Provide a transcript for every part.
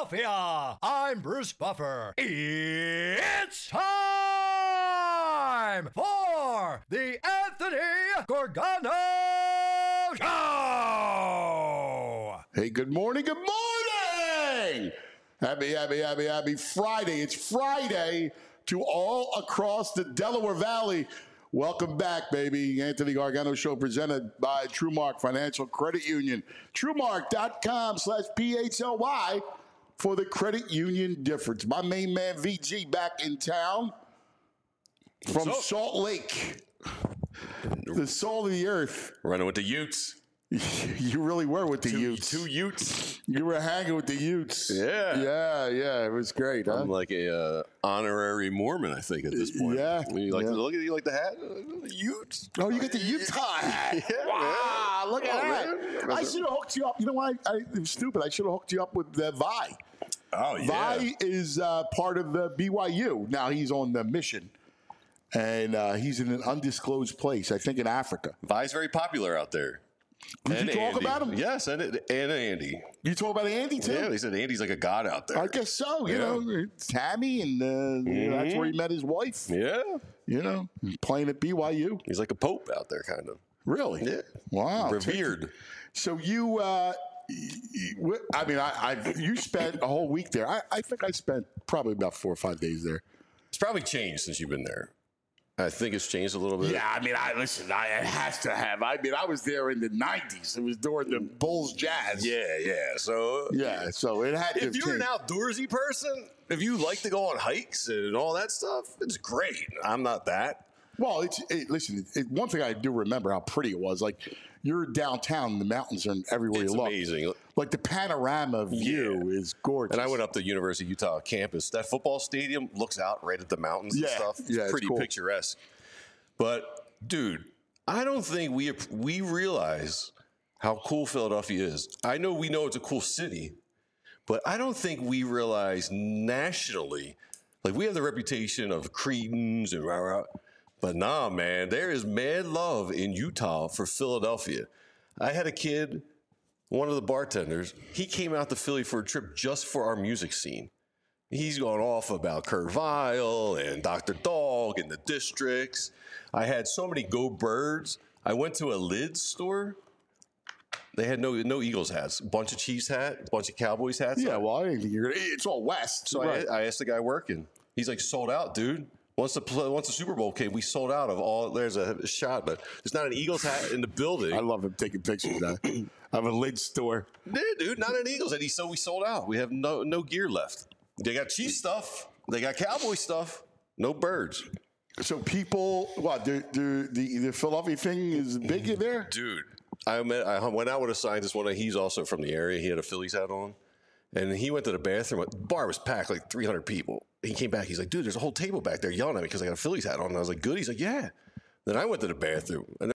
Philadelphia. I'm Bruce Buffer. It's time for the Anthony Gargano Show. Hey, good morning. Good morning. Happy Friday. It's Friday to all across the Delaware Valley. Welcome back, baby. Anthony Gargano Show presented by TrueMark Financial Credit Union. TrueMark.com/PHLY for the credit union difference. My main man, VG, back in town from Salt Lake. The salt of the earth. Running with the Utes. You really were with the Utes. Two Utes. You were hanging with the Utes. Yeah. Yeah. It was great, huh? I'm like a honorary Mormon, I think, at this point. Yeah. You like the hat? The Utes. Oh, you get the Utah hat. Yeah, wow, look at that. man. I should have hooked you up. You know what? It was stupid. I should have hooked you up with Vi. Oh, yeah. Vi is part of the BYU. Now he's on the mission. And he's in an undisclosed place, I think in Africa. Vi's very popular out there. Did you talk Andy. about him? Yes, and Andy. You talk about Andy, too? Yeah, they said Andy's like a god out there. I guess so. You know, Tammy, and you know, that's where he met his wife. Yeah. You know, playing at BYU. He's like a pope out there, kind of. Really? Yeah. Wow. Revered. So you, you spent a whole week there. I think I spent probably about 4 or 5 days there. It's probably changed since you've been there. I think it's changed a little bit. Yeah, it has to have. I was there in the 90s. It was during the Bulls Jazz. Yeah. So so it had to. If you're an outdoorsy person, if you like to go on hikes and all that stuff, it's great. I'm not that. Well, one thing I do remember how pretty it was. Like, you're downtown, the mountains are everywhere It's you look. amazing. Like, the panorama view is gorgeous. And I went up to University of Utah campus. That football stadium looks out right at the mountains and stuff. It's pretty cool. picturesque. But, dude, I don't think we realize how cool Philadelphia is. I know we know it's a cool city, but I don't think we realize nationally. Like, we have the reputation of Cretans and rah-rah. But nah, man, there is mad love in Utah for Philadelphia. I had a kid, one of the bartenders, he came out to Philly for a trip just for our music scene. He's gone off about Kurt Vile and Dr. Dog and the Districts. I had so many Go Birds. I went to a lids store. They had no Eagles hats, a bunch of Chiefs hats, a bunch of Cowboys hats. Yeah, well, I didn't think it's all West. So right. I asked the guy working. He's like, sold out, dude. Once the Super Bowl came, we sold out of all. There's a shot, but there's not an Eagles hat in the building. I love him taking pictures of that. I have a lid store. Yeah, dude, not an Eagles hat. So we sold out. We have no gear left. They got Chief stuff. They got Cowboy stuff. No birds. So people, the Philadelphia thing is big in there? Dude, I went out with a scientist. He's also from the area. He had a Phillies hat on. And he went to the bathroom. The bar was packed, like 300 people. He came back. He's like, dude, there's a whole table back there yelling at me because I got a Phillies hat on. And I was like, good? He's like, yeah. Then I went to the bathroom. And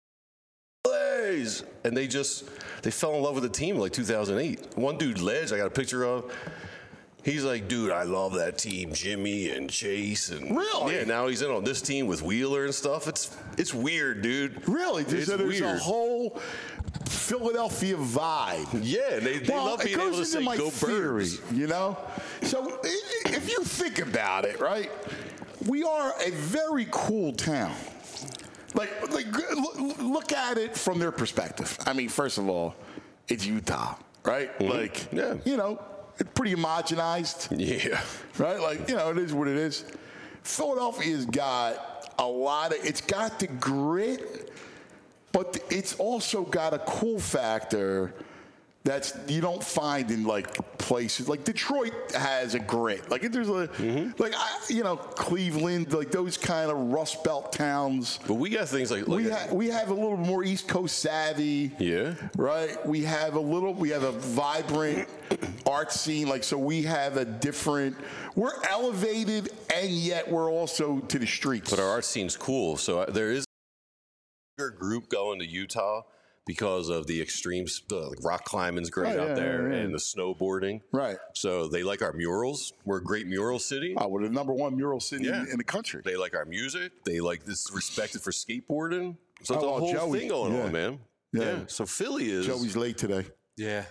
they fell in love with the team in like 2008. One dude, Ledge, I got a picture of. He's like, dude, I love that team, Jimmy and Chase. And really? Yeah, now he's in on this team with Wheeler and stuff. It's weird, dude. Really? There's weird. A whole Philadelphia vibe. Yeah, and they love being able to say Go Birds. You know? So if you think about it, right, we are a very cool town. Like look at it from their perspective. I mean, first of all, it's Utah, right? Mm-hmm. You know, it's pretty homogenized. Yeah. Right? Like, you know, it is what it is. Philadelphia's got it's got the grit, but it's also got a cool factor that's you don't find in like places like Detroit has a grit. Like there's Cleveland, like those kind of Rust Belt towns. But we got things like we have a little more East Coast savvy. Yeah. Right. We have a vibrant art scene. Like so, we have a different. We're elevated, and yet we're also to the streets. But our art scene's cool. So there is a group going to Utah because of the extremes. Rock climbing's great out there, and the snowboarding. Right. So they like our murals. We're a great mural city. Oh, we're the number one mural city in the country. They like our music. They like this respected for skateboarding. So it's a whole Joey, thing going on, man. Yeah. So Philly is. Joey's late today. Yeah.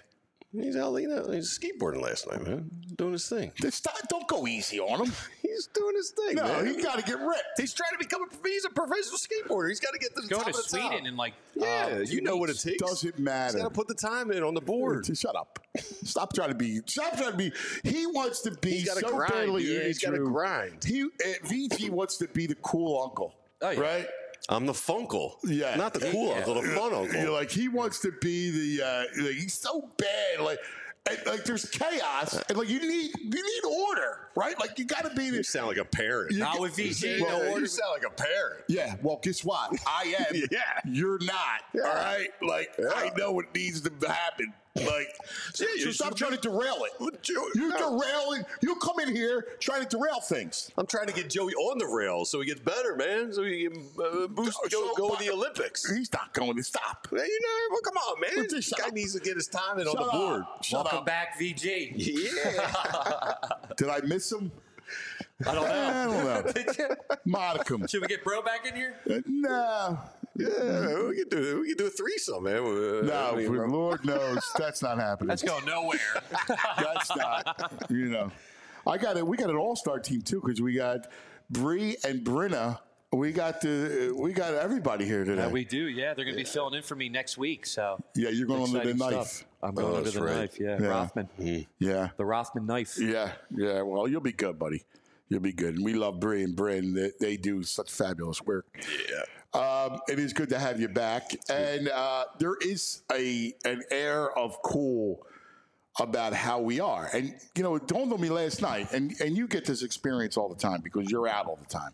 He's out, he's skateboarding last night, man. Doing his thing. Don't go easy on him. He's doing his thing, man. No, he got to get ripped. He's trying to become he's a professional skateboarder. He's got to get to the Going top to of the Sweden top. in like You know what it takes. Doesn't matter. He's got to put the time in on the board. Shut up. Stop trying to be. He wants to be He's gotta so grind, badly. dude. He's gotta grind. VG wants to be the cool uncle. Oh, yeah. Right? I'm the funkle. Yeah. Not the cool uncle, the fun uncle. You're like, he wants to be the. He's so bad. Like there's chaos, and like you need order, right? Like you got to be. You sound like a parent. Not with VG. Well, No order. you sound like a parent. Yeah. Well, guess what? I am. Yeah. You're not. Yeah. All right. Like Yeah. I know what needs to happen. Like, Yeah, so stop trying to derail it. You're No. derailing. You come in here trying to derail things. I'm trying to get Joey on the rails so he gets better, man. So he can boost, go to the Olympics. He's not going to stop. Well, well, come on, man. Just This shut guy up. needs to get his time in on Shut the board. up. Shut Welcome up. back, VG. Yeah. Did I miss him? I don't know. I don't know. Did you? Modicum. Should we get Bro back in here? No. Yeah, we can do a threesome, man. No, Lord knows that's not happening. Let's go nowhere. That's not. We got an all-star team too because we got Bree and Brenna. We got everybody here today. We do, yeah. They're going to be filling in for me next week. So Yeah, you're going under the exciting knife. stuff. I'm going under that's the right. knife, yeah. Yeah. Rothman. Yeah. The Rothman knife. Yeah. Well, you'll be good, buddy. You'll be good. And we love Bree and Bryn. They do such fabulous work. Yeah. It is good to have you back. And there is an air of cool about how we are. And, it dawned on me last night, and you get this experience all the time because you're out all the time.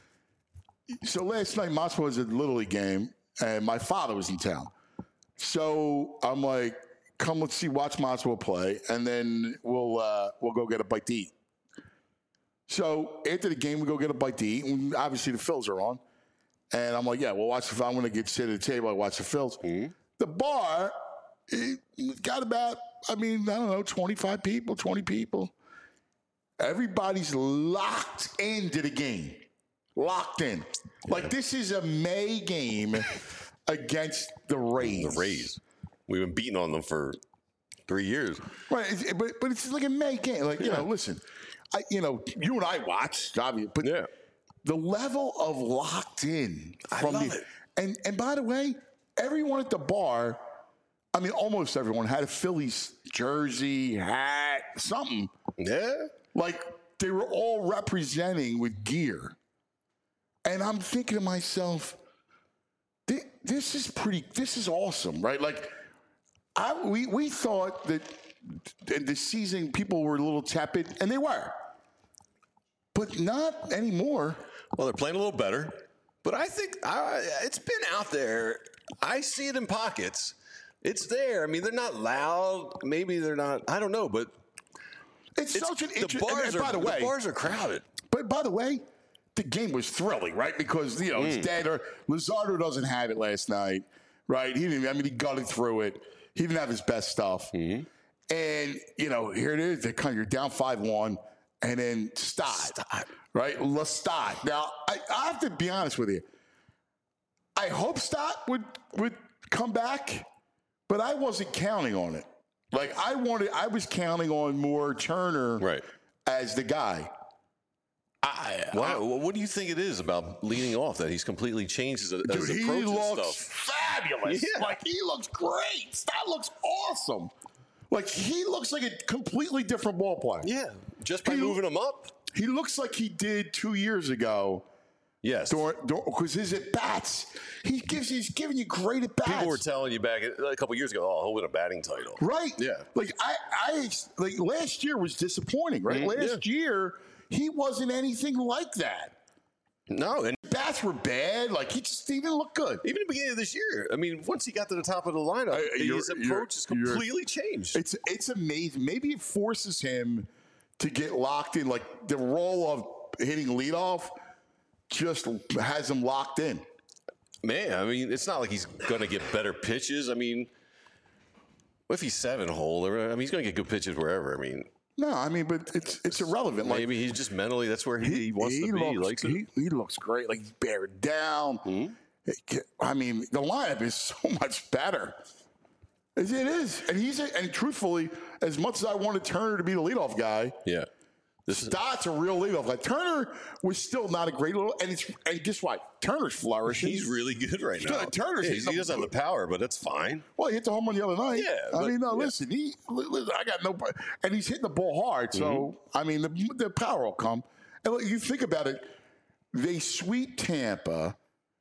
So last night, Mosswell was at the Little League game, and my father was in town. So I'm like, come, let's watch Mosswell play, and then we'll go get a bite to eat. So after the game, we go get a bite to eat, and obviously the Phils are on. And I'm like, yeah, we'll watch I'm going to sit at the table, I watch the Phils. Mm-hmm. The bar got about, I don't know, 25 people, 20 people. Everybody's locked into the game. Locked in. Yeah. Like this is a May game against the Rays. The Rays. We've been beating on them for 3 years. Right, but it's like a May game. Like, listen, you and I watched, obviously, but yeah. The level of locked in from I love it. And by the way, everyone at the bar, almost everyone had a Phillies jersey, hat, something. Yeah. Like they were all representing with gear. And I'm thinking to myself, this is awesome, right? Like we thought that in the season people were a little tepid, and they were. But not anymore. Well, they're playing a little better, but I think it's been out there. I see it in pockets. It's there. They're not loud. Maybe they're not. I don't know, but it's such an interesting. The bars are crowded. But by the way, the game was thrilling, right? Because it's dead. Or Luzardo doesn't have it last night, right? He didn't. He gutted through it. He didn't have his best stuff. Mm-hmm. And here it is. You're down 5-1. And then Stott, right? Lestat. Now, I have to be honest with you. I hope Stott would come back, but I wasn't counting on it. Like, I was counting on more Turner as the guy. What do you think it is about leading off that he's completely changed his approach and stuff? He looks fabulous. Yeah. Like, he looks great. Stott looks awesome. Like, he looks like a completely different ball player. Yeah, just by moving him up. He looks like he did 2 years ago. Yes. Because his at-bats, he's giving you great at-bats. People were telling you back a couple years ago, he'll win a batting title. Right. Yeah. Like, I last year was disappointing, right? Mm-hmm. Last year, he wasn't anything like that. No, and bats were bad. Like, he didn't look good. Even at the beginning of this year, once he got to the top of the lineup, his approach has completely changed. It's amazing. Maybe it forces him to get locked in. Like, the role of hitting leadoff just has him locked in. Man, it's not like he's going to get better pitches. What if he's 7-hole? He's going to get good pitches wherever. No, but it's irrelevant. Maybe he's just mentally, that's where he wants to be. He looks great. Like, he's bearing down. Mm-hmm. The lineup is so much better. It is. And truthfully, as much as I wanted Turner to be the leadoff guy, Yeah. Stott's a real leadoff guy. Turner was still not a great little, and guess what? Turner's flourishing. He's really good right now. Turner's he doesn't have the power, but that's fine. Well, he hit the home run the other night. Yeah, I but- mean, no, yeah. listen, I got no, and he's hitting the ball hard. So, I mean, the power will come. And look, you think about it, they sweep Tampa.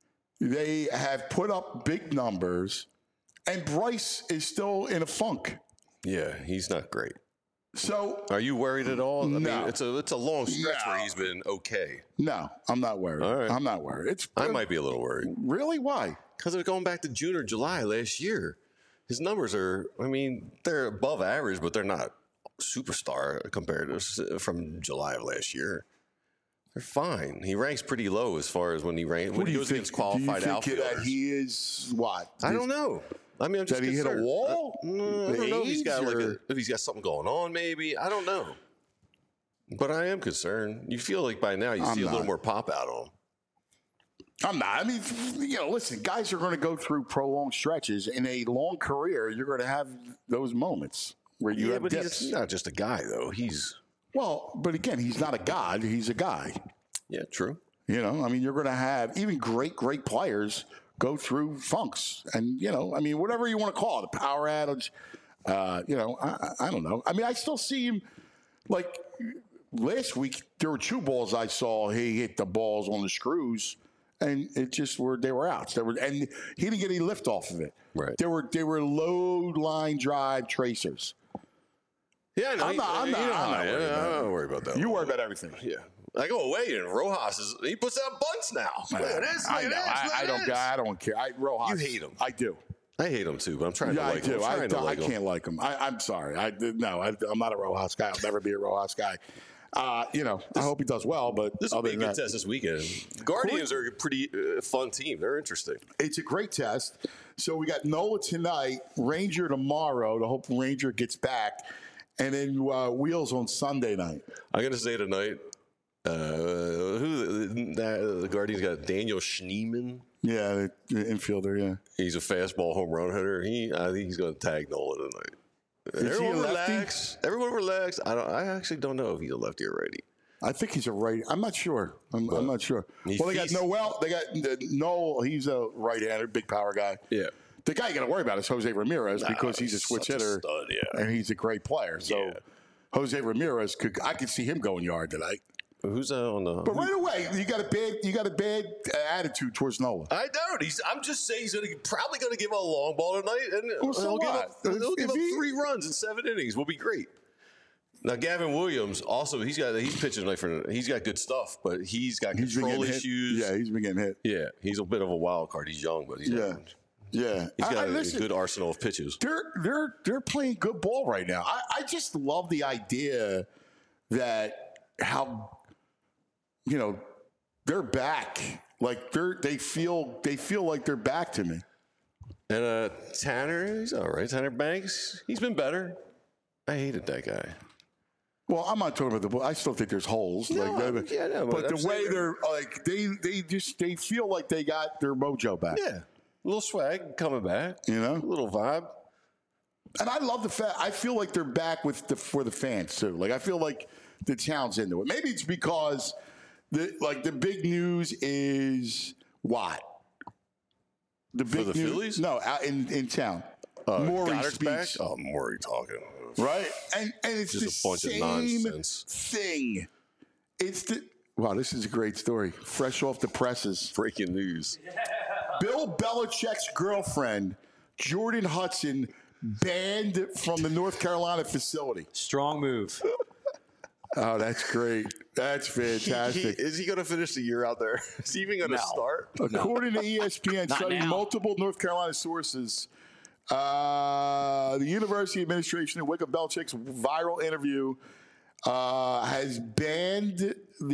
They have put up big numbers, and Bryce is still in a funk. Yeah, he's not great. So, Are you worried at all? I No. mean, it's a long stretch No. where he's been okay. no, I'm not worried. All right. I'm not worried. I might be a little worried Really? Why? because they're going back to June or July last year. His numbers are, I mean, they're above average, but they're not superstar compared to from July of last year. They're fine. He ranks pretty low as far as when he goes against qualified do you think outfielders. that he is what? I don't know. I mean, I'm just That he hit a concerned. wall? I don't know if he's got Age, like or- if he's got something going on. Maybe I don't know. But I am concerned. You feel like by now you I'm see a little not. more pop out of him. I'm not. I mean, listen, guys are going to go through prolonged stretches. In a long career, you're going to have those moments where you have but dips. he's not just a guy though. He's Well, but again, he's not a god. He's a guy. yeah, true. You know, I mean, you're going to have even great players go through funks. And, I mean, whatever you want to call it, a power outage, I don't know. I mean, I still see him, like, last week, there were 2 balls I saw. He hit the balls on the screws, and they were outs. And he didn't get any lift off of it. Right. They were low line drive tracers. Yeah, no, I'm not worried about I'm not worried about that. You worry about everything. Yeah. I go away and Rojas he puts out bunts now. Look at this. Look I at know. this. Look at this. I don't care. Rojas, You hate him. I do. I hate him too, but I'm trying to Yeah, like I do. him. I'm trying to I like him. can't like him. I'm sorry. I'm not a Rojas guy. I'll never be a Rojas guy. I hope he does well, but This will other be a than good that, test this weekend. Guardians are a pretty fun team. They're interesting. it's a great test. So we got Nola tonight, Ranger tomorrow. To hope Ranger gets back, and then Wheels on Sunday night. I'm going to say tonight, the Guardians got Daniel Schneemann. Yeah, the infielder. Yeah, He's a fastball home run hitter. I think he's going to tag Nola tonight. Is he a Everyone lefty? relax. Everyone relax. I actually don't know if he's a lefty or righty. I think he's a right. I'm not sure. I'm not sure. He Well, they got feasts- Noel. They got Noel. He's a right-hander, big power guy. Yeah. The guy you got to worry about is Jose Ramirez because he's a he's switch such a hitter, stud, yeah. and he's a great player. So Yeah. Jose Ramirez I could see him going yard tonight. Who's on the? But right away, you got a bad attitude towards Nola. I don't. I'm just saying he's probably going to give a long ball tonight, and Well, so he'll give what? up, he'll give If up he- 3 runs in 7 innings. Will be great. Now Gavin Williams also he's pitching like he's got good stuff, but he's got He's been control getting hit. issues. Yeah, he's been getting hit. Yeah, he's a bit of a wild card. He's young, but he's Yeah. he's got a Listen, good arsenal of pitches. They're playing good ball right now. I just love the idea that how they're back. Like they feel like they're back to me. And Tanner, he's all right. Tanner Banks, he's been better. I hated that guy. Well, I'm not talking about the ball. I still think there's holes. No, but yeah, no, but I'm the way saying- they're like they feel like they got their mojo back. Yeah, a little swag coming back. You know? a little vibe. And I love the fact I feel like they're back for the fans too. Like I feel like the town's into it. Maybe it's because the big news is what? The big the news, Phillies? No, out in town. Maury Goddard's back. speaks, Oh, Maury talking. right? And it's Just the a bunch of same nonsense. thing. It's wow. This is a great story. Fresh off the presses. Breaking news. Bill Belichick's girlfriend, Jordan Hudson, banned from the North Carolina facility. Strong move. Oh, that's great. That's fantastic. Is he going to finish the year out there? Is he even going to start? According to ESPN, Not citing now. multiple North Carolina sources, the university administration, in wake of Belichick's viral interview, has banned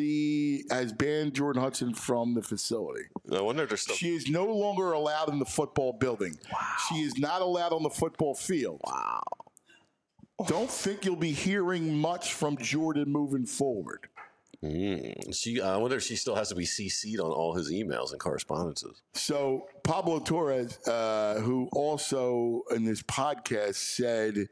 Jordan Hudson from the facility. I wonder if there's still. She is no longer allowed in the football building. Wow. She is not allowed on the football field. Wow. Don't think you'll be hearing much from Jordan moving forward. I wonder if she still has to be CC'd on all his emails and correspondences. So Pablo Torres, who also in this podcast said,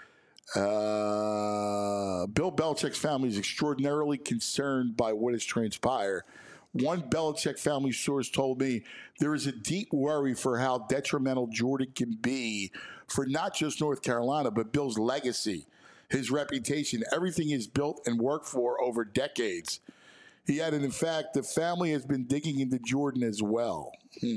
Bill Belichick's family is extraordinarily concerned by what has transpired. One Belichick family source told me there is a deep worry for how detrimental Jordan can be for not just North Carolina, but Bill's legacy, his reputation, everything he's built and worked for over decades. He added, in fact, the family has been digging into Jordan as well.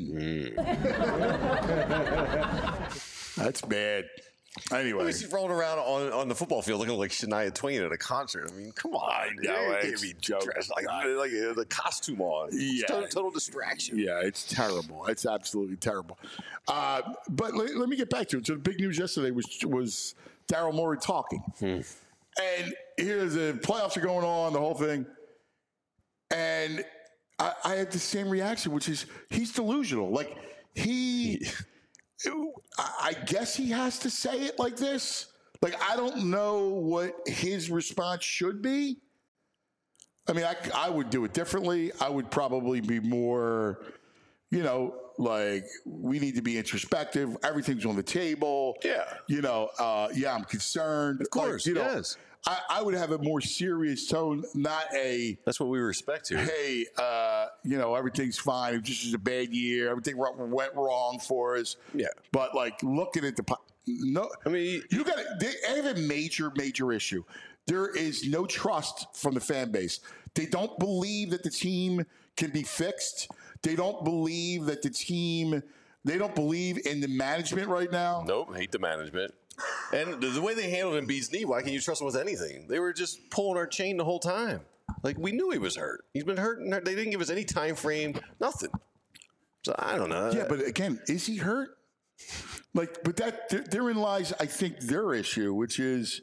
That's bad. Anyway. He's rolling around on the football field looking like Shania Twain at a concert. I mean, come on. know, You it's can't be joke. dressed like the costume on. Yeah. It's total distraction. Yeah, it's terrible. It's absolutely terrible. But let me get back to it. So the big news yesterday was Daryl Morey talking. And here's the playoffs are going on, the whole thing. And I had the same reaction, which is he's delusional. Like, I guess he has to say it like this. Like, I don't know what his response should be. I mean, I would do it differently. I would probably be more, like, we need to be introspective. Everything's on the table. Yeah. I'm concerned. Of course, yes. I would have a more serious tone, not a, That's what we respect here. hey, everything's fine. It just was a bad year. Everything went wrong for us. Yeah. But, like, looking at no. I mean, They have a major, major issue. There is no trust from the fan base. They don't believe that the team can be fixed. They don't believe that they don't believe in the management right now. nope, hate the management. And the way they handled Embiid's knee, why can't you trust them with anything? They were just pulling our chain the whole time. Like, we knew he was hurt. He's been hurt, and they didn't give us any time frame, nothing. So I don't know. Yeah, but again, is he hurt? Like, but therein lies, I think, their issue, which is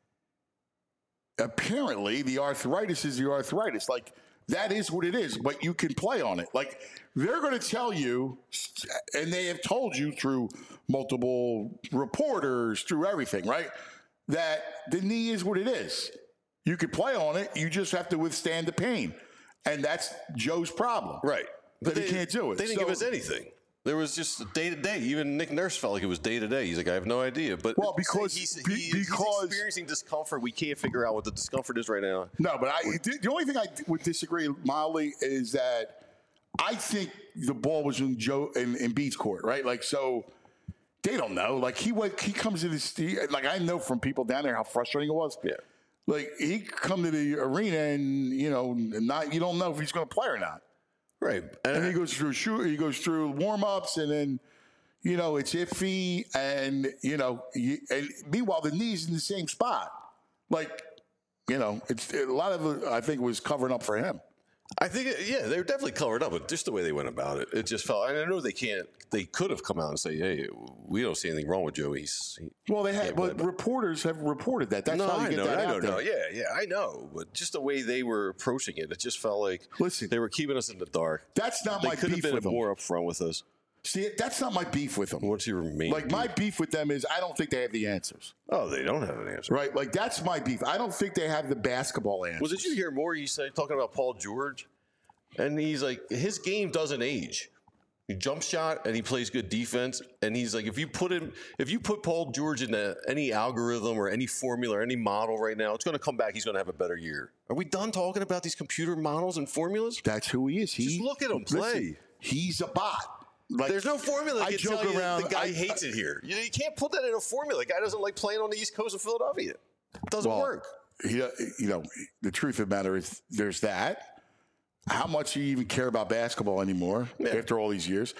apparently the arthritis is the arthritis. Like, that is what it is, but you can play on it. Like, they're going to tell you, and they have told you through multiple reporters, through everything, right, that the knee is what it is. You can play on it. You just have to withstand the pain. And that's Joe's problem. Right. But he can't do it. They didn't give us anything. There was just day to day. Even Nick Nurse felt like it was day to day. He's like, I have no idea. But because he's experiencing discomfort. We can't figure out what the discomfort is right now. No, but the only thing I would disagree mildly is that I think the ball was in Joe and Embiid's court, right? Like, so they don't know. Like, he comes to this, like, I know from people down there how frustrating it was. Yeah. Like, he come to the arena and you don't know if he's going to play or not. Right. And he goes through warm-ups, and then, it's iffy, and, and meanwhile, the knee's in the same spot. Like, it's a lot of it, I think, was covering up for him. I think, they were definitely covered up, but just the way they went about it, it just felt. And I know they could have come out and say, "Hey, we don't see anything wrong with Joe." Well, they had, but reporters have reported that. That's how you get that out there. Yeah, I know, but just the way they were approaching it, it just felt like they were keeping us in the dark. That's not they my could beef have with been them. more upfront with us. See, that's not my beef with them. What's your main? Like, my beef with them is I don't think they have the answers. Oh, they don't have an answer, right? Like, that's my beef. I don't think they have the basketball answers. Well, did you hear more? You said talking about Paul George. And he's like, his game doesn't age. He jump shot and he plays good defense. And he's like, if you put Paul George into any algorithm or any formula or any model right now, it's going to come back. He's going to have a better year. Are we done talking about these computer models and formulas? That's who he is. Just look at him play. Listen, he's a bot. Like, there's no formula that can tell you the guy hates it here. You can't put that in a formula. The guy doesn't like playing on the East Coast of Philadelphia. It doesn't work. The truth of the matter is there's that. How much do you even care about basketball anymore after all these years?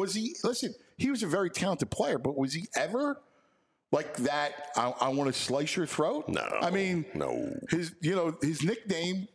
He was a very talented player, but was he ever like that? I want to slice your throat. No. I mean, no. His nickname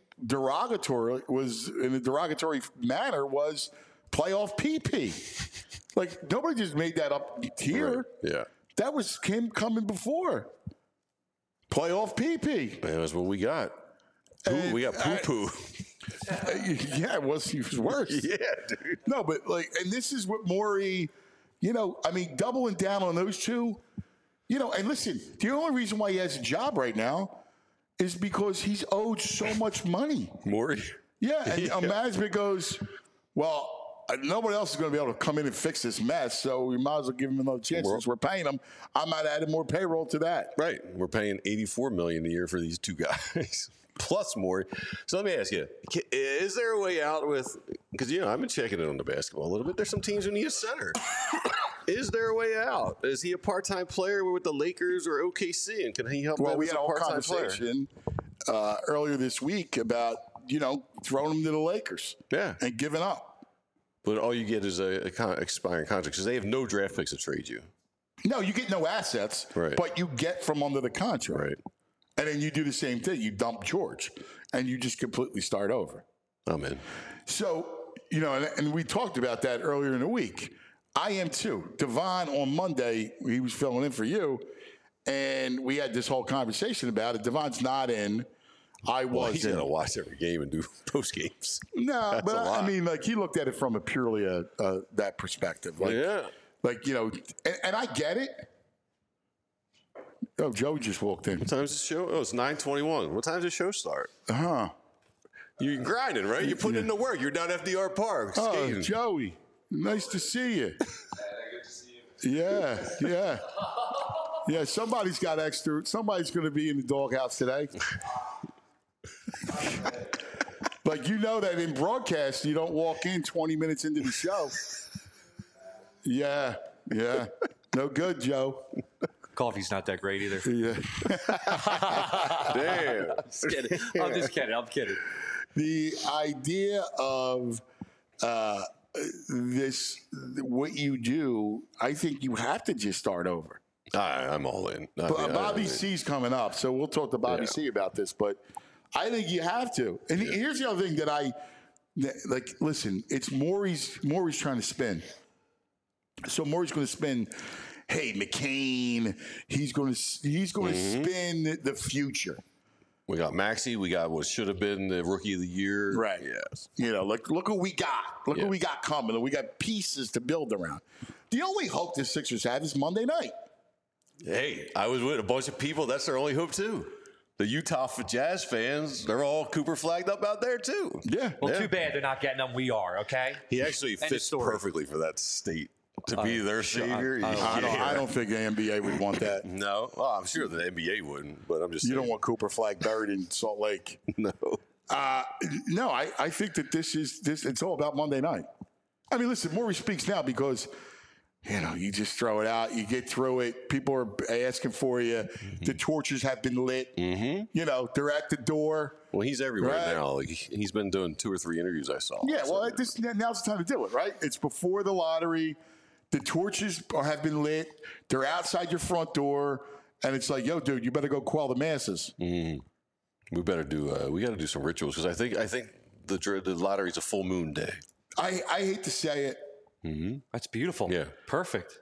was in a derogatory manner was playoff PP. Like, nobody just made that up here. Right. Yeah. That was him coming before. Playoff PP. Man, that's what we got. We got poo-poo. Yeah, he was worse. Yeah, dude. No, but and this is what Morey, doubling down on those two, and listen, the only reason why he has a job right now is because he's owed so much money. Morey. Yeah, and management goes, well, nobody else is going to be able to come in and fix this mess, so we might as well give him another chance. Since we're paying him, I might add more payroll to that. Right. We're paying $84 million a year for these two guys, plus more. So let me ask you: is there a way out with? Because I've been checking it on the basketball a little bit. There's some teams who need a center. Is there a way out? Is he a part-time player with the Lakers or OKC, and can he help? Well, them we as had a a whole part-time player? conversation earlier this week about throwing him to the Lakers, Yeah, and giving up. but all you get is a expiring contract because they have no draft picks to trade you. No, you get no assets, Right. but you get from under the contract. Right. And then you do the same thing. You dump George, and you just completely start over. I'm in. So, and we talked about that earlier in the week. I am too. Devon on Monday, he was filling in for you, and we had this whole conversation about it. Devon's not in. I Well, was he's in. gonna watch every game and do post games. No, That's but a lot. I mean, he looked at it from a purely that perspective. Yeah. And I get it. Oh, Joe just walked in. What time's the show? Oh, it's 9:21. What time does the show start? Huh. You're grinding, right? You're putting in the work. You're down at FDR Park Oh, skating. Joey, nice to see you. Yeah. Yeah, somebody's got extra. Somebody's going to be in the doghouse today. That in broadcast, you don't walk in 20 minutes into the show. Yeah. No good, Joe. Coffee's not that great either. Yeah. Damn. Just kidding. I'm just kidding. I'm kidding. The idea of what you do, I think you have to just start over. I'm all in. Bobby C's coming up, so we'll talk to Bobby C about this, but I think you have to. And here's the other thing that listen, it's Maury's trying to spin. So Maury's going to spin, hey, McCain, he's going to spin the future. We got Maxey. We got what should have been the rookie of the year. Right. Yes. Look what we got. Look what we got coming. We got pieces to build around. The only hope the Sixers have is Monday night. Hey, I was with a bunch of people. That's their only hope too. The Utah Jazz fans, they're all Cooper flagged up out there too. Yeah. Well, too bad they're not getting them. We are, okay? He actually End of fits story. perfectly for that state to be their savior. I don't think the NBA would want that. No, well, I'm sure the NBA wouldn't, but I'm just You saying. don't want Cooper Flag buried in Salt Lake. No. No, I think that this. It's all about Monday night. I mean, listen, Maury speaks now because you just throw it out, you get through it. People are asking for you. Mm-hmm. The torches have been lit. Mm-hmm. They're at the door. Well, he's everywhere Right. now. Like, he's been doing 2 or 3 interviews I saw. Yeah, So, well, now's the time to do it, right? It's before the lottery. The torches have been lit. They're outside your front door, and it's like, yo, dude, you better go quell the masses. we better do. We got to do some rituals because I think the lottery's a full moon day. I hate to say it. That's beautiful. Yeah. Perfect.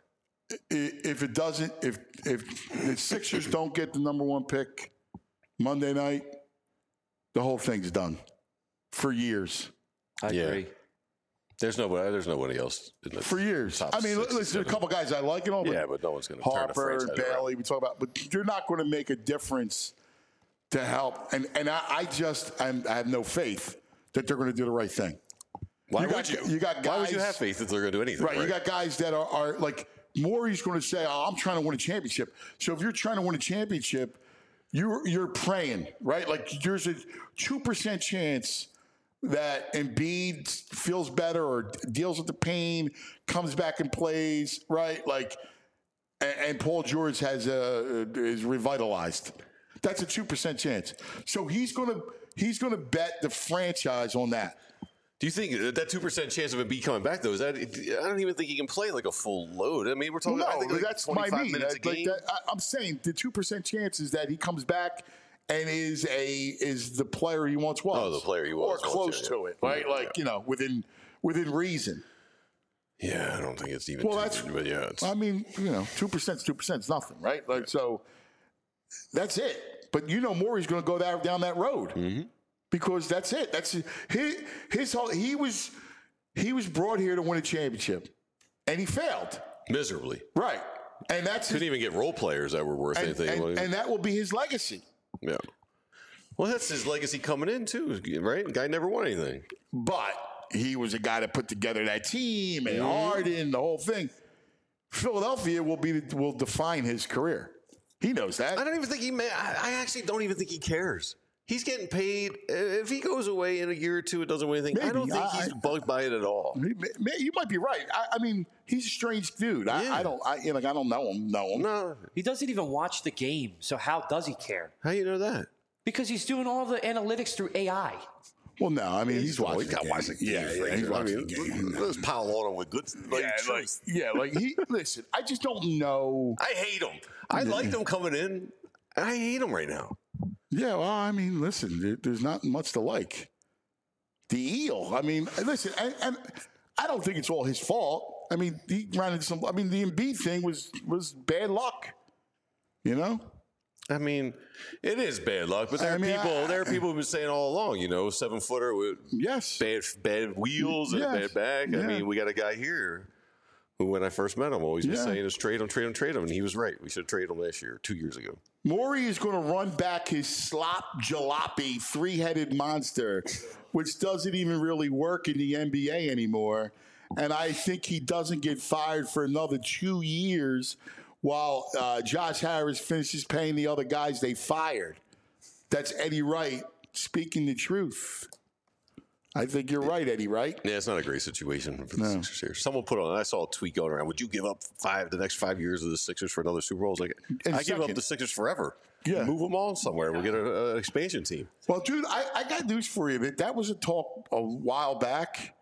If it doesn't, if the Sixers don't get the number 1 pick Monday night, the whole thing's done for years. I Yeah. agree. There's nobody else in the For years. top I mean, 6 or listen, there's a 7. couple guys I like and all, but Yeah, but no one's going to turn the Harper and franchise Bailey, we talk about, but they're not going to make a difference to help. And I have no faith that they're going to do the right thing. Why You would got- you? you got Why would guys- you have faith that they're going to do anything? Right. You got guys that are like, Maury's going to say, oh, I'm trying to win a championship. So if you're trying to win a championship, you're praying, right? Like there's a 2% chance that Embiid feels better or deals with the pain, comes back and plays, right? Like, and Paul George is revitalized. That's a 2% chance. So he's gonna bet the franchise on that. Do you think that 2% chance of him be coming back though? Is that? I don't even think he can play like a full load. I mean, we're talking. I think No, like that's my 25 mean. minutes a game. I'm saying the 2% chance is that he comes back and is the player he once was. Oh, the player he was or close once, yeah. to it, right? Yeah, Like within reason. Yeah, I don't think it's even. Well, two, that's. but yeah, it's, I mean, 2% is 2%. It's nothing, right? Like so. That's it. But Maury's going to go down that road because that's it. That's his whole. He was brought here to win a championship, and he failed. miserably. Right, and that's Couldn't even get role players that were worth anything. and that will be his legacy. Yeah. Well, that's his legacy coming in too, right? The guy never won anything. But he was a guy that put together that team and Harden, the whole thing. Philadelphia will define his career. He knows that. I don't even think I actually don't even think he cares. He's getting paid. If he goes away in a year or two, it doesn't win anything. I don't think he's bugged by it at all. You might be right. I mean, he's a strange dude. I don't know him. No. He doesn't even watch the game, so how does he care? How you know that? Because he's doing all the analytics through AI. Well, no, I mean he's watching. He's got watching. Yeah, he's watching the game. Let's pile on him with good. Listen. I just don't know. I hate him. I liked him coming in. I hate him right now. Yeah, well, I mean, listen, there's not much to like. The eel. I mean, listen, and I don't think it's all his fault. I mean, he ran into some. I mean, the Embiid thing was bad luck. You know. I mean, it is bad luck, but there are people who've been saying all along, 7-footer with bad wheels and a bad back. I mean, we got a guy here who, when I first met him, always was saying is trade him, and he was right. We should trade him last year, 2 years ago. Morey is going to run back his slop jalopy three-headed monster, which doesn't even really work in the NBA anymore. And I think he doesn't get fired for another 2 years while Josh Harris finishes paying the other guys they fired. That's Eddie Wright speaking the truth. I think you're right, Eddie Wright. Yeah, it's not a great situation for the Sixers here. Someone put on, I saw a tweet going around, would you give up the next 5 years of the Sixers for another Super Bowl? I give up the Sixers forever. Yeah. Move them all somewhere. We'll get an expansion team. Well, dude, I got news for you. That was a talk a while back.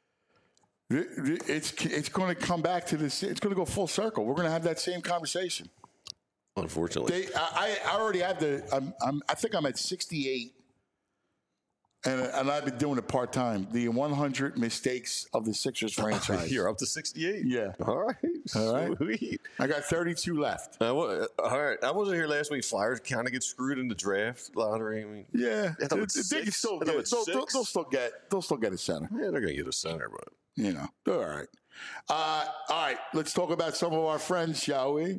It's going to come back to this. It's going to go full circle. We're going to have that same conversation. Unfortunately, I already have I think I'm at 68, and I've been doing it part time. The 100 mistakes of the Sixers franchise. You're up to 68. Yeah. All right. Sweet. I got 32 left. All right. I wasn't here last week. Flyers kind of get screwed in the draft lottery. I mean, yeah. They can still get. They'll still get a center. Yeah, they're going to get a center, but. All right. All right, let's talk about some of our friends, shall we?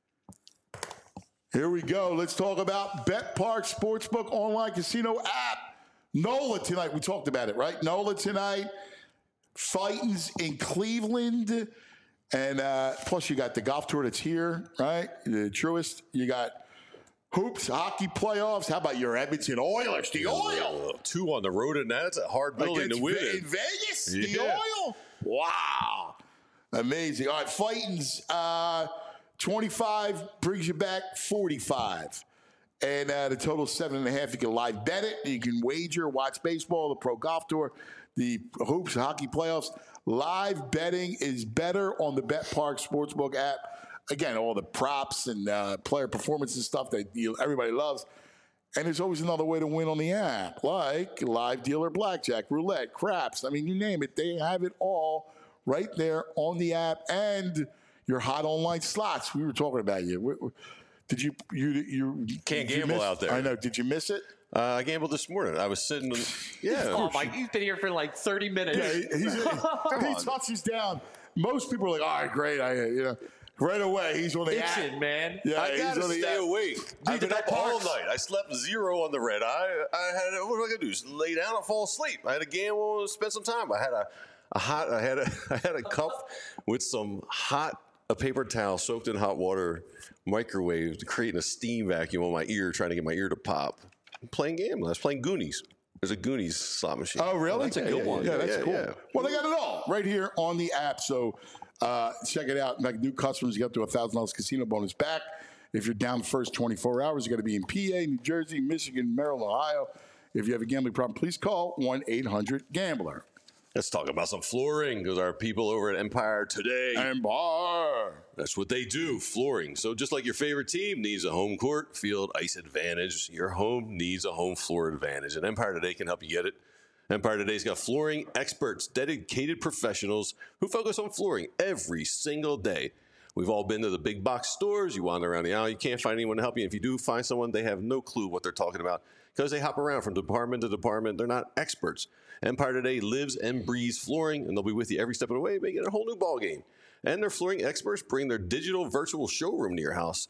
Here we go. Let's talk about BetPark Sportsbook online casino app. NOLA tonight. We talked about it, right? NOLA tonight. Fightins in Cleveland. And plus you got the golf tour that's here, right? The Truist. You got hoops, hockey playoffs. How about your Edmonton Oilers? The Oil. 2 on the road, and that's a hard building to win. In Vegas? The Oil? Wow. Amazing. All right, Fightins, 25 brings you back 45. And the total is 7.5. You can live bet it. You can wager, watch baseball, the Pro Golf Tour, the hoops, hockey playoffs. Live betting is better on the BetPark Sportsbook app. Again, all the props and player performance and stuff that everybody loves. And there's always another way to win on the app, like live dealer blackjack, roulette, craps. I mean, you name it. They have it all right there on the app. And your hot online slots. We were talking about you. Did you can't gamble out there? I know. Did you miss it? I gambled this morning. I was sitting. Oh my! He's been here for like 30 minutes. Yeah, he touches down. Most people are like, "All right, great." Right away, he's on the action, app. Man. Yeah, I gotta stay awake. I've been up all night. I slept 0 on the red eye. I had what am I gonna do? Just lay down and fall asleep. I had a gamble and spend some time. I had a cup with some a paper towel soaked in hot water, microwaved, creating a steam vacuum on my ear, trying to get my ear to pop. I'm playing gambling. I was playing Goonies. There's a Goonies slot machine. Oh, really? That's a good one. Yeah, that's cool. Yeah. Well, they got it all right here on the app. So check it out. Like new customers get up to $1,000 casino bonus back. If you're down the first 24 hours, you got to be in PA, New Jersey, Michigan, Maryland, Ohio. If you have a gambling problem, please call 1-800-GAMBLER. Let's talk about some flooring because our people over at Empire today. Empire. That's what they do, flooring. So just like your favorite team needs a home court, field, ice advantage, your home needs a home floor advantage. And Empire Today can help you get it. Empire Today's got flooring experts, dedicated professionals who focus on flooring every single day. We've all been to the big box stores. You wander around the aisle, you can't find anyone to help you. If you do find someone, they have no clue what they're talking about because they hop around from department to department. They're not experts. Empire Today lives and breathes flooring, and they'll be with you every step of the way, making it a whole new ballgame. And their flooring experts bring their digital virtual showroom to your house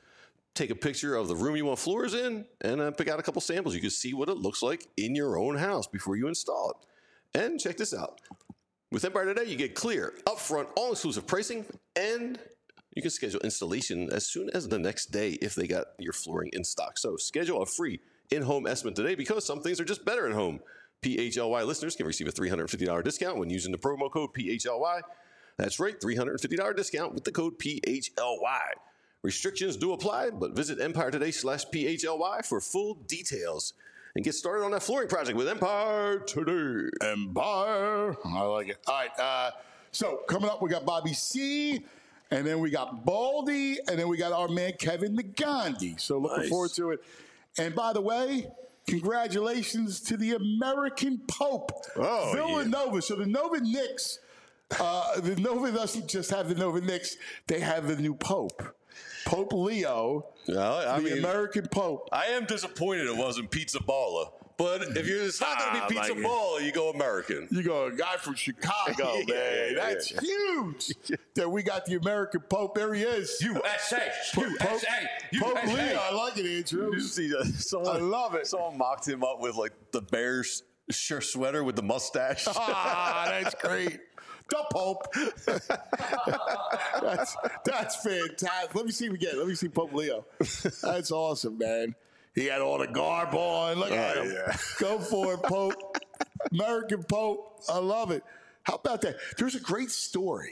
take a picture of the room you want floors in, and pick out a couple samples. You can see what it looks like in your own house before you install it. And check this out. With Empire Today, you get clear, upfront, all-inclusive pricing, and you can schedule installation as soon as the next day if they got your flooring in stock. So schedule a free in-home estimate today because some things are just better at home. PHLY listeners can receive a $350 discount when using the promo code PHLY. That's right, $350 discount with the code PHLY. Restrictions do apply, but visit EmpireToday/PHLY for full details. And get started on that flooring project with Empire Today. Empire. I like it. All right. So coming up, we got Bobby C, and then we got Baldy, and then we got our man Kevin the Gandhi. So looking forward to it. And by the way, congratulations to the American Pope, Villanova. Yeah. So the Nova Knicks, the Nova doesn't just have the Nova Knicks; they have the new Pope. Pope Leo, the American Pope. I am disappointed it wasn't Pizza Baller. But if it's not going to be Pizza Baller, you go American. You go a guy from Chicago, man. That's huge that we got the American Pope. There he is. USA. Pope Leo. I like it, Andrew. You see, I love it. Someone mocked him up with like the Bears shirt sweater with the mustache. That's great. The Pope. that's fantastic. Let me see again. Let me see Pope Leo. That's awesome, man. He had all the garb on. Look at him. Yeah. Go for it, Pope. American Pope. I love it. How about that? There's a great story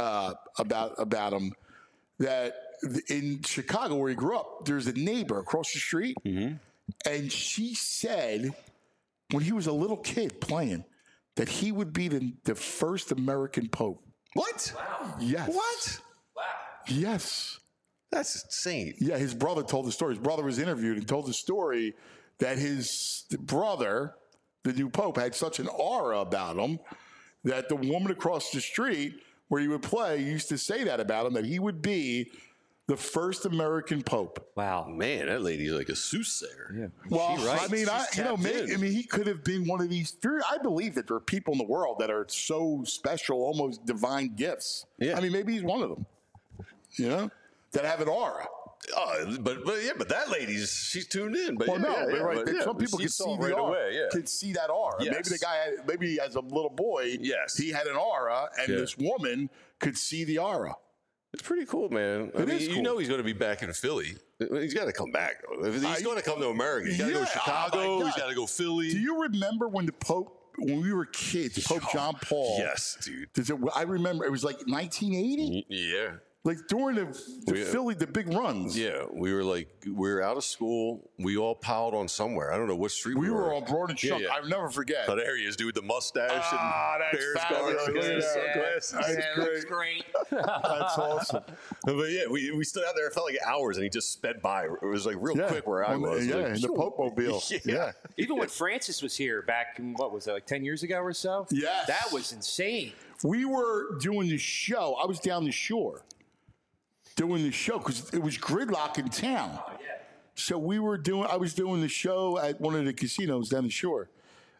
about him that in Chicago where he grew up, there's a neighbor across the street, and she said when he was a little kid playing that he would be the first American Pope. What? Wow. Yes. What? Wow. Yes. That's insane. Yeah, his brother told the story. His brother was interviewed and told the story that his brother, the new Pope, had such an aura about him that the woman across the street where he would play used to say that about him, that he would be the first American Pope. Wow. Man, that lady's like a soothsayer. Yeah. Well, She writes. I mean, She's tapped in. he could have been one of these. I believe that there are people in the world that are so special, almost divine gifts. Yeah. I mean, maybe he's one of them. You know, that have an aura. But that she's tuned in. But Well, yeah, some people she can saw see it the right aura. away. Yeah. Can see that aura. Yes. Maybe as a little boy, Yes. he had an aura, and this woman could see the aura. It's pretty cool, man. I mean, is cool. You know he's going to be back in Philly. He's got to come back. If he's going to come to America. He's got to go to Chicago. He's got to go Philly. Do you remember when when we were kids, Pope John Paul? Yes, dude. I remember it was like 1980. Yeah. Like during the Philly, the big runs. Yeah, we were out of school. We all piled on somewhere. I don't know what street we were. We were on Broad and Chunk. Yeah. I'll never forget. Oh, there he is, dude, the mustache and that's Bears fabulous. guards. Look at that. Sunglasses. That's Great. That's awesome. But yeah, we stood out there. It felt like hours, and he just sped by. It was like real quick where I was. Yeah, like, in the Pope Mobile. Yeah. Even when Francis was here back in, what was it, like 10 years ago or so? Yes. That was insane. We were doing the show. I was down the shore doing the show because it was gridlock in town. Oh, yeah. So I was doing the show at one of the casinos down the shore.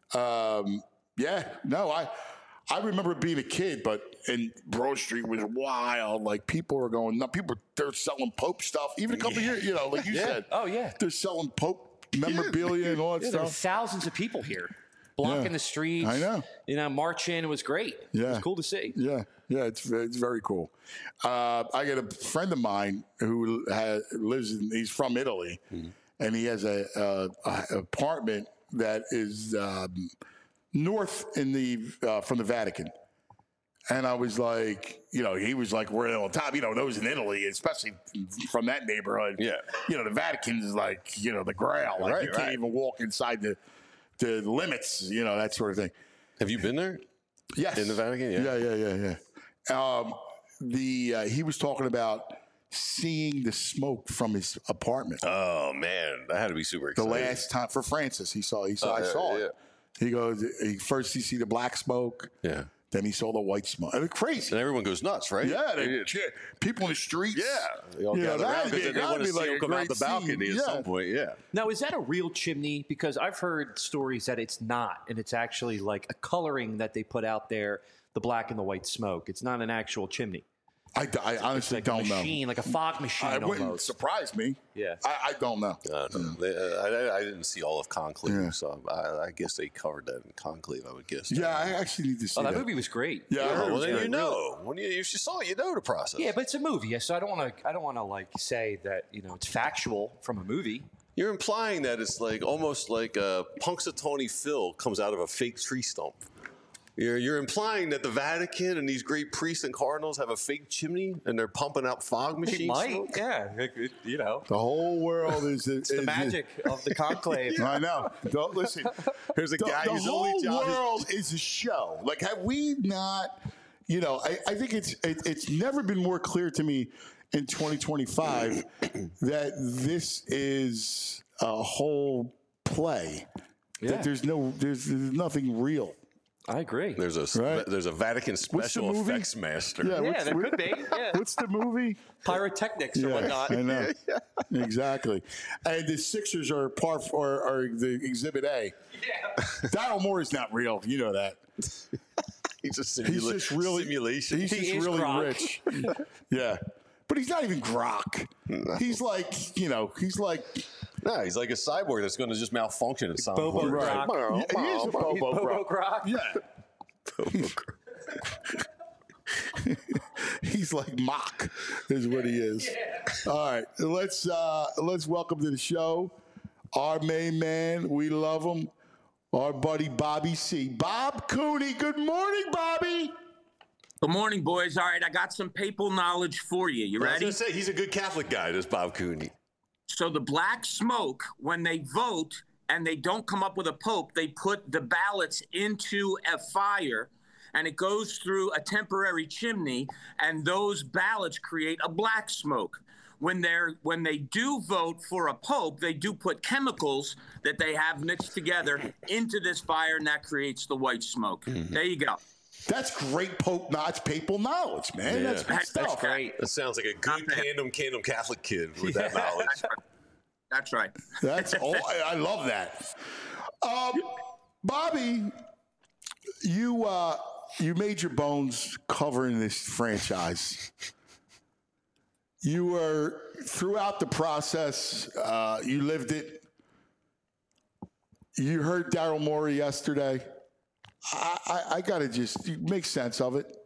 I remember being a kid, and Broad Street was wild. Like people were going nuts. They're selling Pope stuff. Even a couple years, like you said. Oh, yeah. They're selling Pope memorabilia and all that There were stuff. thousands of people here blocking the streets. I know. Marching. It was great. Yeah. It was cool to see. Yeah, it's very cool. I got a friend of mine who he's from Italy, and he has a apartment that is north from the Vatican. And I was like, he was like, we're on top, those in Italy, especially from that neighborhood. Yeah. The Vatican is like, the Grail. Like you can't even walk inside the limits, that sort of thing. Have you been there? Yes. In the Vatican? Yeah. He was talking about seeing the smoke from his apartment. Oh man, that had to be super The exciting. last time for Francis, I saw it. He goes, first he see the black smoke. Yeah. Then he saw the white smoke. It was crazy. And everyone goes nuts, right? Yeah, people in the streets. Yeah. They all gather around because they want to see him come out the balcony at some point. Yeah. Now, is that a real chimney? Because I've heard stories that it's not, and it's actually like a coloring that they put out there, the black and the white smoke. It's not an actual chimney. I honestly like don't a machine, like a fog machine. It wouldn't almost. surprise me. Yeah. I don't know. I didn't see all of Conclave, so I guess they covered that in Conclave. I would guess. Yeah, I actually need to see Oh, that movie was great. Yeah, I heard it Well, was then great. you know. If you saw it, you know the process. Yeah, but it's a movie, so I don't want to like say that it's factual from a movie. You're implying that it's like almost like Punxsutawney Phil comes out of a fake tree stump. You're implying that the Vatican and these great priests and cardinals have a fake chimney and they're pumping out fog machines. It might, smoke? yeah. The whole world is The magic of the conclave. I know. Don't listen. There's a guy The whose whole only job world is a show. Like, have we not? I think it's never been more clear to me in 2025 that this is a whole play. Yeah. That there's nothing real. I agree. There's a Vatican special movie? effects master. Yeah, there could be. Yeah. What's the movie? Pyrotechnics or whatnot. I know. Exactly. And the Sixers are the Exhibit A. Yeah. Daryl Morey is not real. You know that. He's just really simulation. He's He just is really Gronk. rich. Yeah. But he's not even Grok. No. He's like, he's like Nah, he's like a cyborg that's going to just malfunction at some Bobo point. Gronk. He is a Bobo Bobo Grok. Grok. Yeah. He's like Mock is what he is. Yeah. All right. Let's welcome to the show our main man. We love him. Our buddy Bobby C. Bob Cooney. Good morning, Bobby. Good morning, boys. All right, I got some papal knowledge for you. You I was ready? going to say, he's a good Catholic guy, this Bob Cooney. So the black smoke, when they vote and they don't come up with a pope, they put the ballots into a fire and it goes through a temporary chimney, and those ballots create a black smoke. When they do vote for a pope, they do put chemicals that they have mixed together into this fire, and that creates the white smoke. Mm-hmm. There you go. That's great that's papal knowledge, man. Yeah. That's good stuff. That's great. That sounds like a good Kingdom Catholic kid with that knowledge. That's right. That's all. I love that. Bobby, you made your bones covering this franchise. You were throughout the process. You lived it. You heard Daryl Morey yesterday. I got to just make sense of it.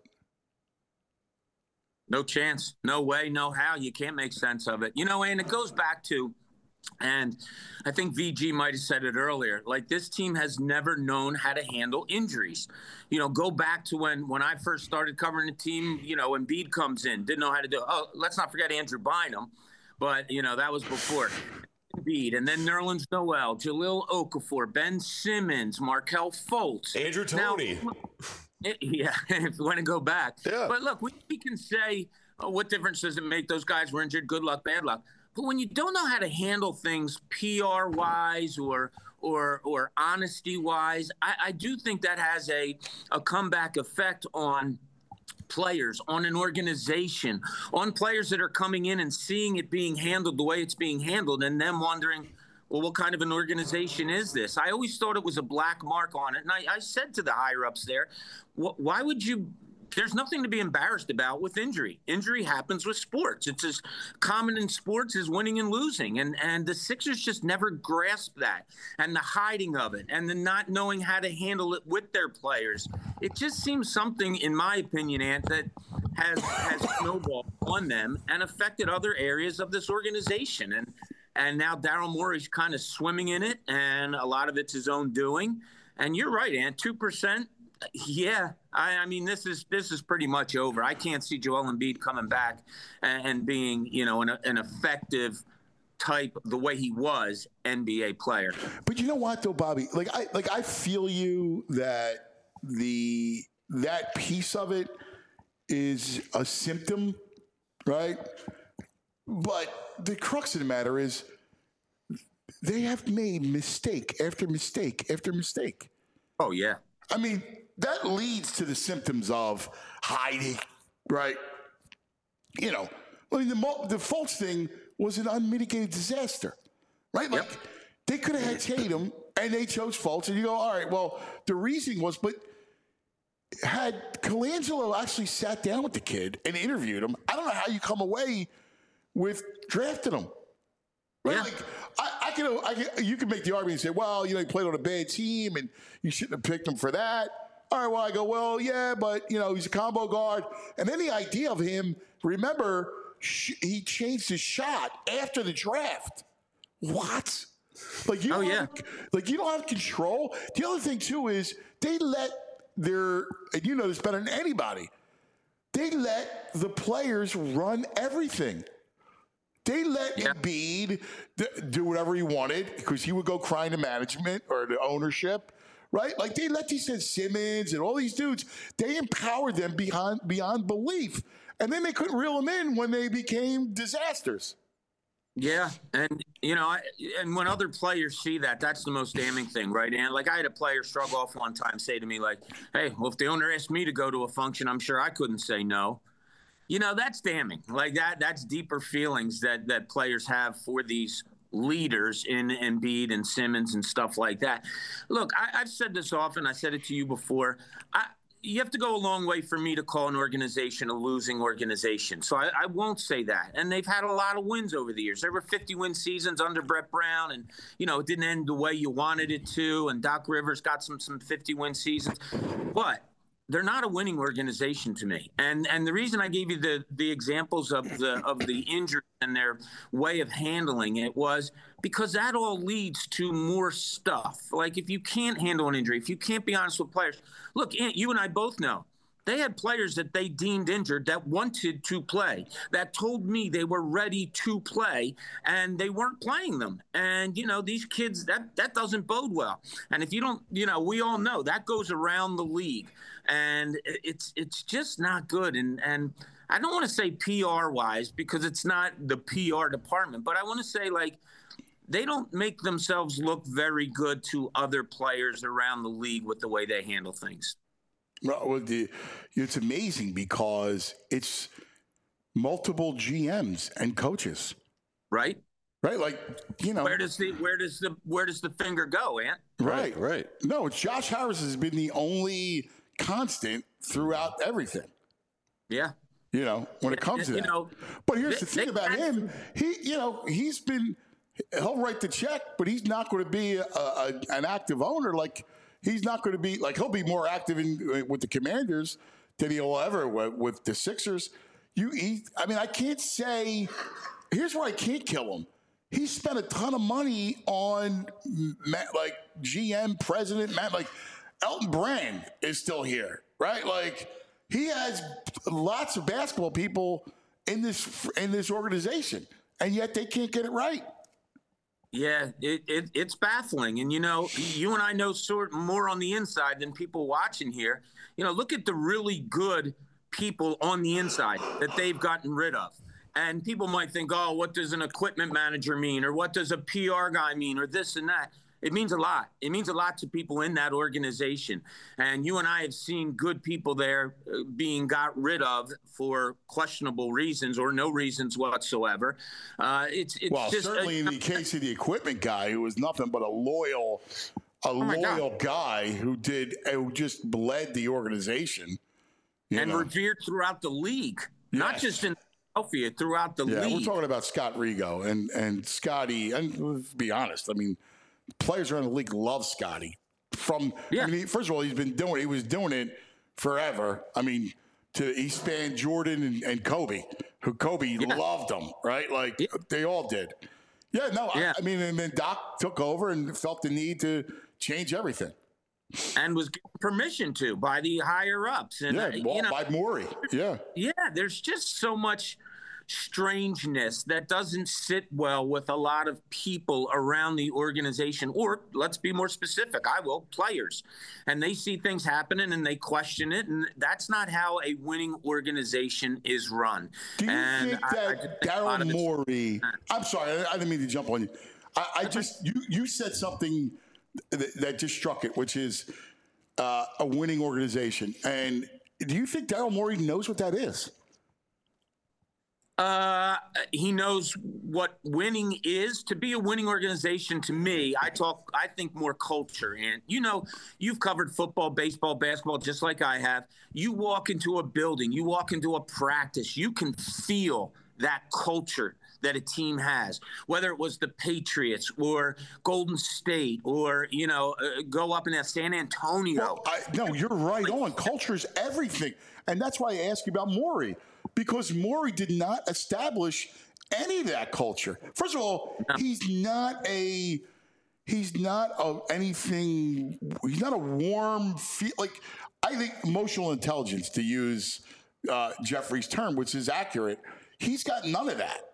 No chance. No way. No how. You can't make sense of it. And it goes back to, and I think VG might have said it earlier, like this team has never known how to handle injuries. Go back to when I first started covering the team, Embiid comes in, didn't know how to do it. Oh, let's not forget Andrew Bynum, but, that was before. Embiid, and then Nerlens Noel, Jahlil Okafor, Ben Simmons, Markelle Fultz. Andrew Toney. Yeah, if you want to go back. Yeah. But look, we can say, what difference does it make? Those guys were injured. Good luck, bad luck. But when you don't know how to handle things PR-wise or honesty-wise, I do think that has a comeback effect on players, on an organization, on players that are coming in and seeing it being handled the way it's being handled and them wondering, well, what kind of an organization is this? I always thought it was a black mark on it. And I said to the higher-ups there, why would you – there's nothing to be embarrassed about with injury. Injury happens with sports. It's as common in sports as winning and losing. And the Sixers just never grasped that, and the hiding of it, and the not knowing how to handle it with their players. It just seems something, in my opinion, Ant, that has snowballed on them and affected other areas of this organization. And now Daryl Morey's kind of swimming in it, and a lot of it's his own doing. And you're right, Ant, 2%. Yeah, I mean, this is pretty much over. I can't see Joel Embiid coming back and being, an effective type the way he was NBA player. But you know what, though, Bobby? I feel you that that piece of it is a symptom, right? But the crux of the matter is they have made mistake after mistake after mistake. Oh yeah. I mean, that leads to the symptoms of hiding, right? The Fultz thing was an unmitigated disaster, right? Like, they could have had Tatum, and they chose Fultz, and you go, all right, well, the reasoning was, but had Colangelo actually sat down with the kid and interviewed him, I don't know how you come away with drafting him. Right? Yeah. Like, you can make the argument and say, well, he played on a bad team and you shouldn't have picked him for that. All right, well, I go, well, yeah, but, he's a combo guard. And then the idea of him, remember, he changed his shot after the draft. What? Like, you don't have control. The other thing, too, is they let and you know this better than anybody, they let the players run everything. They let Embiid do whatever he wanted because he would go crying to management or the ownership, right? Like they let these Simmons and all these dudes, they empowered them beyond belief. And then they couldn't reel them in when they became disasters. Yeah, and and when other players see that, that's the most damning thing, right? And like I had a player struggle off one time, say to me like, "Hey, well, if the owner asked me to go to a function, I'm sure I couldn't say no." That's damning. Like that's deeper feelings that players have for these leaders in Embiid and Simmons and stuff like that. Look, I've said this often. I said it to you before. You have to go a long way for me to call an organization a losing organization. So I won't say that. And they've had a lot of wins over the years. There were 50-win seasons under Brett Brown, and, it didn't end the way you wanted it to. And Doc Rivers got some 50-win seasons. But they're not a winning organization to me. And the reason I gave you the examples of the injuries and their way of handling it was because that all leads to more stuff. Like if you can't handle an injury, if you can't be honest with players, look, Ant, you and I both know they had players that they deemed injured that wanted to play, that told me they were ready to play, and they weren't playing them. And, these kids, that doesn't bode well. And if you don't, we all know that goes around the league. And it's just not good. And I don't want to say PR-wise because it's not the PR department, but I want to say, like, they don't make themselves look very good to other players around the league with the way they handle things. Well, it's amazing because it's multiple GMs and coaches, right? Right, like where does the finger go, Ant? Right. No, it's Josh Harris has been the only constant throughout everything. Yeah. When it comes to that. But here's the thing about him. He'll write the check, but he's not going to be an active owner. Like he's not going to be he'll be more active with the Commanders than he'll ever with the Sixers. I can't say. Here's where I can't kill him. He spent a ton of money on GM, president, like Elton Brand is still here, right? Like he has lots of basketball people in this organization, and yet they can't get it right. Yeah, it's baffling. And, you and I know more on the inside than people watching here. Look at the really good people on the inside that they've gotten rid of. And people might think, oh, what does an equipment manager mean? Or what does a PR guy mean? Or this and that. It means a lot. It means a lot to people in that organization. And you and I have seen good people there being got rid of for questionable reasons or no reasons whatsoever. It's just certainly in the case of the equipment guy, who was nothing but a loyal guy who just bled the organization. Revered throughout the league, not just in Philadelphia, throughout the league. Yeah, we're talking about Scott Rigo and Scotty. And let's be honest, players around the league love Scotty. First of all, he was doing it forever. He spanned Jordan and Kobe, who Kobe loved him, right? They all did. Yeah, no, yeah. And then Doc took over and felt the need to change everything. And was given permission to by the higher ups. And, by Morey. Yeah. Yeah, there's just so much strangeness that doesn't sit well with a lot of people around the organization, or let's be more specific, players. And they see things happening and they question it, and that's not how a winning organization is run. Do you think that Daryl Morey – I'm sorry, I didn't mean to jump on you. You said something that just struck it, which is a winning organization. And do you think Daryl Morey knows what that is? He knows what winning is. To be a winning organization, to me, I think more culture. And, you've covered football, baseball, basketball, just like I have. You walk into a building, you walk into a practice, you can feel that culture that a team has, whether it was the Patriots or Golden State or, go up in San Antonio. Well, no, you're right on. Culture is everything. And that's why I asked you about Morey, because Morey did not establish any of that culture. First of all, he's not a warm feel. Like, I think emotional intelligence, to use Jeffrey's term, which is accurate, he's got none of that.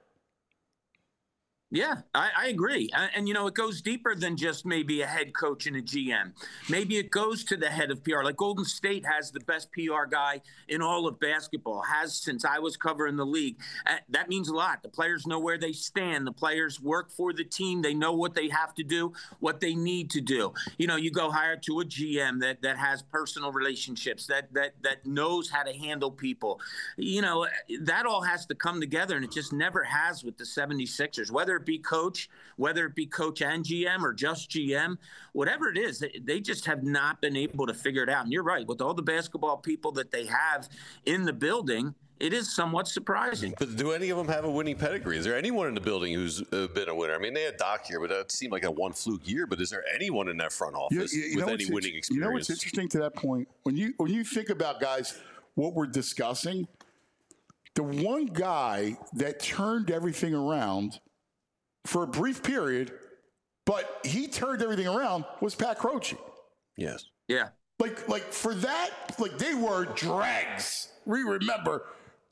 Yeah, I agree. And, it goes deeper than just maybe a head coach and a GM. Maybe it goes to the head of PR. Like Golden State has the best PR guy in all of basketball, has since I was covering the league. That means a lot. The players know where they stand. The players work for the team. They know what they have to do, what they need to do. You go hire to a GM that has personal relationships, that knows how to handle people. That all has to come together, and it just never has with the 76ers, whether it be coach and GM or just GM, whatever it is, they just have not been able to figure it out. And you're right, with all the basketball people that they have in the building, it is somewhat surprising. But do any of them have a winning pedigree? Is there anyone in the building who's been a winner? I mean, they had Doc here, but that seemed like a one fluke year. But is there anyone in that front office with any winning experience? You know what's interesting to that point? When you think about, guys, what we're discussing, the one guy that turned everything around for a brief period, but he turned everything around, was Pat Croce. Yes. Yeah. Like for that, they were dregs. We remember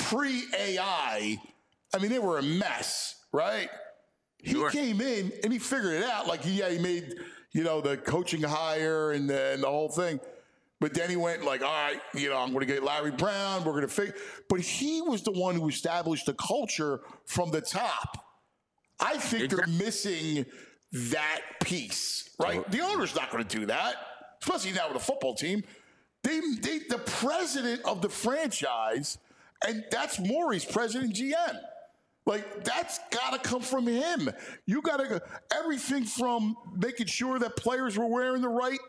pre-AI. I mean, they were a mess, right? Sure. He came in and he figured it out. He made, the coaching hire and the whole thing. But then he went all right, I'm going to get Larry Brown. We're going to figure. But he was the one who established the culture from the top. I think they're missing that piece, right? The owner's not going to do that, especially now with a football team. The president of the franchise, and that's Morey's president GM. That's got to come from him. You got to everything from making sure that players were wearing the right,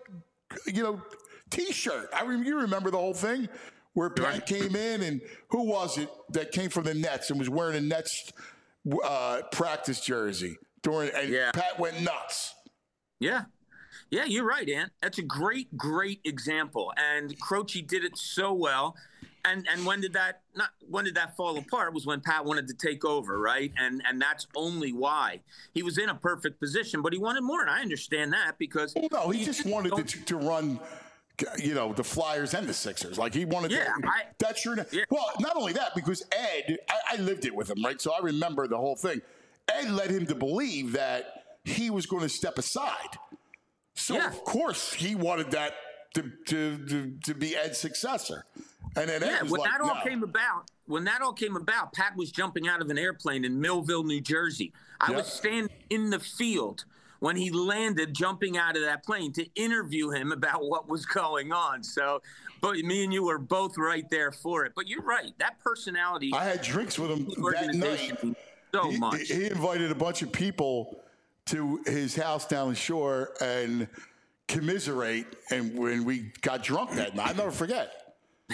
T-shirt. You remember the whole thing where Pat came in, and who was it that came from the Nets and was wearing a Nets practice jersey Pat went nuts. Yeah, you're right, Ant. That's a great example. And Croce did it so well. And when did that fall apart? Was when Pat wanted to take over, right? And that's only why. He was in a perfect position, but he wanted more, and I understand that because he just wanted to run the Flyers and the Sixers. He wanted to. That's true. Yeah. Well, not only that, because Ed, I lived it with him, right? So I remember the whole thing. Ed led him to believe that he was going to step aside. So, of course, he wanted that to be Ed's successor. And then Ed was when that all came about, Pat was jumping out of an airplane in Millville, New Jersey. I was standing in the field when he landed, jumping out of that plane to interview him about what was going on. So, but me and you were both right there for it. But you're right. That personality. I had drinks with him that night. So much. He invited a bunch of people to his house down the shore and commiserate. And when we got drunk that night, I'll never forget.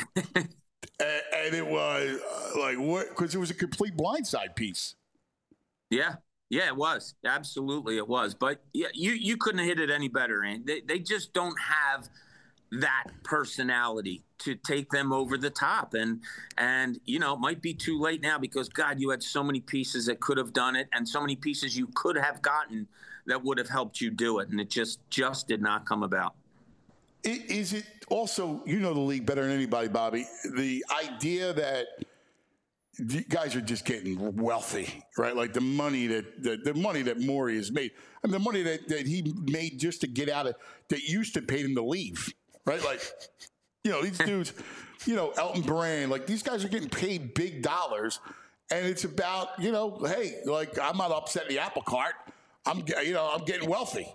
and it was what? Because it was a complete blindside piece. Yeah. Yeah, it was. Absolutely, it was. But you couldn't have hit it any better, Ann. They just don't have that personality to take them over the top. And it might be too late now because, God, you had so many pieces that could have done it and so many pieces you could have gotten that would have helped you do it. And it just did not come about. Is it also, the league better than anybody, Bobby, the idea that the guys are just getting wealthy, right? The money that Morey has made. I mean, the money that he made just to get out of, that used to pay him to leave, right? These dudes, Elton Brand, these guys are getting paid big dollars. And it's about, hey, I'm not upsetting the apple cart. I'm getting wealthy.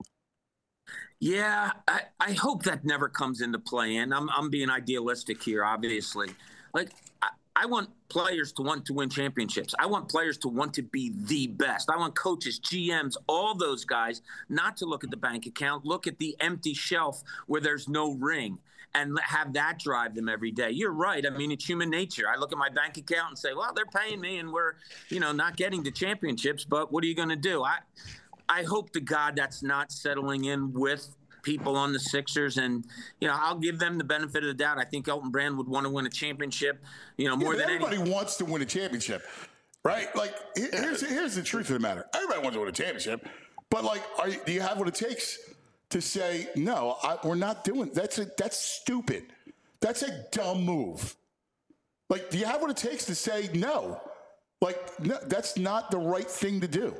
Yeah, I hope that never comes into play. And I'm being idealistic here, obviously. I want players to want to win championships. I want players to want to be the best. I want coaches, GMs, all those guys not to look at the bank account, look at the empty shelf where there's no ring, and have that drive them every day. You're right. I mean, it's human nature. I look at my bank account and say, well, they're paying me and we're, not getting to championships, but what are you going to do? I hope to God that's not settling in with people on the Sixers, and I'll give them the benefit of the doubt. I think Elton Brand would want to win a championship, more than everybody wants to win a championship, right? Like here's the truth of the matter. Everybody wants to win a championship, but do you have what it takes to say no? We're not doing that's stupid. That's a dumb move. Like, do you have what it takes to say no? Like, no, that's not the right thing to do.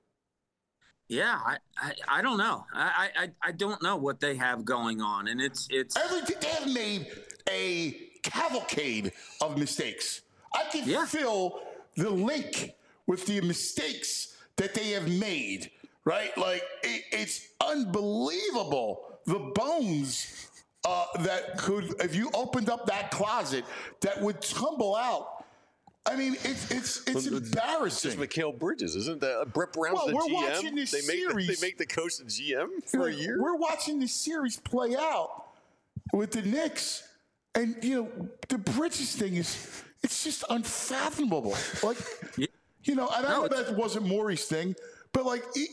Yeah, I don't know. I don't know what they have going on, and it's everything. They have made a cavalcade of mistakes. I can fill the link with the mistakes that they have made. Right, like it's unbelievable the bones that could, if you opened up that closet, that would tumble out. I mean, it's embarrassing. It's Mikal Bridges, isn't that? Brett Brown's the GM. Watching this series. They make the coach the GM for a year. We're watching this series play out with the Knicks, and the Bridges thing it's just unfathomable. Like, and I know that wasn't Morey's thing, but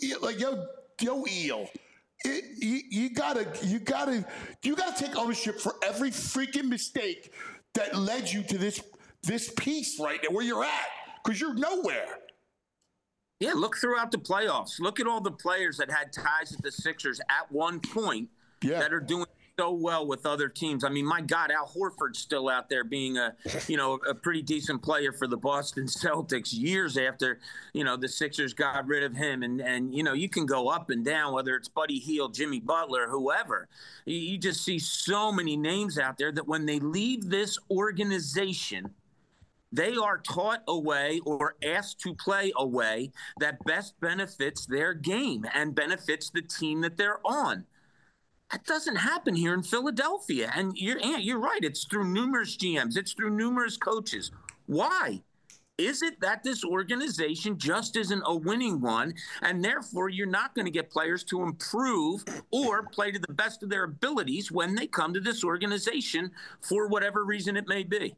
yo, Eel. You gotta take ownership for every freaking mistake that led you to this piece right now where you're at, because you're nowhere. Yeah, look throughout the playoffs. Look at all the players that had ties with the Sixers at one point that are doing so well with other teams. I mean, my God, Al Horford's still out there being a pretty decent player for the Boston Celtics years after, the Sixers got rid of him. And you can go up and down, whether it's Buddy Hield, Jimmy Butler, whoever. You just see so many names out there that when they leave this organization, they are taught a way or asked to play a way that best benefits their game and benefits the team that they're on. That doesn't happen here in Philadelphia. And you're right. It's through numerous GMs. It's through numerous coaches. Why? Is it that this organization just isn't a winning one, and therefore you're not going to get players to improve or play to the best of their abilities when they come to this organization for whatever reason it may be?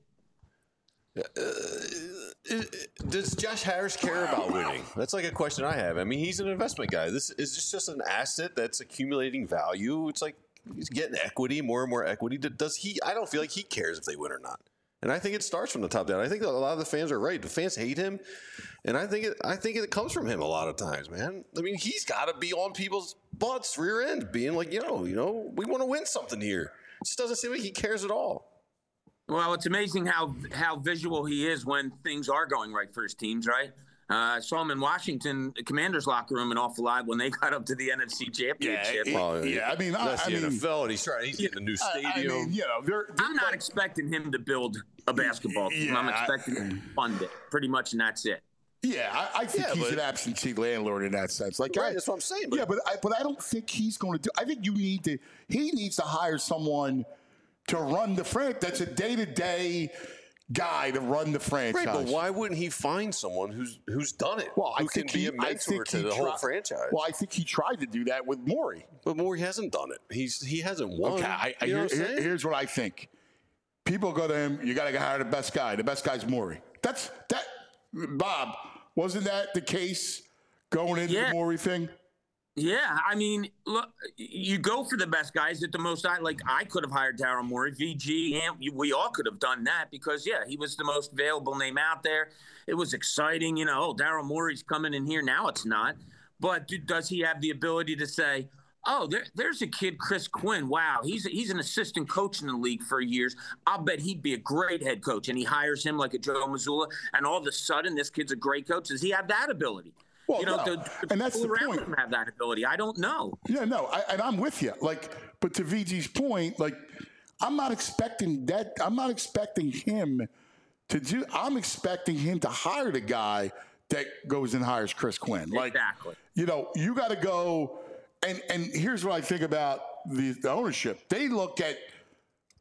Does Josh Harris care about winning? That's like a question I have. I mean, he's an investment guy. This is just an asset that's accumulating value. It's like he's getting equity, more and more equity. Does he? I don't feel like he cares if they win or not. And I think it starts from the top down. I think that a lot of the fans are right. The fans hate him, and I think it comes from him a lot of times, man. I mean, he's got to be on people's butts, rear end, being like, we want to win something here. It just doesn't seem like he cares at all. Well, it's amazing how visual he is when things are going right for his teams, right? I saw him in Washington, the Commanders' locker room, an awful lot when they got up to the NFC Championship. I mean, that's the NFL, and he's getting a new stadium. I'm not expecting him to build a basketball team. I'm expecting him to fund it, pretty much, and that's it. Yeah, I think he's an absentee landlord in that sense. Like, right, that's what I'm saying. But I don't think he's going to do. I think he needs to hire someone to run the franchise. That's a day-to-day guy to run the franchise. Right, but why wouldn't he find someone who's done it? Well, who can be a mentor to the whole franchise? Well, I think he tried to do that with Morey. But Morey hasn't done it. He hasn't won. Okay, here's what I think. People go to him, you got to hire the best guy. The best guy's Morey. Bob, wasn't that the case going into the Morey thing? Yeah, I mean, look, you go for the best guys at the most. I could have hired Daryl Morey, VG, and we all could have done that because, he was the most available name out there. It was exciting, Daryl Morey's coming in here. Now it's not. But does he have the ability to say, oh, there's a kid, Chris Quinn. Wow, he's an assistant coach in the league for years. I'll bet he'd be a great head coach. And he hires him like a Joe Mazzulla, and all of a sudden this kid's a great coach. Does he have that ability? Well, and that's the point. Him have that ability. I don't know. Yeah, no, and I'm with you. But to VG's point, I'm not expecting that. I'm not expecting him to do. I'm expecting him to hire the guy that goes and hires Chris Quinn. Exactly. You got to go. And here's what I think about the ownership. They look at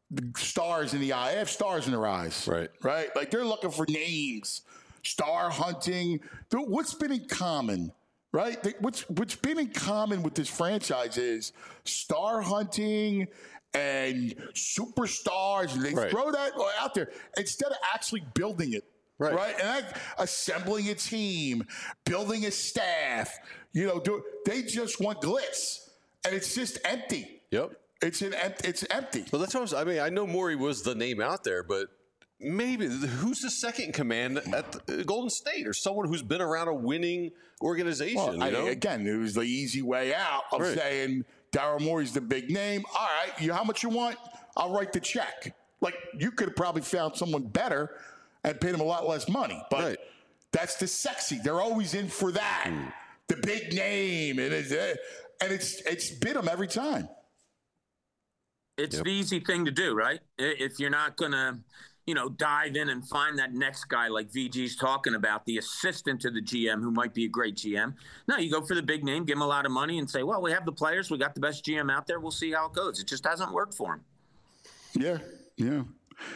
the stars in the eye. They have stars in their eyes. Right. Right? Like they're looking for names, star hunting. What's been in common? Right? What's been in common with this franchise is star hunting and superstars, and they throw that out there instead of actually building it. Right? And assembling a team, building a staff, they just want glitz. And it's just empty. Yep. It's empty. Well, that's what I mean. I know Morey was the name out there, but maybe who's the second in command at Golden State, or someone who's been around a winning organization? Well, again, it was the easy way out of saying Daryl Morey's the big name. All right, how much you want? I'll write the check. Like, you could have probably found someone better and paid him a lot less money, but that's the sexy. They're always in for that, the big name, and it's bit them every time. It's the easy thing to do, right? If you're not going to, dive in and find that next guy like VG's talking about, the assistant to the GM who might be a great GM. No, you go for the big name, give him a lot of money and say, well, we have the players. We got the best GM out there. We'll see how it goes. It just hasn't worked for him. Yeah.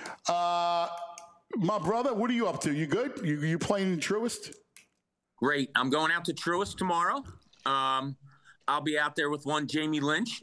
My brother, what are you up to? You good? You playing in Truist? Great. I'm going out to Truist tomorrow. I'll be out there with one Jamie Lynch.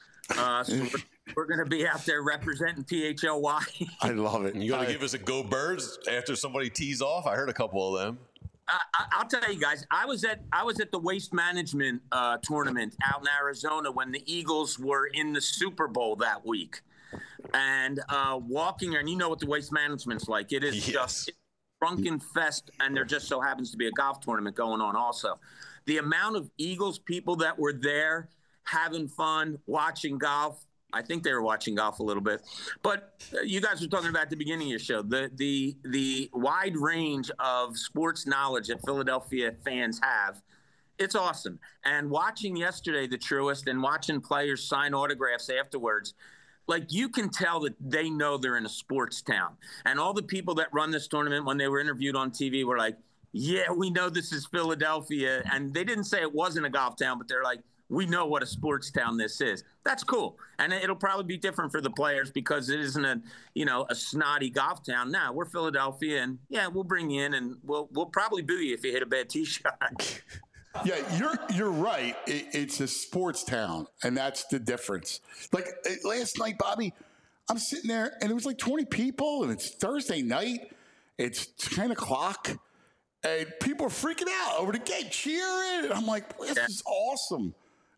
So we're going to be out there representing PHLY. I love it. You got to give us a go Birds after somebody tees off. I heard a couple of them. I'll tell you guys, I was at the Waste Management tournament out in Arizona when the Eagles were in the Super Bowl that week. And walking there, and you know what the Waste Management's like. It is just drunken fest, and there just so happens to be a golf tournament going on also. The amount of Eagles people that were there having fun, watching golf. I think they were watching golf a little bit. But you guys were talking about at the beginning of your show, the wide range of sports knowledge that Philadelphia fans have. It's awesome. And watching yesterday the Truist and watching players sign autographs afterwards, like you can tell that they know they're in a sports town. And all the people that run this tournament, when they were interviewed on TV, were like, yeah, we know this is Philadelphia. And they didn't say it wasn't a golf town, but they're like, we know what a sports town this is. That's cool. And it'll probably be different for the players because it isn't a snotty golf town. Now, we're Philadelphia, and we'll bring you in, and we'll probably boo you if you hit a bad tee shot. Yeah, you're right. It's a sports town, and that's the difference. Like last night, Bobby, I'm sitting there, and it was like 20 people, and it's Thursday night. It's 10 o'clock, and people are freaking out over the game, cheering. And I'm like, this is awesome.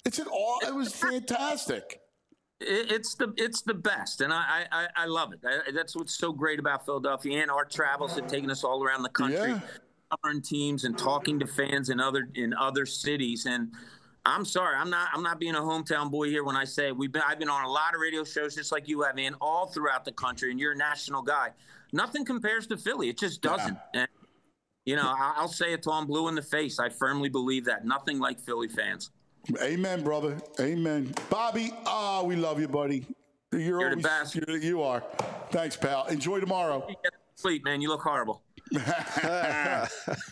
It was fantastic. It's the best, and I love it. That's what's so great about Philadelphia, and our travels have taken us all around the country, covering teams and talking to fans in other cities. And I'm sorry, I'm not being a hometown boy here when I say I've been on a lot of radio shows just like you have, man, all throughout the country, and you're a national guy. Nothing compares to Philly. It just doesn't. And I'll say it till I'm blue in the face. I firmly believe that. Nothing like Philly fans. Amen, brother. Amen. Bobby, we love you, buddy. You're the best. You are. Thanks, pal. Enjoy tomorrow. You get sleep, man. You look horrible. How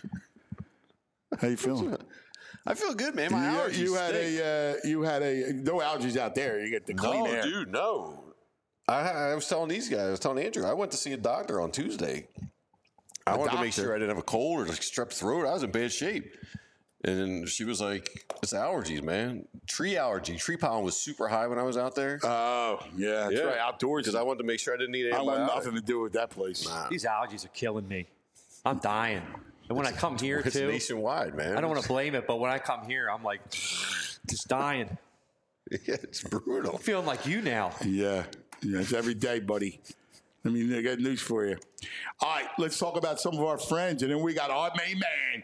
you feeling? I feel good, man. My allergies. You had no allergies out there. You get the clean air. No, dude, no. I was telling these guys. I was telling Andrew. I went to see a doctor on Tuesday. I wanted to make sure I didn't have a cold or like strep throat. I was in bad shape. And she was like, it's allergies, man. Tree allergy. Tree pollen was super high when I was out there. Oh, yeah. That's right. Outdoors. Because I wanted to make sure I didn't need antibiotics. I want nothing to do with that place. Nah. These allergies are killing me. I'm dying. And when I come here, it's nationwide, man. I don't want to blame it, but when I come here, I'm like, just dying. Yeah, it's brutal. I'm feeling like you now. Yeah. It's every day, buddy. I mean, I got news for you. All right, let's talk about some of our friends. And then we got our main man,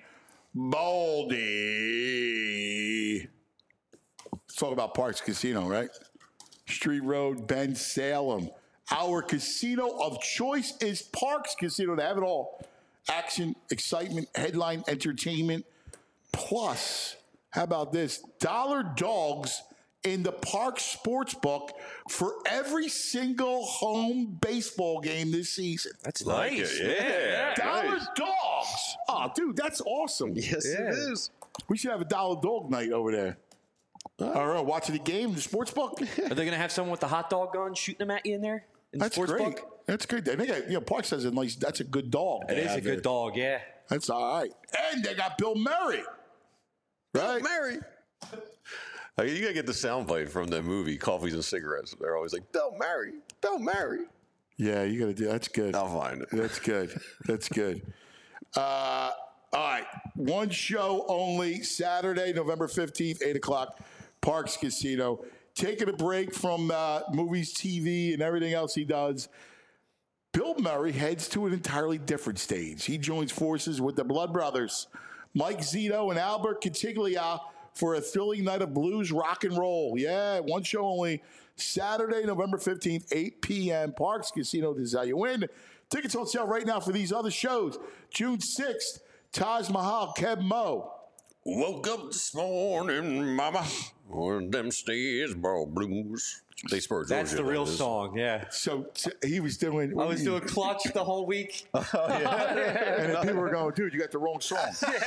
Baldy. Let's talk about Parks Casino, right? Street Road, Bend, Salem. Our casino of choice is Parks Casino. They have it all. Action, excitement, headline, entertainment. Plus, how about this? Dollar dogs in the Parks Sportsbook for every single home baseball game this season. That's Like nice. it, yeah. Dollar Nice. dogs. Oh, dude, that's awesome. Yes, it is. We should have a dollar dog night over there. All right, watching the game, the sports book. Are they going to have someone with the hot dog gun shooting them at you in there in the That's sports great. book. That's good. I think Park says it nice. That's a good dog. It is a good dog, yeah. That's all right. And they got Bill Murray. Right? Mary. You gotta get the soundbite from the movie Coffees and Cigarettes. They're always like, Bill Murray, Bill Murray. Yeah, you got to do. That's good. I'll find it. That's good. That's good. All right. One show only. Saturday, November 15th, 8 o'clock, Parks Casino. Taking a break from movies, TV, and everything else he does. Bill Murray heads to an entirely different stage. He joins forces with the Blood Brothers, Mike Zito and Albert Cantiglia, for a thrilling night of blues rock and roll. Yeah, one show only. Saturday, November 15th, 8 p.m. Parks Casino. This is how you win. Tickets on sale right now for these other shows. June 6th, Taj Mahal, Keb Mo. Woke up this morning, mama, on them stairs brought blues. They spurred That's the real song, yeah. So he was doing. I was doing Clutch the whole week. And then people were going, dude, you got the wrong song.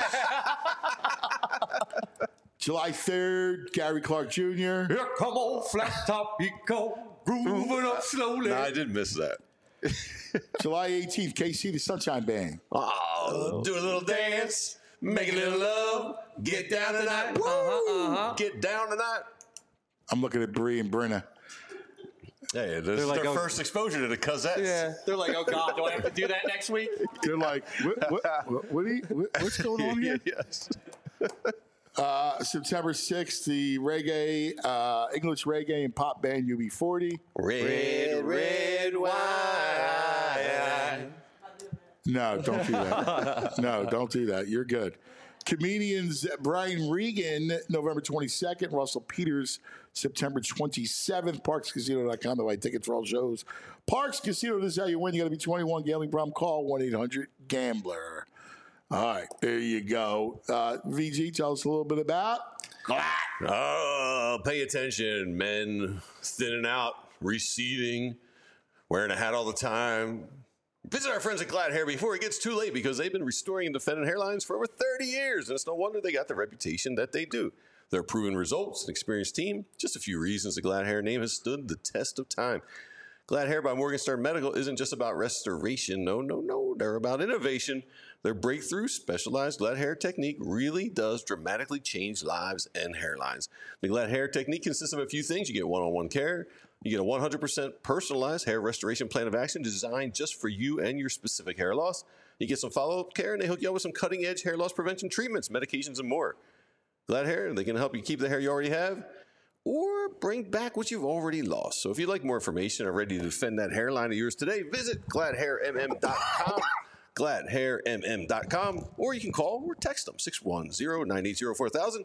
July 3rd, Gary Clark Jr. Here come old flat top, he go grooving up slowly. I did miss that. July 18th, KC the Sunshine Band. Oh, do a little dance, make a little love, get down tonight. Get down tonight. I'm looking at Bree and Brenna. Hey, this is like, their oh, first exposure to the Cosettes. Yeah, they're like, oh God, do I have to do that next week? They're like, what's going on here? Yes. September 6th, the reggae, English reggae and pop band UB40. Red wine. No, don't do that. No, don't do that. You're good. Comedians Brian Regan, November 22nd. Russell Peters, September 27th. ParksCasino.com to buy tickets for all shows. Parks Casino, this is how you win. You got to be 21. Gambling problem, call 1-800-GAMBLER. All right, there you go. VG, tell us a little bit about GLAD. Oh, pay attention, men. Thinning out, receding, wearing a hat all the time. Visit our friends at Glad Hair before it gets too late, because they've been restoring and defending hairlines for over 30 years, and it's no wonder they got the reputation that they do. Their proven results, an experienced team, just a few reasons the Glad Hair name has stood the test of time. Glad Hair by Morningstar Medical isn't just about restoration. No. They're about innovation. Their breakthrough specialized Glad Hair technique really does dramatically change lives and hairlines. The Glad Hair technique consists of a few things. You get one-on-one care. You get a 100% personalized hair restoration plan of action designed just for you and your specific hair loss. You get some follow-up care, and they hook you up with some cutting-edge hair loss prevention treatments, medications, and more. Glad Hair, they can help you keep the hair you already have or bring back what you've already lost. So if you'd like more information or ready to defend that hairline of yours today, visit gladhairmm.com. gladhairmm.com, or you can call or text them 610-980-4000,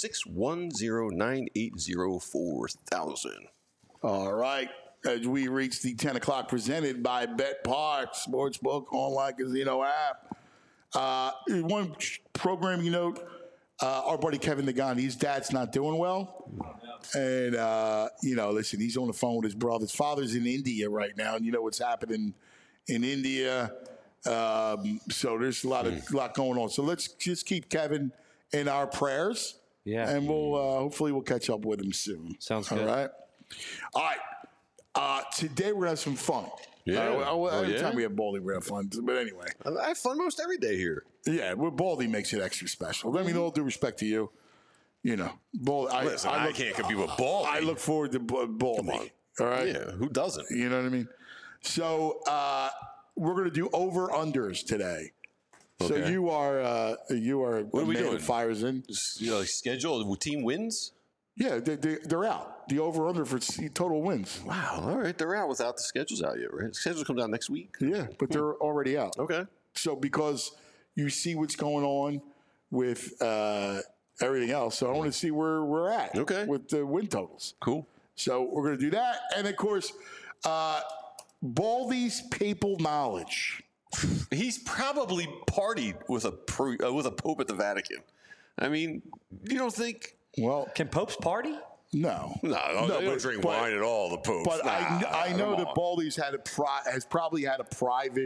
610-980-4000. All right, as we reach the 10 o'clock presented by BetPark, Sportsbook Online Casino app. One programming note, our buddy Kevin Nagan, his dad's not doing well. And, listen, he's on the phone with his brother. His father's in India right now, and you know what's happening in India. So there's a lot going on. So let's just keep Kevin in our prayers. Yeah. And we'll hopefully we'll catch up with him soon. Sounds good. All right. Today we're going to have some fun. Yeah. Every time we have Baldy, we're going to have fun. But anyway. I have fun most every day here. Yeah, Baldy makes it extra special. I mean, all due respect to you. You know, Baldy. Listen, I can't compete with Baldy. I look forward to Baldy. Come on. All right? Yeah, who doesn't? You know what I mean? So we're going to do over-unders today. So Okay. you are What are we doing? Fires in. Schedule, the team wins? Yeah, they're out. The over-under for total wins. Wow, all right. They're out without the schedules out yet, right? The schedules come out next week? Yeah, but they're already out. Okay. So because you see what's going on with everything else, so I want to see where we're at with the win totals. Cool. So we're going to do that. And, of course, Baldy's papal knowledge. He's probably partied with a pope at the Vatican. I mean, you don't think... Well, Can popes party? no. No, they don't drink wine at all, the popes. But I know that Baldy's has probably had a private,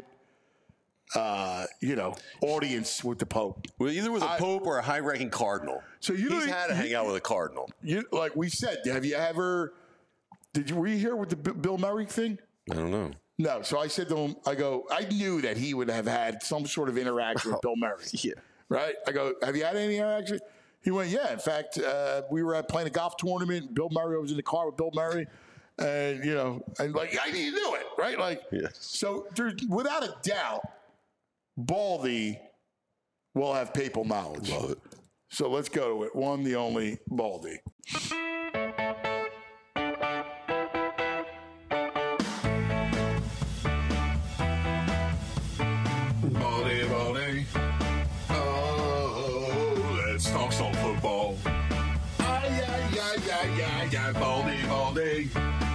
audience with the Pope. Well, either with a pope or a high-ranking cardinal. So He's had to hang out with a cardinal. Like we said, were you here with the Bill Murray thing? I don't know. No. So I said to him, I knew that he would have had some sort of interaction with Bill Murray. Yeah. Right? I go, have you had any interaction? He went, yeah. In fact, we were playing a golf tournament. And Bill Murray, I was in the car with Bill Murray. And, and like, I knew it, right? Like, yes. So there's, without a doubt, Baldy will have papal knowledge. Love it. So let's go to it. One, the only Baldy. Baldy. Oh, let's talk some football. Yeah, Baldy.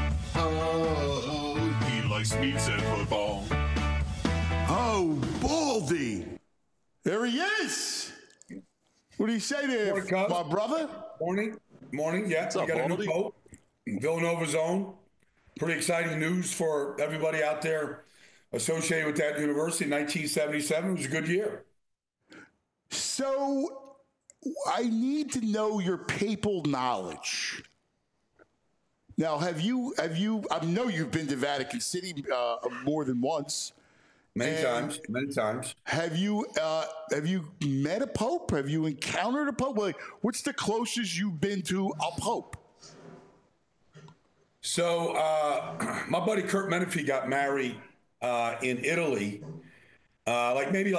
Oh, he likes meats and football. Oh, Baldy. There he is. What do you say there, my brother? Morning. Yeah, What's up, we got Baldy? a new pope, Villanova's own. Pretty exciting news for everybody out there associated with that university. 1977 was a good year. So I need to know your papal knowledge. Now, have you? I know you've been to Vatican City more than once. Many times. Have you met a pope? Have you encountered a pope? Like, what's the closest you've been to a pope? So my buddy Kurt Menefee got married in Italy, probably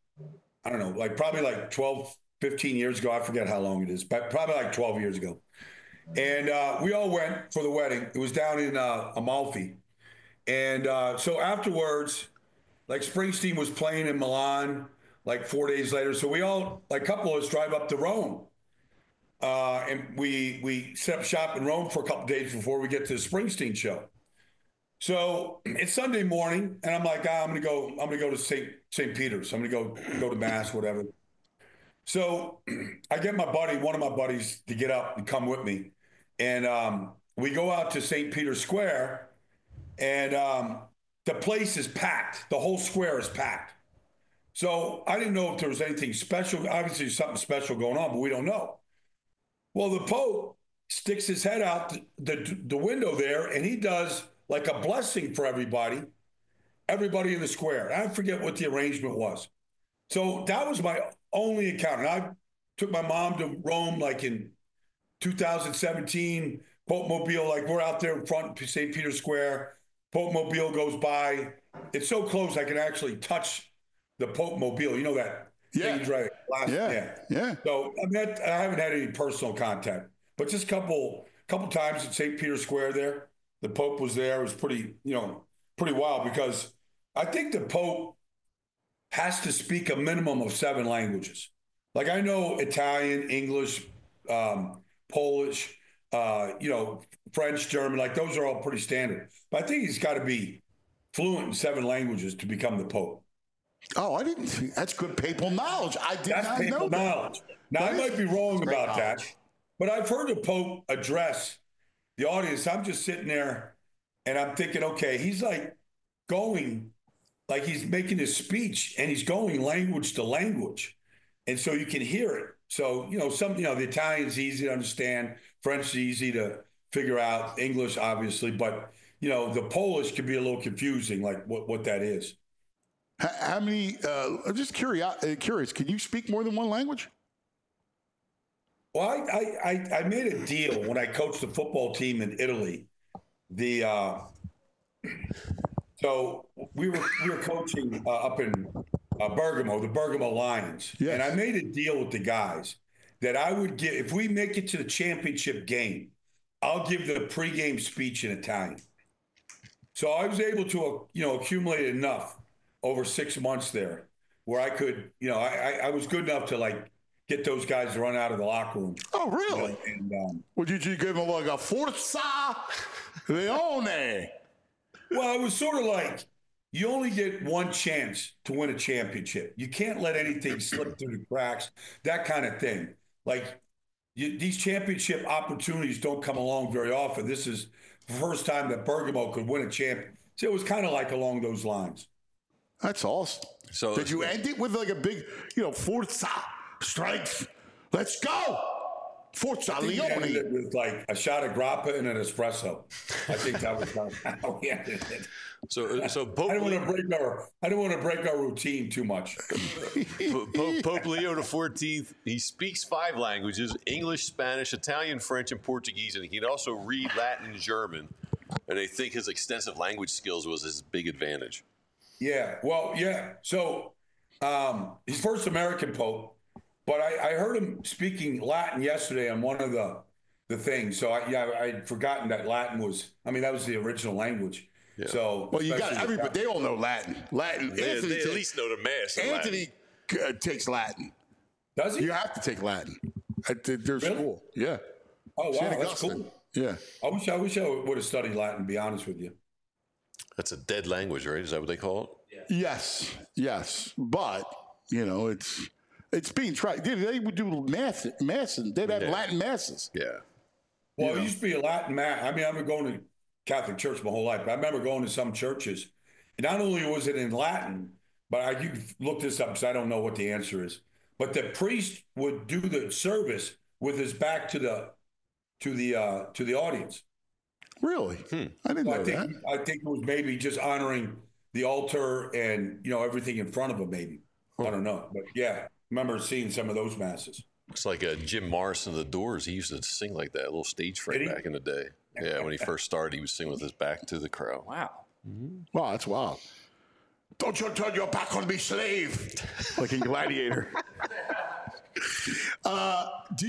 12, 15 years ago. I forget how long it is, but probably like 12 years ago. And we all went for the wedding. It was down in Amalfi. And so afterwards, like Springsteen was playing in Milan like 4 days later. So we all, like a couple of us, drive up to Rome. And we set up shop in Rome for a couple of days before we get to the Springsteen show. So it's Sunday morning, and I'm like, I'm gonna go to St. Peter's. I'm gonna go to mass, whatever. So I get one of my buddies, to get up and come with me, and we go out to St. Peter's Square, and the place is packed. The whole square is packed. So I didn't know if there was anything special. Obviously, there's something special going on, but we don't know. Well, the Pope sticks his head out the window there, and he does like a blessing for everybody in the square. I forget what the arrangement was. So that was my only encounter. And I took my mom to Rome like in 2017, Pope Mobile, like we're out there in front of St. Peter's Square. Pope Mobile goes by. It's so close I can actually touch the Pope Mobile. You know that? Yeah. Right. Yeah. So I haven't had any personal contact, but just a couple times at St. Peter's Square there, the Pope was there. It was pretty wild, because I think the Pope has to speak a minimum of 7 languages. Like I know Italian, English, Polish, French, German, like those are all pretty standard. But I think he's got to be fluent in 7 languages to become the Pope. Oh, I didn't think that's good papal knowledge. I did That's not know papal that. knowledge. Now, I might be wrong about that, but I've heard the Pope address the audience. I'm just sitting there and I'm thinking, okay, he's like going, like he's making his speech and he's going language to language. And so you can hear it. So, the Italian's easy to understand. French is easy to figure out. English, obviously. But, the Polish could be a little confusing, like what that is. How many, I'm just curious, can you speak more than one language? Well, I made a deal when I coached the football team in Italy. So we were coaching up in Bergamo, the Bergamo Lions. Yes. And I made a deal with the guys that I would give, if we make it to the championship game, I'll give the pregame speech in Italian. So I was able to, accumulate enough over 6 months there where I could, I was good enough to like get those guys to run out of the locker room. Oh, really? Would you give them like a Forza Leone? Well, it was sort of like you only get one chance to win a championship. You can't let anything slip through the cracks, that kind of thing. Like these championship opportunities don't come along very often. This is the first time that Bergamo could win a champion. So it was kind of like along those lines. That's awesome. So did you end it with like a big, Forza strength? Let's go. Forza I think he ended Leone. it with like a shot of grappa and an espresso. I think that was how he ended it. So I don't want to break our routine too much. Pope Leo XIV, he speaks 5 languages: English, Spanish, Italian, French, and Portuguese, and he can also read Latin and German. And I think his extensive language skills was his big advantage. Yeah, well, yeah. So he's first American Pope, but I heard him speaking Latin yesterday on one of the things. So I'd forgotten that Latin was. I mean, that was the original language. Yeah. So well, you got everybody. They all know Latin. They at least know the mass. Anthony takes Latin. Does he? You have to take Latin at their school. Yeah. Oh wow, that's cool. Yeah. I wish I would have studied Latin. To be honest with you. That's a dead language, right? Is that what they call it? Yeah. Yes. But it's being tried. They would do mass. They'd have Latin masses. Yeah. Well, it used to be a Latin mass. I mean, I've been going to Catholic church my whole life, but I remember going to some churches. And not only was it in Latin, but you can look this up because I don't know what the answer is. But the priest would do the service with his back to the audience. Really? I didn't know that. I think it was maybe just honoring the altar and everything in front of him. Maybe I don't know, but yeah, I remember seeing some of those masses. It's like Jim Morrison of the Doors. He used to sing like that, a little stage fright back in the day. Yeah, when he first started, he would sing with his back to the crowd. Wow. Wow, that's wild. Don't you turn your back on me, slave. Like in Gladiator. Did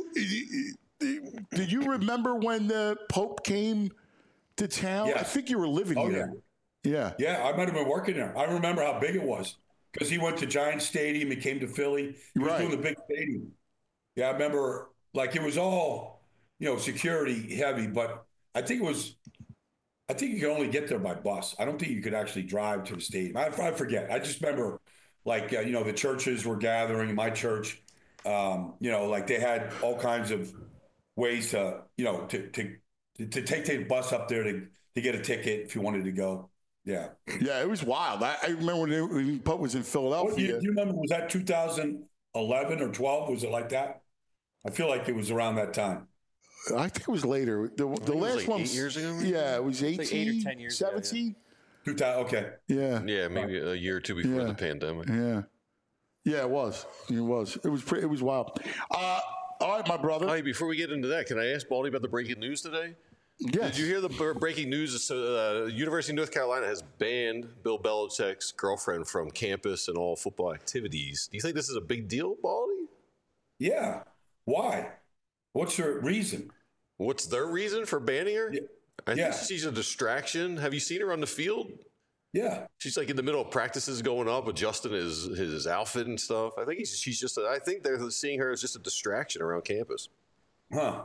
you remember when the Pope came to town? Yes. I think you were living there. Yeah. Yeah, I might have been working there. I remember how big it was because he went to Giant Stadium. He came to Philly. He was doing the big stadium. Yeah, I remember it was all, security heavy, but I think you could only get there by bus. I don't think you could actually drive to the stadium. I forget. I just remember the churches were gathering in my church. They had all kinds of ways to take the bus up there to get a ticket if you wanted to go. Yeah. Yeah, it was wild. I remember when Pope was in Philadelphia. Do you remember, was that 2011 or 12? Was it like that? I feel like it was around that time. I think it was later. The last one 8 years ago? Yeah, it was 18, like 8 or 10 years 17. Ago, yeah. Okay. Yeah. Yeah, maybe a year or two before the pandemic. Yeah. Yeah, it was. It was wild. All right, my brother. Hey, before we get into that, can I ask Baldy about the breaking news today? Yes. Did you hear the breaking news? University of North Carolina has banned Bill Belichick's girlfriend from campus and all football activities. Do you think this is a big deal, Baldy? Yeah. Why? What's your reason? What's their reason for banning her? Yeah. I think she's a distraction. Have you seen her on the field? Yeah. She's like in the middle of practices going up, adjusting his outfit and stuff. I think I think they're seeing her as just a distraction around campus. Huh.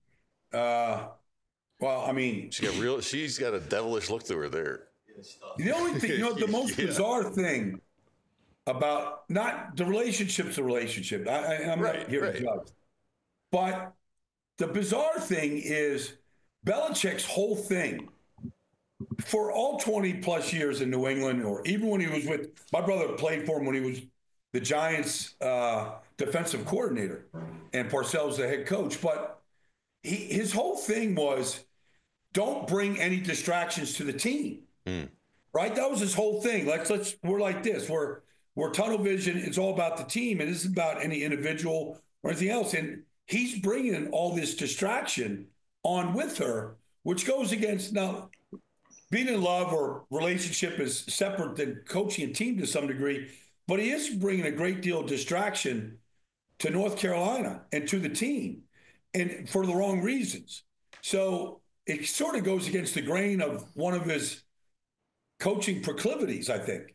Well, I mean, she's got a devilish look to her there. The only thing, the most bizarre thing about not the relationship's a relationship. I'm not here to judge. But the bizarre thing is Belichick's whole thing for all 20 plus years in New England, or even when he was with my brother played for him when he was the Giants defensive coordinator and Parcells the head coach. But his whole thing was don't bring any distractions to the team. Right? That was his whole thing. We're like this. We're tunnel vision. It's all about the team. It isn't about any individual or anything else. And he's bringing all this distraction on with her, which goes against now being in love or relationship is separate than coaching a team to some degree, but he is bringing a great deal of distraction to North Carolina and to the team, and for the wrong reasons. So it sort of goes against the grain of one of his coaching proclivities, I think.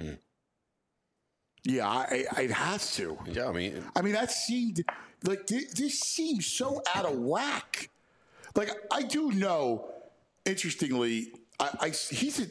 Yeah, it has to. Yeah, I mean, that seemed like this seems so out of whack. Like, I do know, interestingly, he's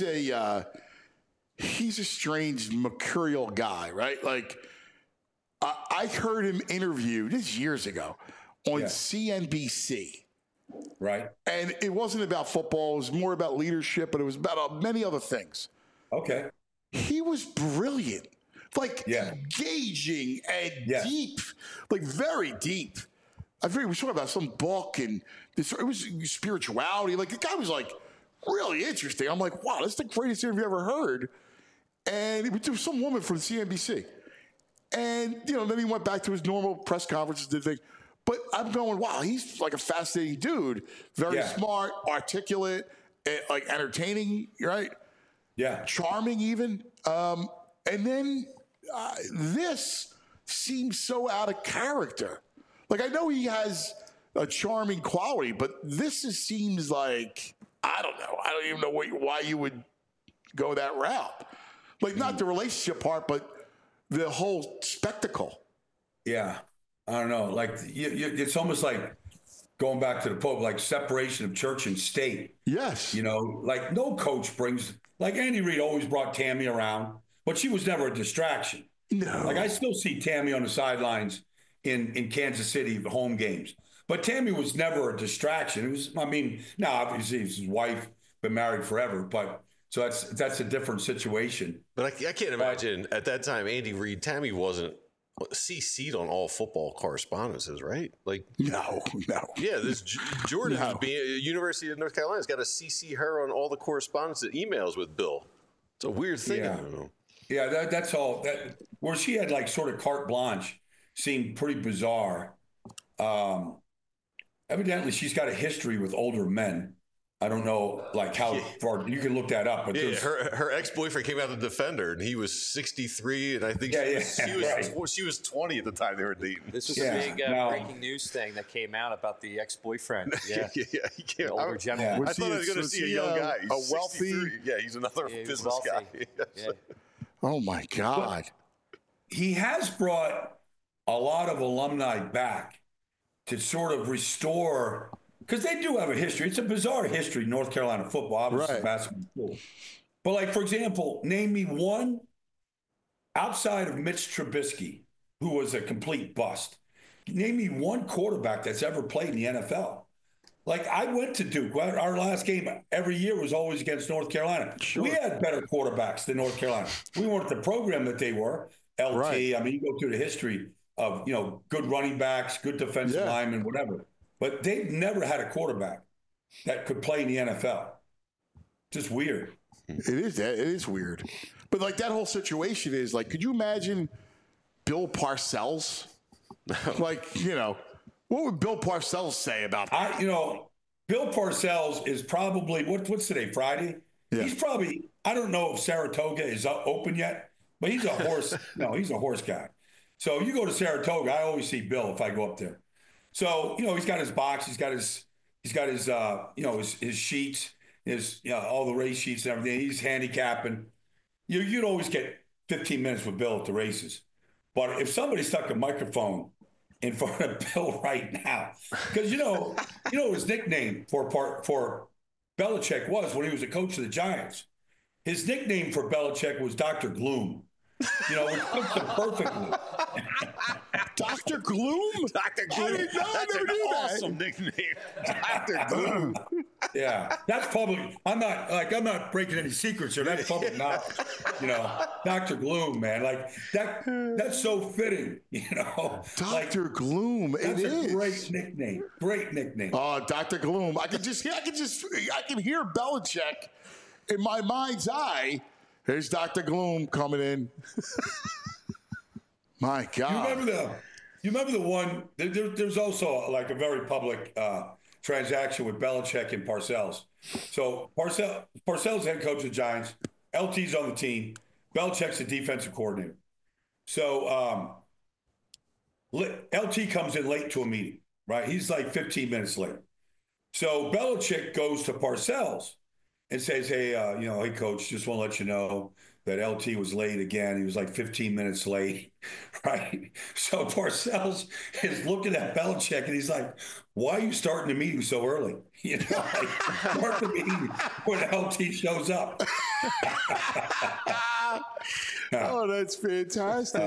a strange mercurial guy, right? Like, I heard him interview this years ago on CNBC. Right. And it wasn't about football. It was more about leadership, but it was about many other things. Okay. He was brilliant. Like, engaging and deep, like very deep. I forget, we were talking about some book and this, it was spirituality. Like the guy was like really interesting. I'm like, wow, that's the greatest interview I've ever heard. And it was some woman from CNBC. And, then he went back to his normal press conferences, did things. But I'm going, wow, he's like a fascinating dude. Very smart, articulate, like entertaining, right? Yeah. Charming even. And then this seems so out of character. Like, I know he has a charming quality, but this seems like, I don't know. I don't even know why you would go that route. Like, not the relationship part, but the whole spectacle. Yeah. I don't know. Like, it's almost like going back to the Pope, like separation of church and state. Yes. Like no coach brings, like Andy Reid always brought Tammy around, but she was never a distraction. No. Like I still see Tammy on the sidelines in Kansas City home games. But Tammy was never a distraction. It was, now obviously his wife, been married forever, but so that's a different situation. But I can't imagine at that time, Andy Reid, Tammy wasn't CC'd on all football correspondences, right? Like no. Yeah, this Jordan University of North Carolina's got to CC her on all the correspondence, emails with Bill. It's a weird thing. Yeah, I don't know. Yeah, that's all. Where she had like sort of carte blanche seemed pretty bizarre. Evidently, she's got a history with older men. I don't know, like how far you can look that up. But her ex-boyfriend came out to defend her, and he was 63, and I think she was 20 at the time they were dating. This was a big breaking news thing that came out about the ex-boyfriend. Yeah, he came an older gentleman. I thought I was going to see a young guy. He's a wealthy. He's another business guy. Oh my God! But he has brought a lot of alumni back to sort of restore. Because they do have a history. It's a bizarre history, North Carolina football, obviously basketball. But, like, for example, name me one outside of Mitch Trubisky, who was a complete bust. Name me one quarterback that's ever played in the NFL. Like, I went to Duke. Our last game every year was always against North Carolina. Sure. We had better quarterbacks than North Carolina. We weren't the program that they were. LT, right. I mean, you go through the history of, good running backs, good defensive linemen, whatever. But they've never had a quarterback that could play in the NFL. Just weird. It is weird. But like that whole situation is like, could you imagine Bill Parcells? Like, what would Bill Parcells say about that? Bill Parcells is probably, what's today, Friday? Yeah. He's probably, I don't know if Saratoga is open yet, but he's a horse. He's a horse guy. So you go to Saratoga, I always see Bill if I go up there. So, he's got his box, he's got his his sheets, all the race sheets and everything. He's handicapping. You'd always get 15 minutes with Bill at the races. But if somebody stuck a microphone in front of Bill right now, because his nickname for Belichick was when he was a coach of the Giants. His nickname for Belichick was Dr. Gloom. It fits him perfectly. Dr. Gloom? Dr. Gloom. That's an awesome nickname. Dr. Gloom. Yeah. That's public. I'm not breaking any secrets here. That's public knowledge. Dr. Gloom, man. Like that's so fitting, Dr. Gloom. That's a great nickname. Great nickname. Oh, Dr. Gloom. I can hear Belichick in my mind's eye. Here's Dr. Gloom coming in. My God. You remember the one, there's also like a very public transaction with Belichick and Parcells. So Parcells head coach of the Giants. LT's on the team. Belichick's the defensive coordinator. So LT comes in late to a meeting, right? He's like 15 minutes late. So Belichick goes to Parcells and says, hey, hey, coach, just want to let you know that LT was late again. He was like 15 minutes late, right? So Parcells is looking at Belichick, and he's like, why are you starting the meeting so early? Start the meeting when LT shows up. Oh, that's fantastic.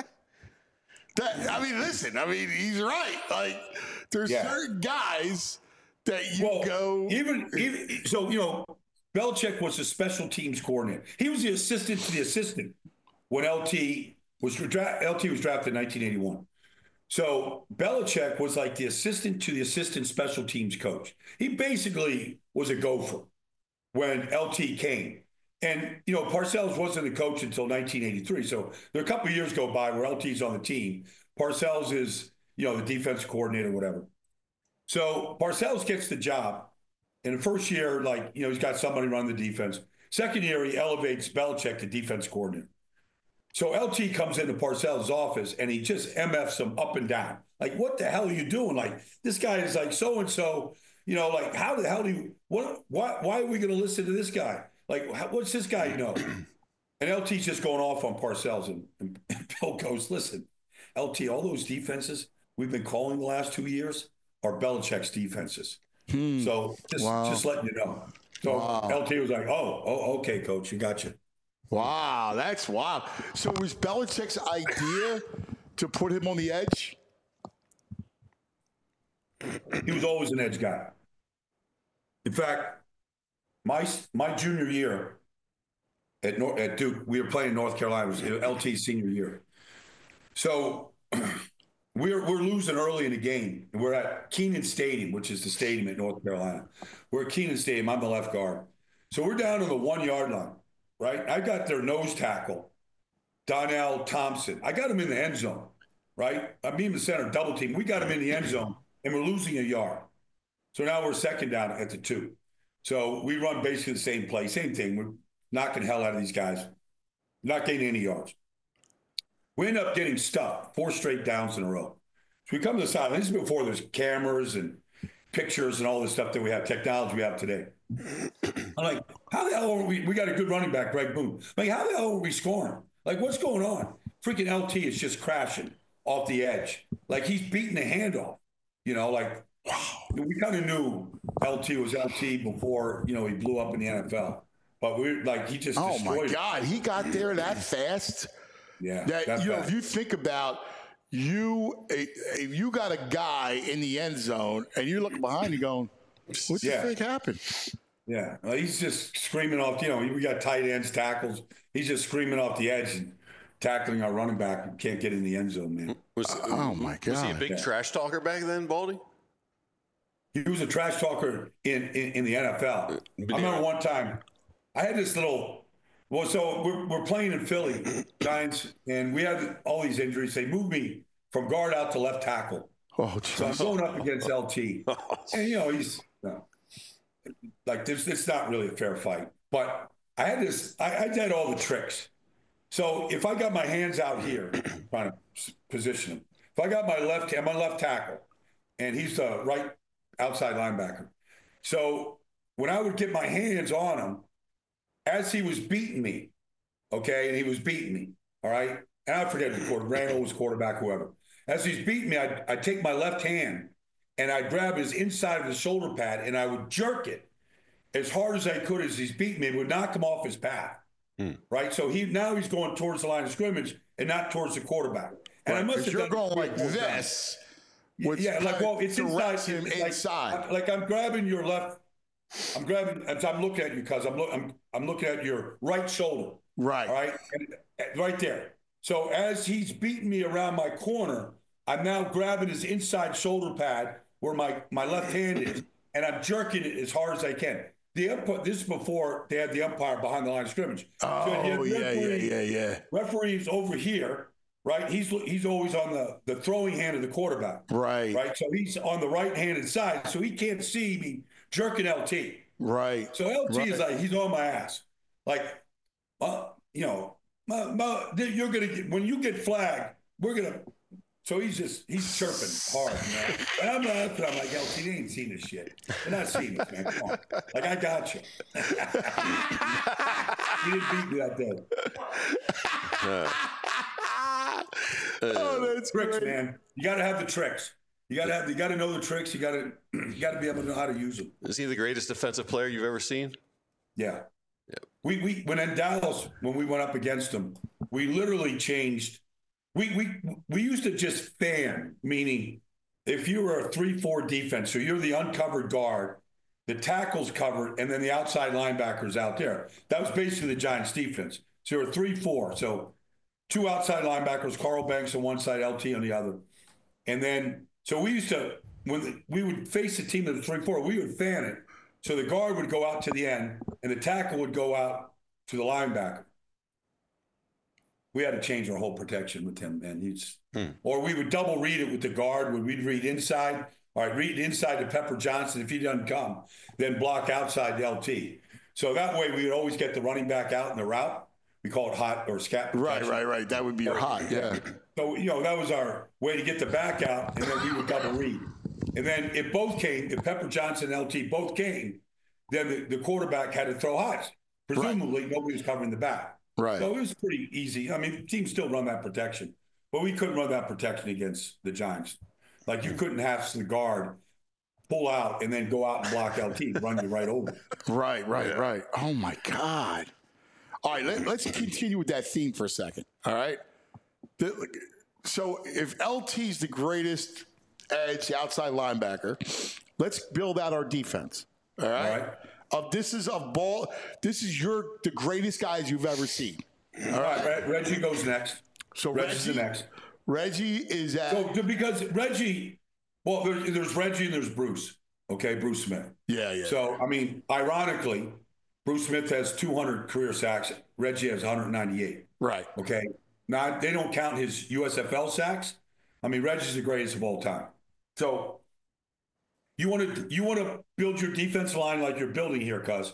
Listen, he's right. Like, there's certain guys that you go. So, Belichick was the special teams coordinator. He was the assistant to the assistant when LT was drafted in 1981. So Belichick was like the assistant to the assistant special teams coach. He basically was a gopher when LT came. And, Parcells wasn't a coach until 1983. So there are a couple of years go by where LT's on the team. Parcells is, the defense coordinator, whatever. So Parcells gets the job. In the first year, he's got somebody run the defense. Second year, he elevates Belichick to defense coordinator. So LT comes into Parcells' office and he just MFs him up and down. Like, what the hell are you doing? Like, this guy is like so-and-so, how the hell do you, why are we going to listen to this guy? Like, what's this guy know? And LT's just going off on Parcells. And Bill goes, listen, LT, all those defenses we've been calling the last 2 years are Belichick's defenses. So just letting you know. So LT was like, oh, okay, coach, you got you. Wow, that's wild. So was Belichick's idea to put him on the edge? He was always an edge guy. In fact, my junior year at Duke, we were playing North Carolina. It was LT's senior year. So we're losing early in the game. We're at Kenan Stadium, which is the stadium at North Carolina. We're at Kenan Stadium. I'm the left guard. So we're down to the 1 yard line. Right? I got their nose tackle, Donnell Thompson. I got him in the end zone, right? I'm in the center, double team. We got him in the end zone, and we're losing a yard. So now we're second down at the 2. So we run basically the same play, same thing. We're knocking hell out of these guys, not getting any yards. We end up getting stuck 4 straight downs in a row. So we come to the sideline. This is before there's cameras and pictures and all this stuff that we have, technology we have today. I'm like, how the hell are we got a good running back, Greg Boone. Like, how the hell are we scoring? Like, what's going on? Freaking LT is just crashing off the edge. Like, he's beating the handoff. We kind of knew LT was LT before, he blew up in the NFL. But we're like, he just destroyed my God, he got there that fast. Yeah. If you think about if you got a guy in the end zone and you look behind you going, what the frick happened? Yeah, he's just screaming off. We got tight ends, tackles. He's just screaming off the edge and tackling our running back who can't get in the end zone, man. My God! Was he a big trash talker back then, Baldy? He was a trash talker in the NFL. I remember one time I had this little. Well, so we're playing in Philly, Giants, and we had all these injuries. They moved me from guard out to left tackle. So I'm going up against LT, and he's. Like this, it's not really a fair fight. But I had this. I did all the tricks. So if I got my hands out here, trying to position him. If I got my left tackle, and he's the right outside linebacker. So when I would get my hands on him, as he was beating me, okay, and he was beating me, all right, and I forget the quarterback, Randall was quarterback, whoever. As he's beating me, I'd take my left hand. And I'd grab his inside of the shoulder pad and I would jerk it as hard as I could as he's beating me. It would knock him off his path, right? So now he's going towards the line of scrimmage and not towards the quarterback. And I must have you're going like this. It's inside him inside. Like I'm grabbing your left. I'm looking at you because I'm looking at your right shoulder. Right. All right. And right there. So as he's beating me around my corner, I'm now grabbing his inside shoulder pad where my left hand is, and I'm jerking it as hard as I can. This is before they had the umpire behind the line of scrimmage. Yeah. Referee's over here, right? He's always on the throwing hand of the quarterback. Right. Right. So he's on the right-handed side, so he can't see me jerking LT. Right. So LT is like, he's on my ass. Like, you're going to get, when you get flagged, we're going to. So he's chirping hard, And I'm like, LT, they ain't seen this shit. They're not seeing this, man. Come on. Like, I got you. You didn't beat me that day. That's tricks, great. man. You got to have the tricks. You got to know the tricks. You got to be able to know how to use them. Is he the greatest defensive player you've ever seen? Yeah. We when in Dallas, when we went up against them, we literally changed. We used to just fan, meaning if you were a 3-4 defense, so you're the uncovered guard, the tackle's covered, and then the outside linebacker's out there. That was basically the Giants' defense. So you're a 3-4. So 2 outside linebackers, Carl Banks on one side, LT on the other. And then, so we used to, we would face the team that was 3-4, we would fan it. So the guard would go out to the end, and the tackle would go out to the linebacker. We had to change our whole protection with him, man. Or we would double read it with the guard. We'd read inside. All right, read inside to Pepper Johnson. If he doesn't come, then block outside the LT. So that way we would always get the running back out in the route. We call it hot or scat protection. Right. That would be your hot, yeah. So, that was our way to get the back out, and then we would double read. And then if Pepper Johnson and LT both came, then the quarterback had to throw hots. Presumably, nobody was covering the back. Right. So it was pretty easy. I mean, teams still run that protection, but we couldn't run that protection against the Giants. Like, you couldn't have the guard pull out and then go out and block LT and run you right over. Right. Oh, my God. All right, let's continue with that theme for a second, all right? So if LT's the greatest edge outside linebacker, let's build out our defense, all right? This is the greatest guys you've ever seen. All right, Reggie goes next. So Reggie's the next. Reggie is at. So because Reggie, well, there's Reggie and there's Bruce. Okay, Bruce Smith. Yeah. So I mean, ironically, Bruce Smith has 200 career sacks. Reggie has 198. Right. Okay. Now they don't count his USFL sacks. I mean, Reggie's the greatest of all time. So you want to build your defense line like you're building here, cuz.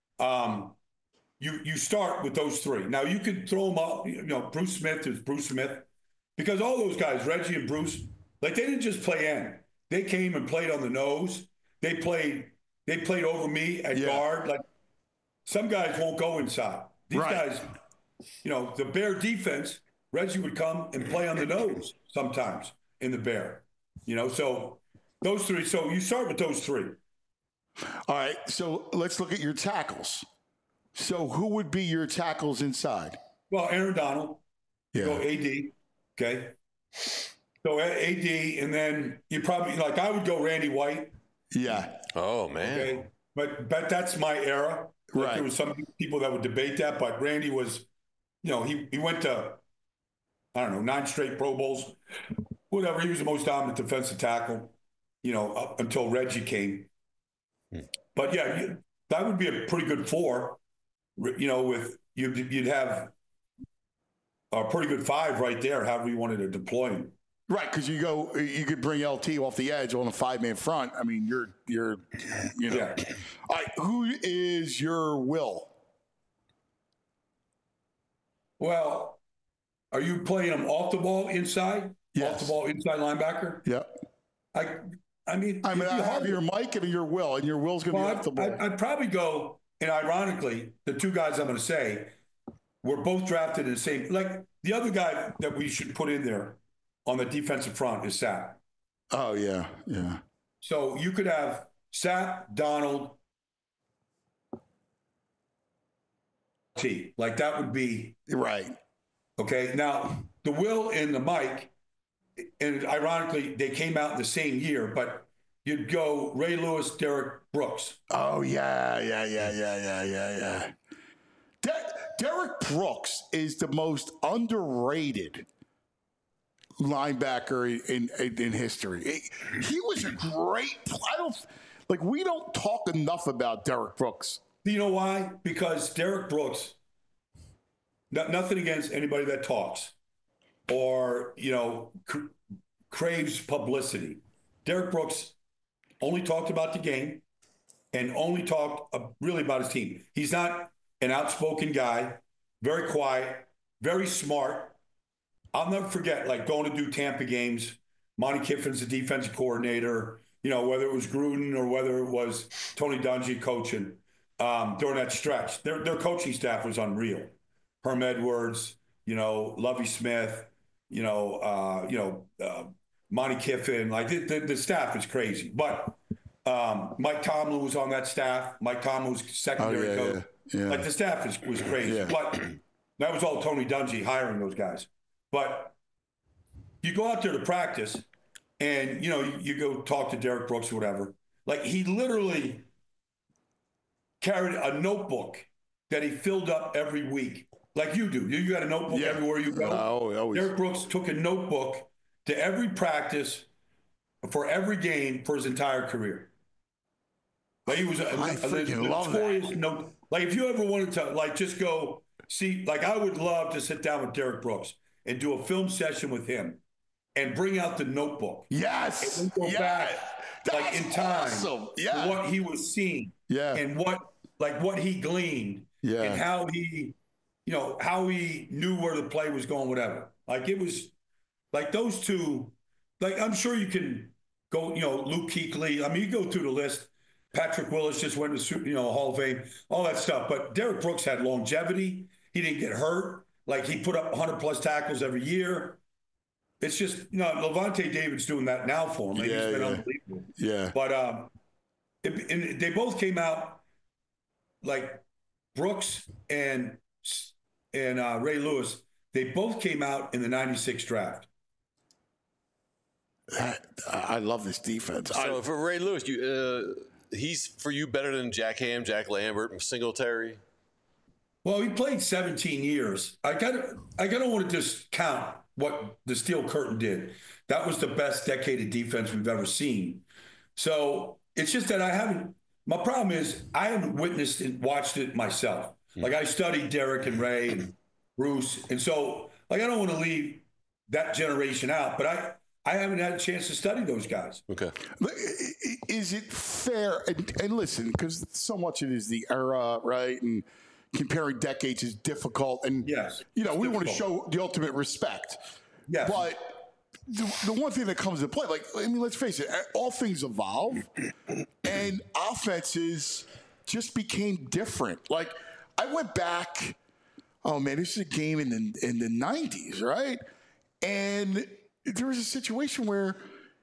You start with those three. Now you can throw them up. Bruce Smith is Bruce Smith, because all those guys, Reggie and Bruce, like, they didn't just play end. They came and played on the nose. They played over me at guard. Like, some guys won't go inside. These guys, the Bear defense, Reggie would come and play on the nose sometimes in the Bear. So those three. So you start with those three. All right. So let's look at your tackles. So who would be your tackles inside? Well, Aaron Donald. Yeah. Go AD. Okay. So AD, and then you probably, like, I would go Randy White. Yeah. Oh, man. Okay. But that's my era. Like, right. There was some people that would debate that, but Randy was, he went to, 9 straight Pro Bowls, whatever. He was the most dominant defensive tackle, up until Reggie came. But yeah, that would be a pretty good four. With you'd have a pretty good five right there, however you wanted to deploy him. Right, because you could bring LT off the edge on a 5-man front. I mean, you're. Yeah. All right, who is your Will? Well, are you playing him off the ball inside? Yes. Off the ball inside linebacker? Yeah. I mean, I have your Mike and your Will, and your Will's going to be off the ball. I'd probably go, and ironically, the two guys I'm going to say were both drafted in the same. Like, the other guy that we should put in there on the defensive front is Sapp. Oh, yeah. So you could have Sapp, Donald, T. Like, that would be. Right. Okay. Now, the Will and the Mike, and ironically, they came out in the same year, but you'd go Ray Lewis, Derek Brooks. Oh, yeah. Derek Brooks is the most underrated linebacker in history. He was a great. We don't talk enough about Derek Brooks. Do you know why? Because Derek Brooks, nothing against anybody that talks or craves publicity. Derek Brooks only talked about the game and only talked really about his team. He's not an outspoken guy, very quiet, very smart. I'll never forget, like, going to do Tampa games. Monty Kiffin's the defensive coordinator, whether it was Gruden or whether it was Tony Dungy coaching during that stretch. Their coaching staff was unreal. Herm Edwards, Lovie Smith, Monty Kiffin. Like, the staff is crazy. But Mike Tomlin was on that staff. Mike Tomlin was secondary coach. Yeah. Like, the staff was crazy. Yeah. But that was all Tony Dungy hiring those guys. But you go out there to practice and, you go talk to Derek Brooks or whatever. Like, he literally carried a notebook that he filled up every week. Like you do. You got a notebook everywhere you go. Oh, always. Derek Brooks took a notebook to every practice for every game for his entire career. Like he was I freaking love that. No, like if you ever wanted to like just go see, like I would love to sit down with Derek Brooks and do a film session with him and bring out the notebook. Yes. And go back like in time to what he was seeing. Yeah. And what he gleaned. Yeah. And how he, how he knew where the play was going, whatever. Like it was like those two, like I'm sure you can go, Luke Kuechly. I mean, you go through the list. Patrick Willis just went to, Hall of Fame, all that stuff. But Derek Brooks had longevity. He didn't get hurt. Like he put up 100+ tackles every year. It's just, Levante David's doing that now for him. Like, he's been unbelievable. Yeah. But and they both came out like Brooks and Ray Lewis. They both came out in the '96 draft. I love this defense. So for Ray Lewis, he's for you better than Jack Ham, Jack Lambert, and Singletary. Well, he played 17 years. I gotta want to just count what the Steel Curtain did. That was the best decade of defense we've ever seen. So it's just that my problem is I haven't witnessed and watched it myself. Like I studied Derek and Ray and Bruce. And so like, I don't want to leave that generation out, but I haven't had a chance to study those guys. Okay. Is it fair? And listen, because so much of it is the era, right? And comparing decades is difficult. And, yes, we want to show the ultimate respect. Yes. But the one thing that comes into play, like, I mean, let's face it, all things evolve and offenses just became different. Like, I went back, this is a game in the 90s, right? And there was a situation where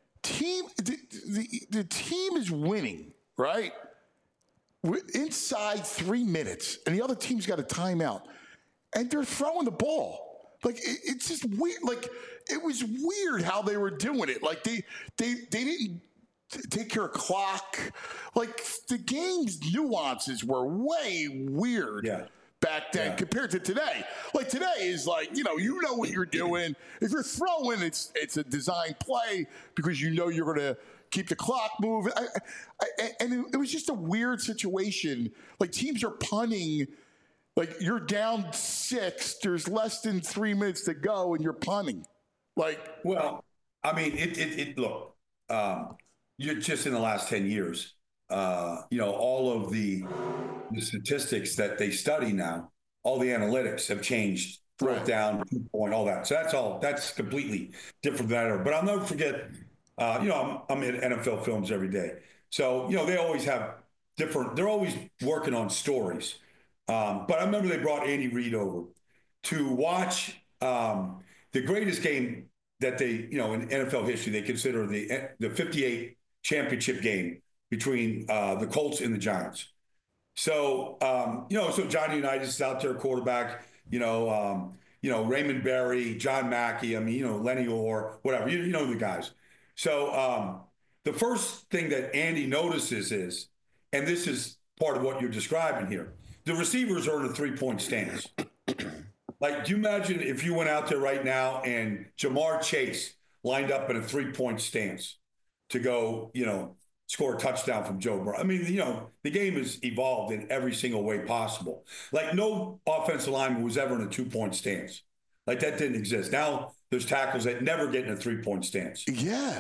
the team is winning, right? We're inside 3 minutes, and the other team's got a timeout, and they're throwing the ball. Like it's just weird. Like it was weird how they were doing it. Like they didn't take care of clock. Like the game's nuances were way weird. Back then compared to today. Like today is like, you know what you're doing. If you're throwing, it's a design play because you're going to keep the clock moving. And it was just a weird situation. Like teams are punting, like you're down 6, there's less than 3 minutes to go and you're punting. Like, well, I mean, look, you're just in the last 10 years, all of the statistics that they study now, all the analytics have changed, fourth down, 2-point, all that. So that's completely different than that. But I'll never forget, I'm in NFL films every day. So, they always have they're always working on stories. But I remember they brought Andy Reid over to watch the greatest game that they, in NFL history, they consider the 58 championship game between the Colts and the Giants. So, so Johnny Unitas is out there, quarterback, Raymond Berry, John Mackey, Lenny Orr, whatever, you know the guys. So the first thing that Andy notices is, and this is part of what you're describing here, the receivers are in a 3-point stance. Like, do you imagine if you went out there right now and Jamar Chase lined up in a 3-point stance to go, score a touchdown from Joe Burrow? I mean, the game has evolved in every single way possible. Like, no offensive lineman was ever in a 2-point stance. Like, that didn't exist. Now there's tackles that never get in a 3-point stance. Yeah.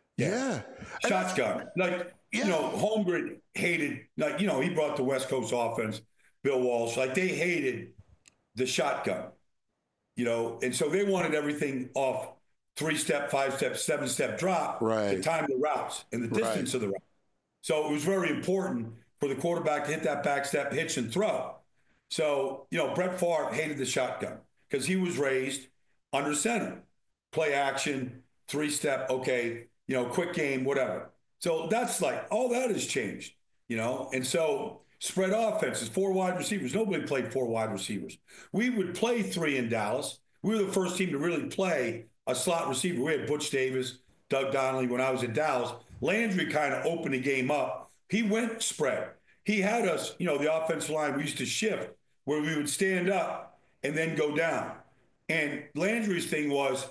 Shotgun. Like, Holmgren hated, like, he brought the West Coast offense, Bill Walsh. Like, they hated the shotgun, and so they wanted everything off 3-step, 5-step, 7-step drop to time the routes and the distance of the route. So it was very important for the quarterback to hit that back step, hitch, and throw. So, Brett Favre hated the shotgun because he was raised under center. Play action, 3-step, okay, quick game, whatever. So that's like, all that has changed, and so spread offenses, 4 wide receivers. Nobody played 4 wide receivers. We would play 3 in Dallas. We were the first team to really play a slot receiver. We had Butch Davis, Doug Donnelly when I was in Dallas. Landry kind of opened the game up. He went spread. He had us, the offensive line, we used to shift where we would stand up and then go down. And Landry's thing was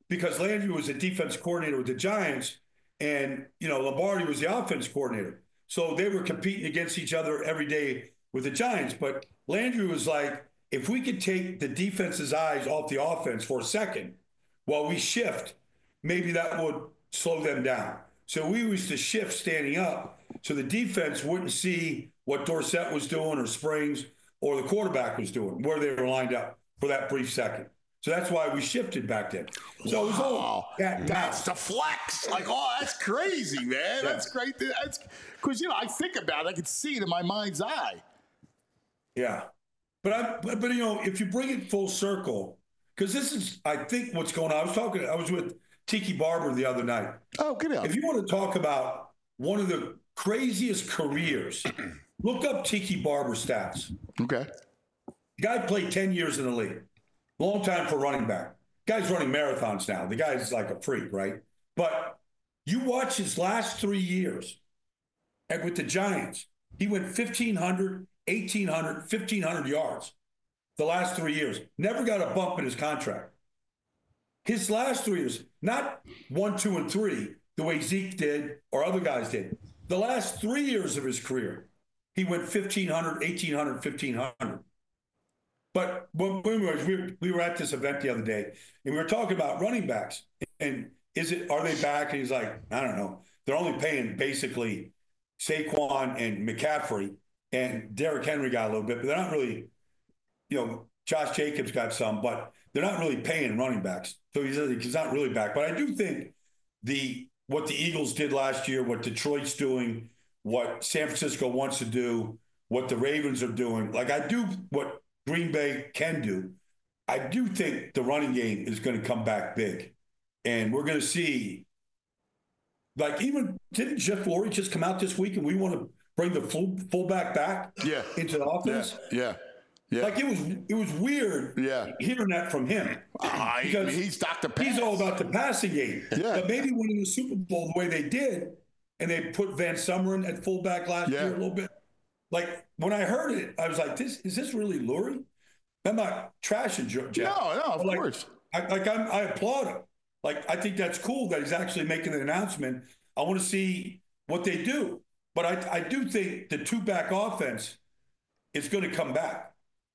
because Landry was a defense coordinator with the Giants, and Lombardi was the offense coordinator. So they were competing against each other every day with the Giants. But Landry was like, if we could take the defense's eyes off the offense for a second while we shift, maybe that would slow them down. So we used to shift standing up so the defense wouldn't see what Dorsett was doing or Springs or the quarterback was doing, where they were lined up for that brief second. So that's why we shifted back then. So it was all that's the flex. Like, oh, that's crazy, man. Yeah. That's great. That's because I think about it, I can see it in my mind's eye. Yeah, but if you bring it full circle, because this is, I think, what's going on. I was with Tiki Barber the other night. Oh, good. If you want to talk about one of the craziest careers, look up Tiki Barber stats. Okay. The guy played 10 years in the league. Long time for running back. Guy's running marathons now. The guy's like a freak, right? But you watch his last 3 years with the Giants, he went 1,500, 1,800, 1,500 yards the last 3 years. Never got a bump in his contract. His last 3 years, not 1, 2, and 3, the way Zeke did or other guys did. The last 3 years of his career, he went 1,500, 1,800, 1,500. But we were at this event the other day, and we were talking about running backs. And are they back? And he's like, I don't know. They're only paying basically Saquon and McCaffrey, and Derrick Henry got a little bit, but they're not really, Josh Jacobs got some, but they're not really paying running backs. So he's not really back. But I do think what the Eagles did last year, what Detroit's doing, what San Francisco wants to do, what the Ravens are doing, like I do what Green Bay can do. I do think the running game is going to come back big. And we're going to see, like, didn't Jeff Lurie just come out this week and we want to bring the fullback back into the offense? Yeah. Like, it was weird hearing that from him. Because he's Dr. Pass. He's all about the passing game. Yeah. But maybe winning the Super Bowl the way they did, and they put Van Sumeren at fullback last year a little bit. Like, when I heard it, I was like, is this really Lurie? I'm not trashing Jeff. No, of course. I applaud him. Like, I think that's cool that he's actually making an announcement. I want to see what they do. But I do think the two-back offense is going to come back.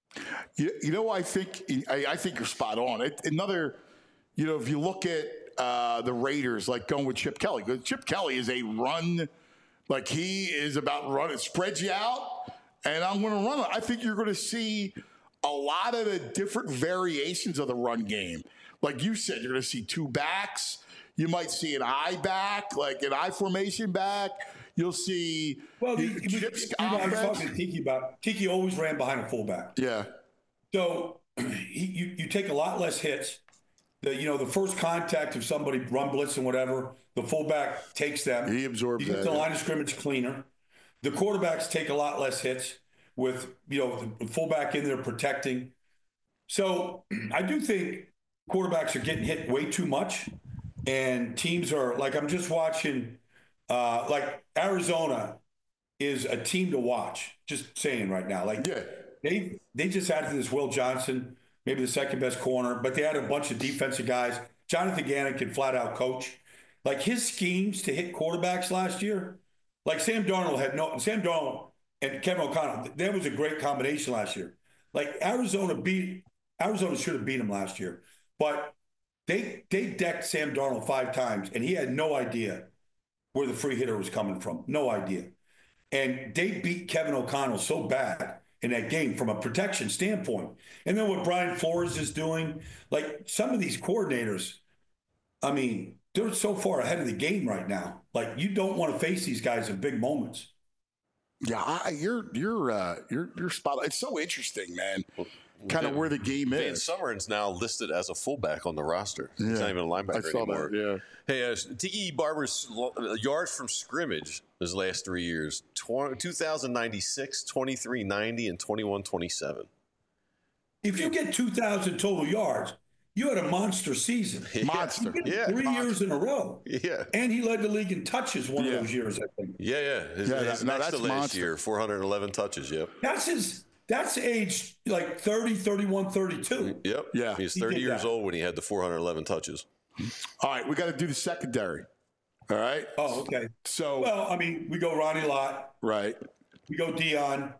I think you're spot on. Another, if you look at the Raiders, like going with Chip Kelly, because Chip Kelly is a run. Like, he is about running, spreads you out, and I'm going to run it. I think you're going to see a lot of the different variations of the run game. Like you said, you're going to see two backs. You might see an I back, like an I formation back. You'll see Chip's I was talking to Tiki about. Tiki always ran behind a fullback. Yeah. So you take a lot less hits. The first contact of somebody run blitz and whatever, the fullback takes them. He absorbs that. You get the line of scrimmage cleaner. The quarterbacks take a lot less hits with the fullback in there protecting. So I do think quarterbacks are getting hit way too much, and teams are like, I'm just watching. Like Arizona is a team to watch. Just saying right now, like they just added this Will Johnson, maybe the second best corner, but they had a bunch of defensive guys. Jonathan Gannon can flat out coach. Like his schemes to hit quarterbacks last year, like Sam Darnold and Kevin O'Connell, that was a great combination last year. Like Arizona should have beat him last year, but they decked Sam Darnold 5 times, and he had no idea where the free hitter was coming from. No idea. And they beat Kevin O'Connell so bad in that game from a protection standpoint. And then what Brian Flores is doing, like some of these coordinators, I mean, they're so far ahead of the game right now. Like you don't want to face these guys in big moments. Yeah, you're spot on. It's so interesting, man. Kind of where the game is. Van Sumeren's now listed as a fullback on the roster. He's not even a linebacker anymore. That, Hey, Tiki Barber's yards from scrimmage his last 3 years, 2,096, 2,390, and 2,127. If you get 2,000 total yards, you had a monster season. Monster. 3 years in a row. Yeah. And he led the league in touches one of those years, I think. His next to last monster. Year, 411 touches, That's age like 30, 31, 32. Yep. Yeah. He was 30 years old when he had the 411 touches. All right, we got to do the secondary. All right. Oh, okay. So, Well, I mean, we go Ronnie Lott. right. We go Dion.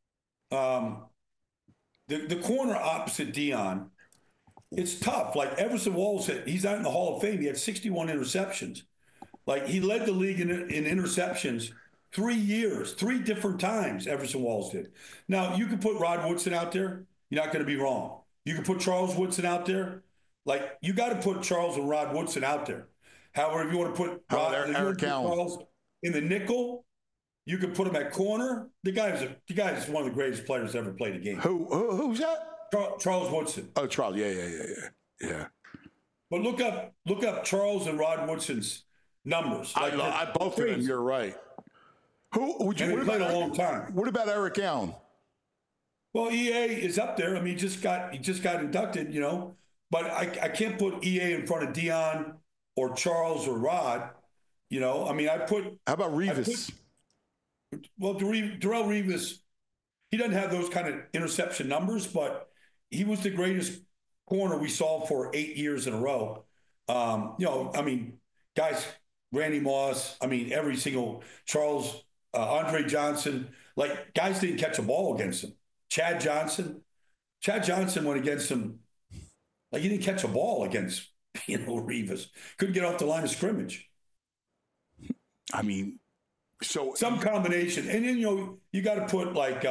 The corner opposite Dion, it's tough. Like Everson Walls, he's not in the Hall of Fame. He had 61 interceptions. Like he led the league in interceptions 3 years, 3 different times. Everson Walls did. Now you can put Rod Woodson out there. You're not going to be wrong. You can put Charles Woodson out there. Like you got to put Charles and Rod Woodson out there. However, if you want to put Eric Allen Charles in the nickel, you can put him at corner. The guy is one of the greatest players to ever play the game. Who's that? Charles Woodson. Oh, Charles. Yeah. But look up Charles and Rod Woodson's numbers. Like I both of them. You're right. Who would you? And he played a long time. What about Eric Allen? Well, EA is up there. I mean, he just got inducted, But I can't put EA in front of Dion or Charles or Rod. I mean, How about Revis? Darrelle Revis, he doesn't have those kind of interception numbers, but he was the greatest corner we saw for 8 years in a row. I mean, guys, Randy Moss, I mean, every single Charles, Andre Johnson, like guys didn't catch a ball against him. Chad Johnson went against him. Like he didn't catch a ball against, Revis. Couldn't get off the line of scrimmage. I mean, so some combination. And then, you got to put like,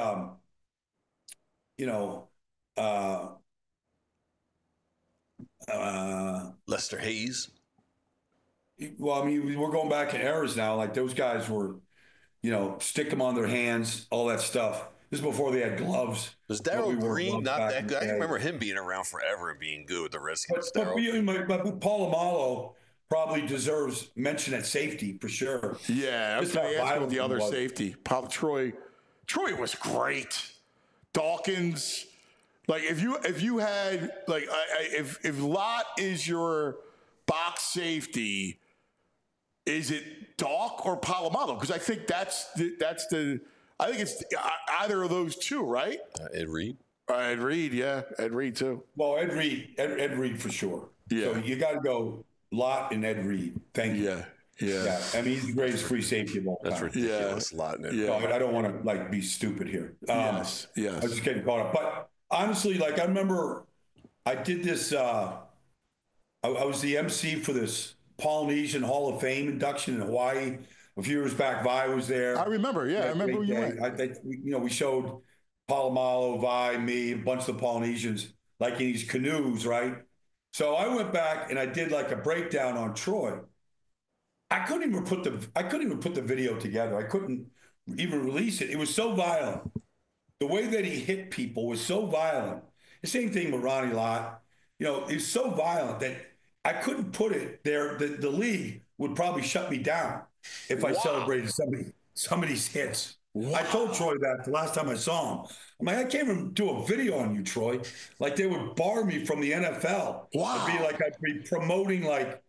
Lester Hayes. Well, I mean, we're going back in eras now. Like those guys were, stick them on their hands, all that stuff. This is before they had gloves. Was Darryl Green not that good? I remember him being around forever and being good with the Redskins. But Polamalu probably deserves mention at safety for sure. Yeah, I was going to ask about the other safety. Troy was great. Dawkins, like if you had like if Lott is your box safety, is it Doc or Polamalu? Because I think that's the. I think it's either of those two, right? Ed Reed. Ed Reed, yeah. Ed Reed, too. Well, Ed Reed for sure. Yeah. So you got to go Lott and Ed Reed. Thank you. Yeah. I mean, he's the greatest free safety of all time. That's ridiculous. Lott and Ed Reed. No, I don't want to, be stupid here. Yes. I was just getting caught up. But honestly, I remember I did this. I was the MC for this Polynesian Hall of Fame induction in Hawaii. A few years back, Vi was there. I remember, I remember when you went. We showed Polamalu, Vi, me, a bunch of the Polynesians, in these canoes, right? So I went back and I did a breakdown on Troy. I couldn't even put the video together. I couldn't even release it. It was so violent. The way that he hit people was so violent. The same thing with Ronnie Lott. It was so violent that I couldn't put it there. The league would probably shut me down if I celebrated somebody's hits. Wow. I told Troy that the last time I saw him. I'm like, I can't even do a video on you, Troy. They would bar me from the NFL. Wow. It'd be I'd be promoting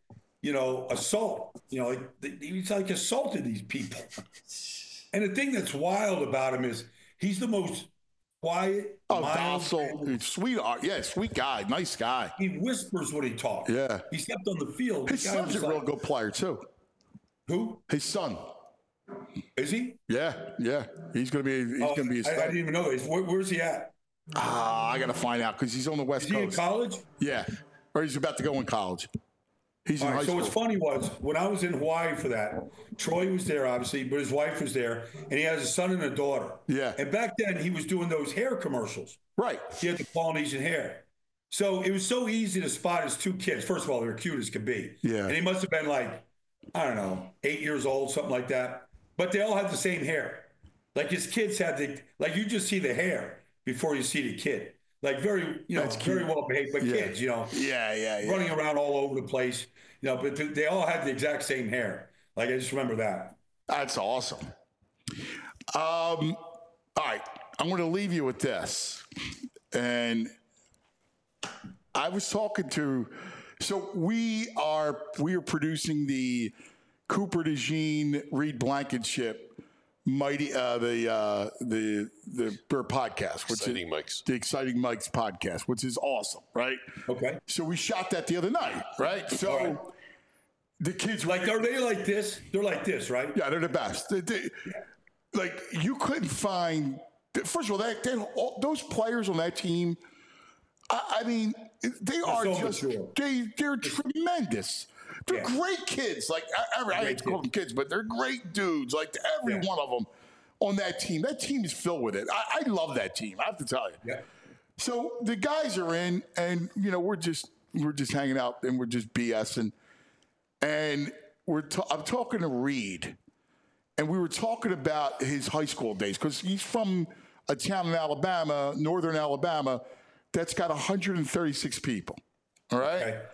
assault. He's assaulted these people. And the thing that's wild about him is he's the most quiet, docile, sweetheart. Yeah, sweet guy, nice guy. He whispers when he talks. Yeah. He stepped on the field. His son's a real good player, too. Who? His son. Is he? Yeah. He's gonna be a star. I didn't even know this. Where's he at? I gotta find out because he's on the West Coast. Is he in college? Yeah, or he's about to go in college. He's in high school. So what's funny was when I was in Hawaii for that, Troy was there obviously, but his wife was there, and he has a son and a daughter. Yeah. And back then he was doing those hair commercials. Right. He had the Polynesian hair. So it was so easy to spot his two kids. First of all, they're cute as could be. Yeah. And he must have been 8 years old, something like that. But they all had the same hair. His kids had you just see the hair before you see the kid. Very, very well behaved, but kids, Yeah. running around all over the place, but they all had the exact same hair. I just remember that. That's awesome. All right. I'm going to leave you with this. And I was talking to, so we are producing the Cooper DeJean Reed Blankenship Mighty the Burr podcast, which Exciting is Mikes. the Exciting Mike's podcast, which is awesome, right? Okay. So we shot that the other night, right? So All right. the kids Like, are they like this? They're like this, right? yeah, they're the best. Like you couldn't find. First of all, those players on that team. I mean, they are so just mature. they're tremendous. They're Yeah. great kids. Like I hate to call them kids, but they're great dudes. Like every one of them on that team. That team is filled with it. I love that team. I have to tell you. Yeah. So the guys are in, and we're just hanging out and we're just BSing, and I'm talking to Reed, and we were talking about his high school days because he's from a town in Alabama, northern Alabama, that's got 136 people. All right. Okay.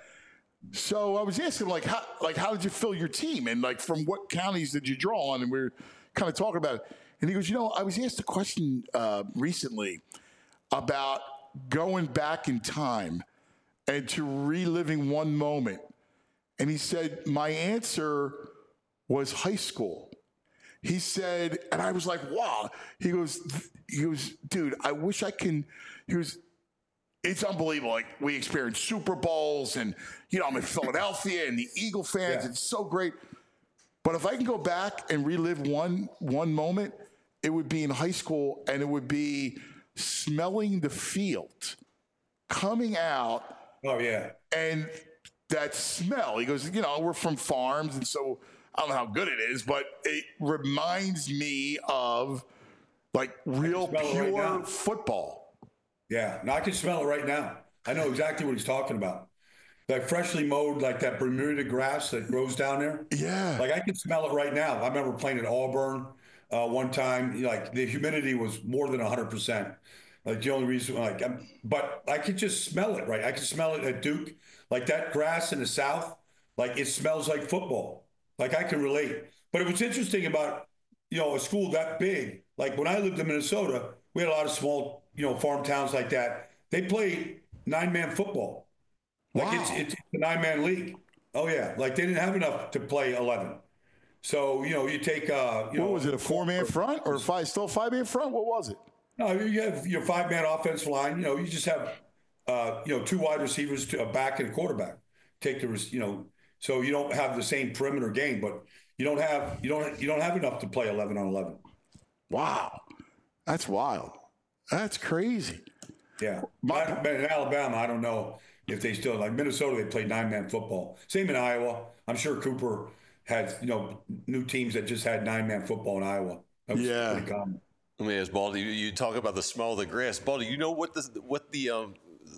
So I was asking him, how did you fill your team? And, from what counties did you draw on? And we were kind of talking about it. And he goes, I was asked a question recently about going back in time and to reliving one moment. And he said, my answer was high school. He said, and I was like, wow. He goes, dude, I wish I can. He goes, it's unbelievable. Like, we experienced Super Bowls and, I'm in Philadelphia and the Eagle fans. Yeah. It's so great. But if I can go back and relive one moment, it would be in high school, and it would be smelling the field, coming out. Oh, yeah. And that smell. He goes, we're from farms, and so I don't know how good it is, but it reminds me of, real smell it right pure now. football. Yeah, no, I can smell it right now. I know exactly what he's talking about. That freshly mowed, that Bermuda grass that grows down there. Yeah. I can smell it right now. I remember playing at Auburn one time. The humidity was more than 100%. The only reason, but I could just smell it, right? I could smell it at Duke. That grass in the South, it smells like football. I can relate. But it was interesting about, a school that big. When I lived in Minnesota, we had a lot of small, farm towns like that. They played 9-man football. Wow. It's a 9-man league. Oh yeah. They didn't have enough to play 11. So, you take, What was it, a 4-man front or still a 5-man front? What was it? No, you have your 5-man offensive line. You just have, 2 wide receivers, a back and a quarterback. So you don't have the same perimeter game, but you don't have enough to play 11 on 11. Wow. That's wild. That's crazy. Yeah. But in Alabama, I don't know if they still, Minnesota, they played 9-man football. Same in Iowa. I'm sure Cooper had, new teams that just had 9-man football in Iowa. That was pretty common. Let me ask Baldy. You talk about the smell of the grass. Baldy, you know what the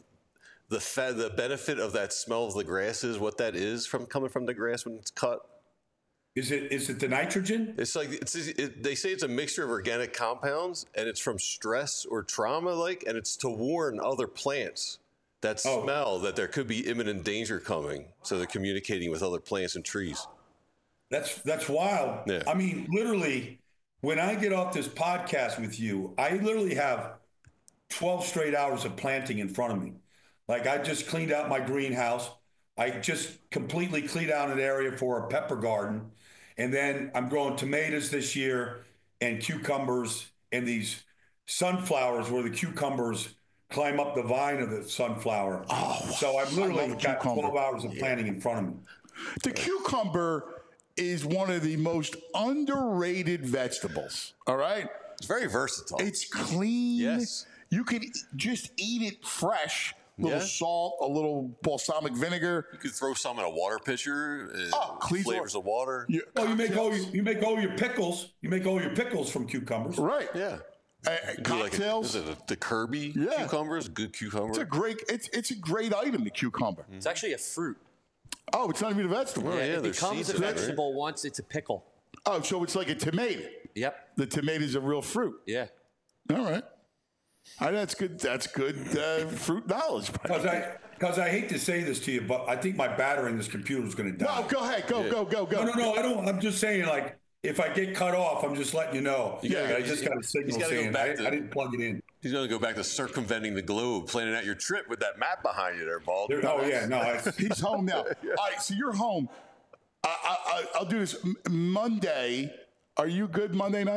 benefit of that smell of the grass is? What that is coming from the grass when it's cut? Is it the nitrogen? It's they say it's a mixture of organic compounds, and it's from stress or trauma, and it's to warn other plants that smell that there could be imminent danger coming. So they're communicating with other plants and trees. That's wild. Yeah. I mean, literally, when I get off this podcast with you, I literally have 12 straight hours of planting in front of me. I just cleaned out my greenhouse. I just completely cleaned out an area for a pepper garden. And then I'm growing tomatoes this year and cucumbers and these sunflowers where the cucumbers climb up the vine of the sunflower. So I've literally got 12 hours of planting in front of me. The cucumber is one of the most underrated vegetables. All right? It's very versatile. It's clean. Yes. You could just eat it fresh. A little salt, a little balsamic vinegar. You could throw some in a water pitcher. Clean flavors of water. Yeah. Oh, you make all your pickles. You make all your pickles from cucumbers. Right. Yeah. Cocktails. Is it the Kirby cucumbers? Good cucumber. It's a great item, the cucumber. It's actually a fruit. Oh, it's not even a vegetable. yeah, It there's becomes seeds a in it, right? vegetable once it's a pickle. Oh, so it's like a tomato. Yep. The tomato's a real fruit. Yeah. All right. That's good. That's good fruit knowledge. Because I hate to say this to you, but I think my battery in this computer is going to die. No, go ahead. Go. No, I don't. I'm just saying, if I get cut off, I'm just letting you know. Yeah, I just got a signal saying I didn't plug it in. He's going to go back to circumventing the globe, planning out your trip with that map behind you there, Bald. He's home now. All right, so you're home. I'll do this Monday. Are you good Monday night?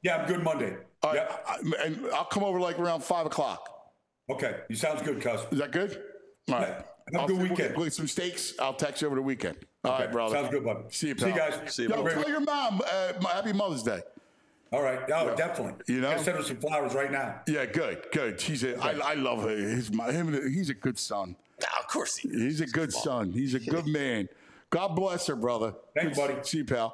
Yeah, I'm good Monday. All right, Yep. and I'll come over like around 5 o'clock. Okay. You sounds good, cuz. Is that good? All right. Have a good weekend. We'll get some steaks. I'll text you over the weekend. All right, brother. Sounds good, bud. See you, See you pal. guys. See you, Yo, bro. tell your mom Happy Mother's Day. All right. Oh, definitely. You know? Gotta send her some flowers right now. Yeah, good. I love her. He's a good son. Of course he is. He's a good son. He's a good man. God bless her, brother. Thanks, buddy. See you, pal.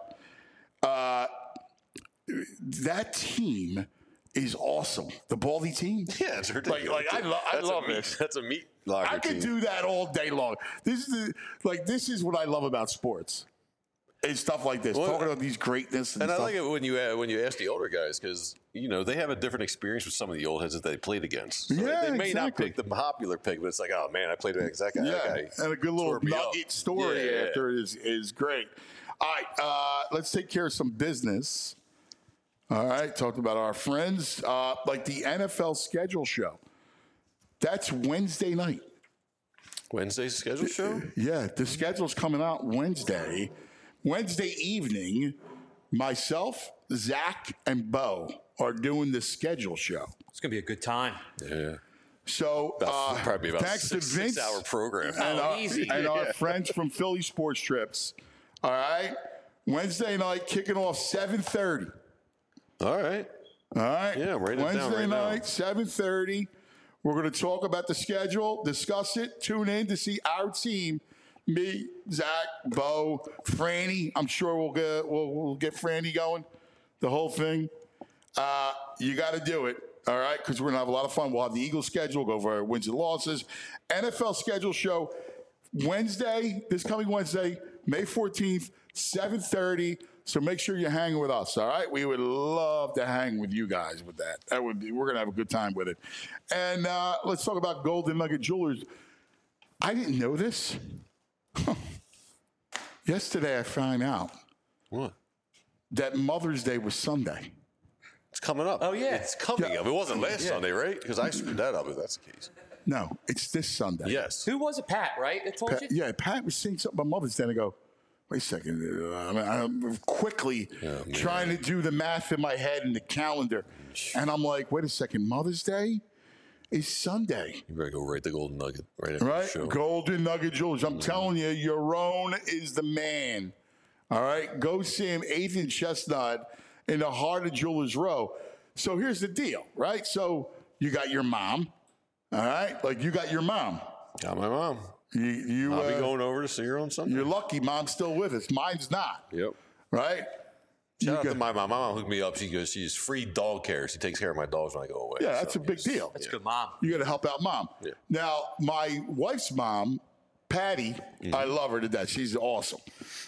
That team is awesome. The Baldy team. Yeah, it's ridiculous. Like I love this. That's a meat locker I could team. do that all day long. This is what I love about sports. It's stuff like this, Well, talking about these greatness and And I stuff. like it when you ask the older guys because they have a different experience with some of the old heads that they played against. So Yeah, they may not exactly. pick the popular pick, but it's like, oh man, I played against that guy. That guy and a good little tore me up. nugget story Yeah. after is great. All right, let's take care of some business. All right, talked about our friends, like the NFL schedule show. That's Wednesday night. Wednesday's schedule show. Yeah, the schedule's coming out Wednesday. Wednesday evening, myself, Zach, and Bo are doing the schedule show. It's going to be a good time. Yeah, So probably about thanks to Vince 6 hour program. and our friends from Philly Sports Trips. All right, Wednesday night kicking off 7:30. All right. All right. Yeah, I'm writing it down Wednesday right now. night, 7:30. We're going to talk about the schedule, discuss it, tune in to see our team. Me, Zach, Bo, Franny. I'm sure we'll get Franny going. The whole thing. You got to do it. All right, because we're gonna have a lot of fun. We'll have the Eagles schedule, go over our wins and losses. NFL schedule show Wednesday, this coming Wednesday, May 14th, 7:30. So make sure you're hanging with us. All right, we would love to hang with you guys with that. We're gonna have a good time with it. And let's talk about Golden Nugget Jewelers. I didn't know this. Yesterday, I found out What? that Mother's Day was Sunday. It's coming up. Oh, yeah. It's coming up. It wasn't last Sunday, right? Because I screwed that up if that's the case. No, it's this Sunday. Yes. Who was it, Pat, right? That told you? Yeah, Pat was saying something about Mother's Day, and I go, wait a second. I'm quickly trying to do the math in my head and the calendar. And I'm like, wait a second, Mother's Day is Sunday. You better go rate the Golden Nugget right after Right? the show. Golden Nugget Jewelers. I'm telling you, Yaron is the man. All right? Go see him, 8th and Chestnut, in the heart of Jewelers Row. So here's the deal, right? So you got your mom, all right? Like you got your mom. Got my mom. You I'll be going over to see her on Sunday. You're lucky mom's still with us. Mine's not, Yep. right? Shout out to my mom. My mom hooked me up. She's free dog care. She takes care of my dogs when I go away. Yeah, that's So, a big deal. That's a good mom. You got to help out mom. Yeah. Now, my wife's mom, Patty, I love her to death. She's awesome.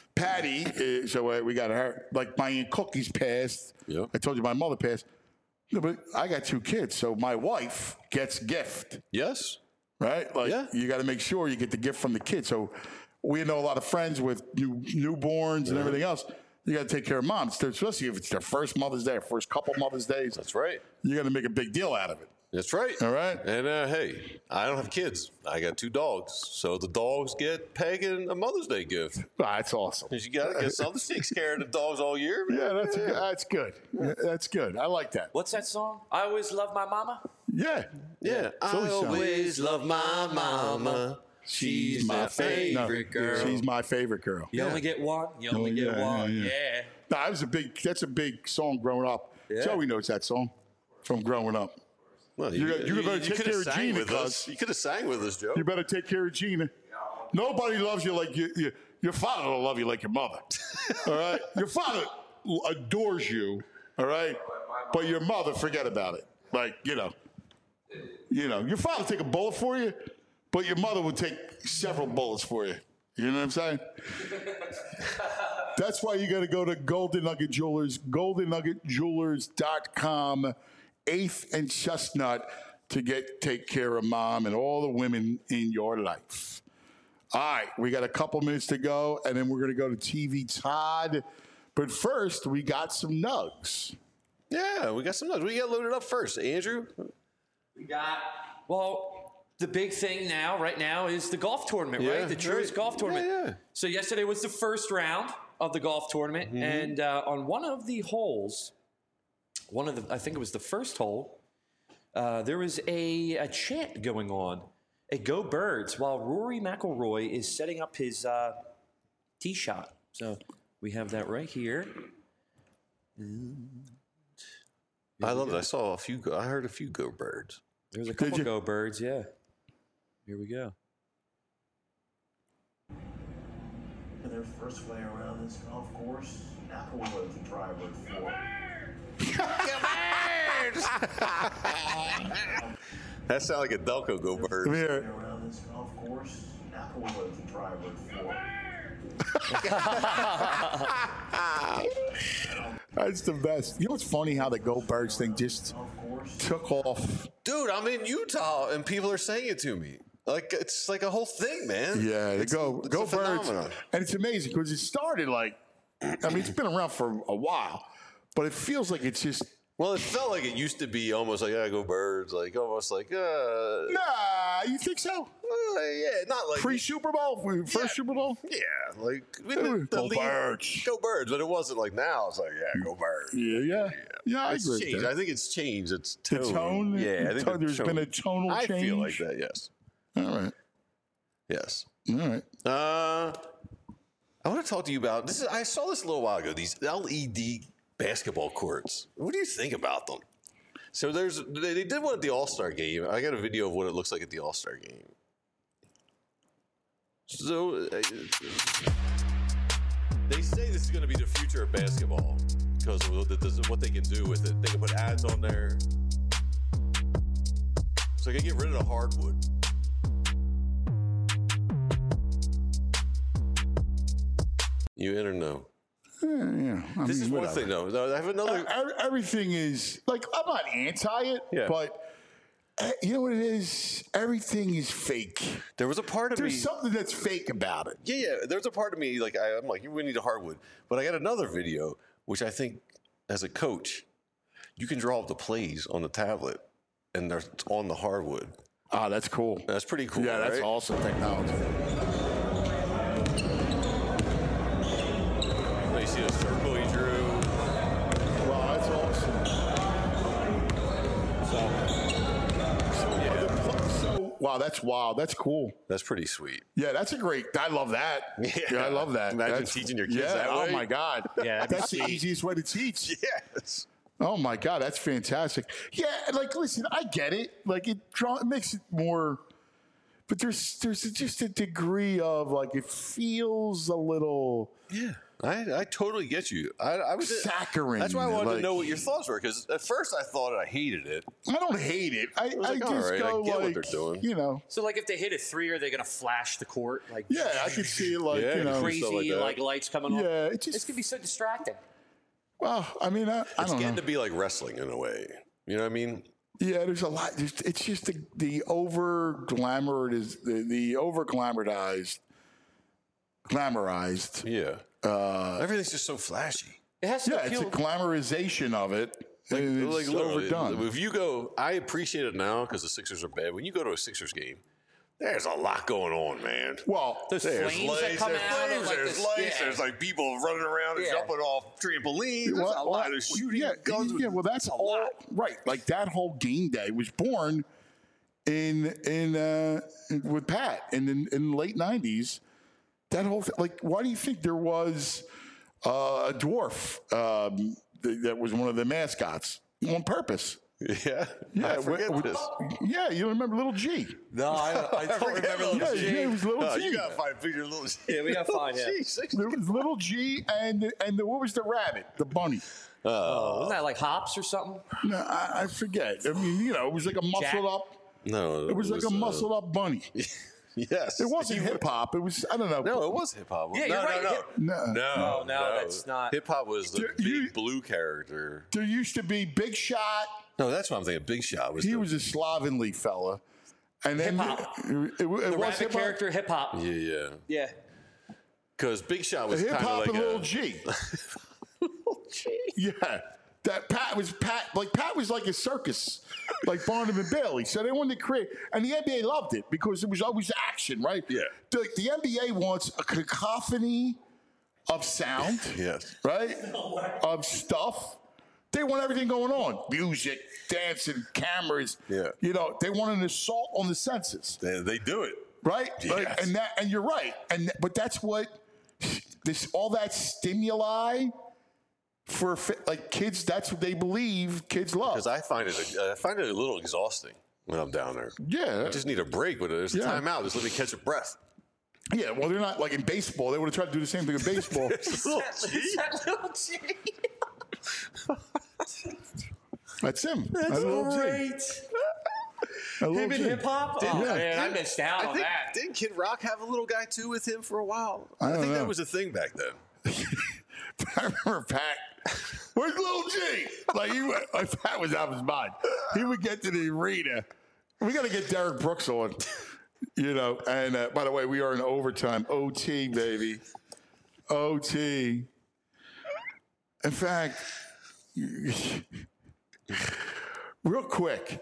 Patty, so we got her. Like my Aunt Cookie's passed. Yep. I told you my mother passed. No, but I got 2 kids, so my wife gets gift, Yes. right? Like Yeah. you got to make sure you get the gift from the kids. So we know a lot of friends with newborns and everything else. You got to take care of moms, especially if it's their first Mother's Day, or first couple Mother's Days. That's right. You got to make a big deal out of it. That's right. All right. And hey, I don't have kids. I got 2 dogs. So the dogs get Peg and a Mother's Day gift. That's awesome. Because you got to get something to take care of the dogs all year. Man. Yeah, that's good. That's good. I like that. What's that song? I always love my mama. Yeah. Yeah. I Philly song. always love my mama. She's my favorite girl. She's my favorite girl. You only get one. You only get one. Yeah. No, that's a big song growing up. Yeah. Joey knows that song from growing up. Well, You better take could care have of sang Gina, with cuz. us. You could have sang with us, Joe. You better take care of Gina. Nobody loves you like your father don't love you like your mother. All right? Your father adores you, all right? But your mother, forget about it. Like, your father take a bullet for you, but your mother would take several bullets for you. You know what I'm saying? That's why you got to go to Golden Nugget Jewelers, goldennuggetjewelers.com, 8th and Chestnut, to take care of mom and all the women in your life. All right, we got a couple minutes to go, and then we're going to go to TV Todd. But first, we got some nugs. Yeah, we got some nugs. We got loaded up first. Andrew? Well, the big thing right now is the golf tournament, Yeah, right? The Truist right. Golf Tournament. Yeah. So yesterday was the first round of the golf tournament, and on one of the holes, I think it was the first hole, there was a chant going on, a Go Birds, while Rory McIlroy is setting up his tee shot. So we have that right here. I love it. I saw a few. I heard a few Go Birds. There's a couple Go Birds, yeah. Here we go. In their first way around this golf course, Applewood, the driver for. That sounds like a Delco Go Bird. Come here. Around this golf course, Applewood, the driver for. That's the best. You know what's funny? How the Go Birds thing just took off. Dude, I'm in Utah and people are saying it to me. Like it's like a whole thing, man. Yeah, the Go a Birds, phenomenon. and it's amazing because it started like, I mean, it's been around for a while, but it feels like it's just. Well, it felt like it used to be almost like Go Birds, like almost like Nah, you think so? yeah, not like Pre-Super Bowl, first Super Bowl. yeah, like Go Birds. Go Birds, but it wasn't like now. It's like Go Birds. Yeah. I It's agree with changed. that. I think it's changed. It's The tone. Yeah, I think there's been a tonal I change. feel like that. Yes. All right. Yes. All right. I want to talk to you about this. I saw this a little while ago. These LED basketball courts. What do you think about them? So they did one at the All-Star game. I got a video of what it looks like at the All-Star game. So they say this is going to be the future of basketball because of what they can do with it. They can put ads on there. So they can get rid of the hardwood. You in or no? Yeah. This is one thing, though. I have another. Everything is like I'm not anti it, but you know what it is? Everything is fake. There was a part of me. There's something that's fake about it. Yeah. There's a part of me like I'm like we need a hardwood, but I got another video which I think as a coach, you can draw up the plays on the tablet, and they're on the hardwood. Ah, that's cool. That's pretty cool. Yeah, that's right? awesome technology. You see the circle he drew. Wow, that's awesome. So wow, that's wild. That's cool. That's pretty sweet. Yeah, that's a great. I love that. Yeah, I love that. Imagine teaching your kids that way. Oh my God. Yeah, that's the easiest way to teach. Yes. Oh my God, that's fantastic. Yeah, like listen, I get it. Like it makes it more, but there's just a degree of like it feels a little. Yeah. I totally get you. I was saccharine. That's why I wanted to know what your thoughts were because at first I thought I hated it. I don't hate it. I like, just all right, go I get like what they're doing. You know. So, like, if they hit a three, are they going to flash the court? Like, Yeah, I could see it like you know. crazy like that. lights coming on. Yeah, This could be so distracting. Well, I mean, I It's don't getting know. to be like wrestling in a way. You know what I mean? Yeah, there's a lot. It's just the over glamorized, the over glamorized. Yeah. Everything's just so flashy. It has to Yeah, it's a appeal. glamorization of it. It's Like literally, overdone. if you go, I appreciate it now because the Sixers are bad. When you go to a Sixers game, there's a lot going on, man. Well, Those There's flames that come there's out of flames, like there's this, lights, there's like people running around and Yeah. jumping off trampolines. There's a lot of shooting guns. Yeah, well, that's all right. Like that whole game day was born in with Pat in the late '90s. That whole like, why do you think there was a dwarf that was one of the mascots on purpose? Yeah, I forget this. Yeah, you remember Little G? No, I don't remember Yeah, Little G. it was Little No, G. you gotta find a picture of Little G. Yeah, we gotta find him. There was Little G and what was the rabbit? The bunny. Wasn't that like hops or something? No, I forget. I mean, you know, it was like a muscled up. No, It was like a muscled up bunny. Yes, It wasn't hip hop. It was, I don't know. No, it was hip hop. Yeah, no, you're right. No. No, that's not. Hip hop was the You- big blue character. There used to be Big Shot. No, that's what I'm thinking. Big Shot was. He was a slovenly fella. And then Hip-hop. it The was rabbit hip-hop. character, hip hop. Yeah. Yeah. Because Big Shot was Hip kind of hop like and a Little G. Yeah. That Pat was like a circus, like Barnum and Bailey. So they wanted to create, and the NBA loved it because it was always action, right? Yeah. The NBA wants a cacophony of sound, Yes. right? Of stuff They want everything going on. Music, dancing, cameras. Yeah. You know, they want an assault on the senses. They do it. Right? Yes. And you're right. But that's what all that stimuli for like kids, that's what they believe kids love. Because I find it a little exhausting when I'm down there. Yeah. I just need a break, but there's a timeout. Just let me catch a breath. Yeah, well, they're not like in baseball. They would have tried to do the same thing in baseball. Is that little G? That's him. That's Little G. great. Little Him in G. hip hop? Oh, Yeah. man, I missed out on that. Didn't Kid Rock have a little guy too with him for a while? I don't think know. that was a thing back then. I remember Pat. Where's Little G? Like Pat was out of his mind. He would get to the arena. We got to get Derek Brooks on. You know, and by the way, we are in overtime. OT, baby. OT. In fact, real quick,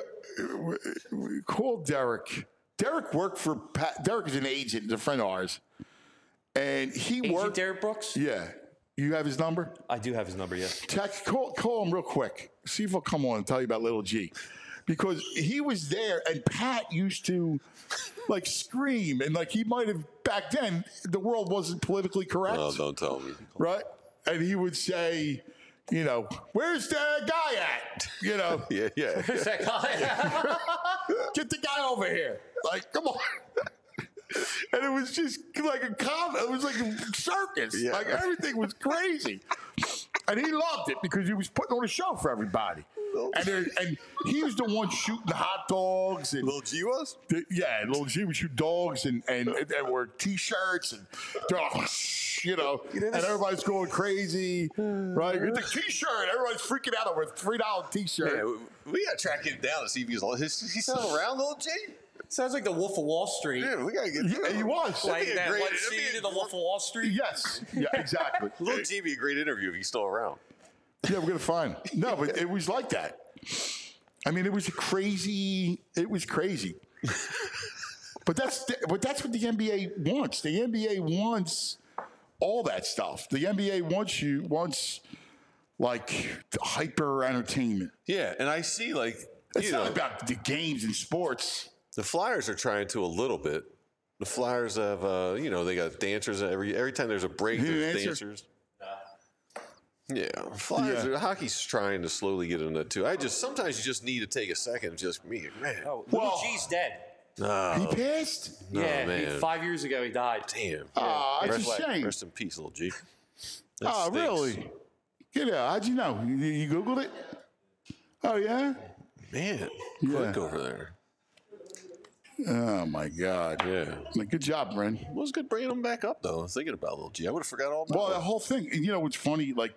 call Derek. Derek worked for Pat. Derek is an agent, a friend of ours. And he Agent worked. Derek Brooks? Yeah. You have his number? I do have his number, yes. Call him real quick. See if he'll come on and tell you about Little G. Because he was there, and Pat used to like scream, and like he might have back then. The world wasn't politically correct, Oh, don't tell me. right? And he would say, you know, where's the guy at? You know, Yeah. Who's that guy? get the guy over here. Like, come on. And it was just like a it was like a circus. Yeah. Like everything was crazy. And he loved it because he was putting on a show for everybody. And he was the one shooting hot dogs and Little G was? Little G would shoot dogs and wear T-shirts and they're like, you know, and everybody's going crazy, right? Get the T-shirt, everybody's freaking out over a $3 T-shirt. Yeah, we got to track him down to see if he's still around, Little G. Sounds like the Wolf of Wall Street. Yeah, we got to get Yeah, he was. Like that great- one that'd be scene a in the Wolf of Wall Street. Yes, yeah, exactly. Little G be a great interview if he's still around. Yeah, we're gonna find him. No, but it was like that. I mean, it was crazy. It was crazy. But that's what the NBA wants. The NBA wants all that stuff. The NBA wants like hyper entertainment. Yeah, and I see like It's not about the games and sports. the Flyers are trying to a little bit. The Flyers have they got dancers every time there's a break. You There's answer? dancers. Yeah, Flyers. Yeah. Hockey's trying to slowly get into that too. Sometimes you just need to take a second and just man. Oh, Well- Little G's dead. No, He passed. Yeah, man. 5 years ago he died. damn. Oh, it's rest, a shame. Rest in peace, Little G. That Oh, stinks. really? Get out. How'd you know? You Googled it? Oh, yeah? Man, Yeah. quick over there. Oh, my God. Yeah. Good job, Bren. It was good bringing him back up, though. I was thinking about Little G. I would have forgot all about Well, the it. whole thing, you know, what's funny, like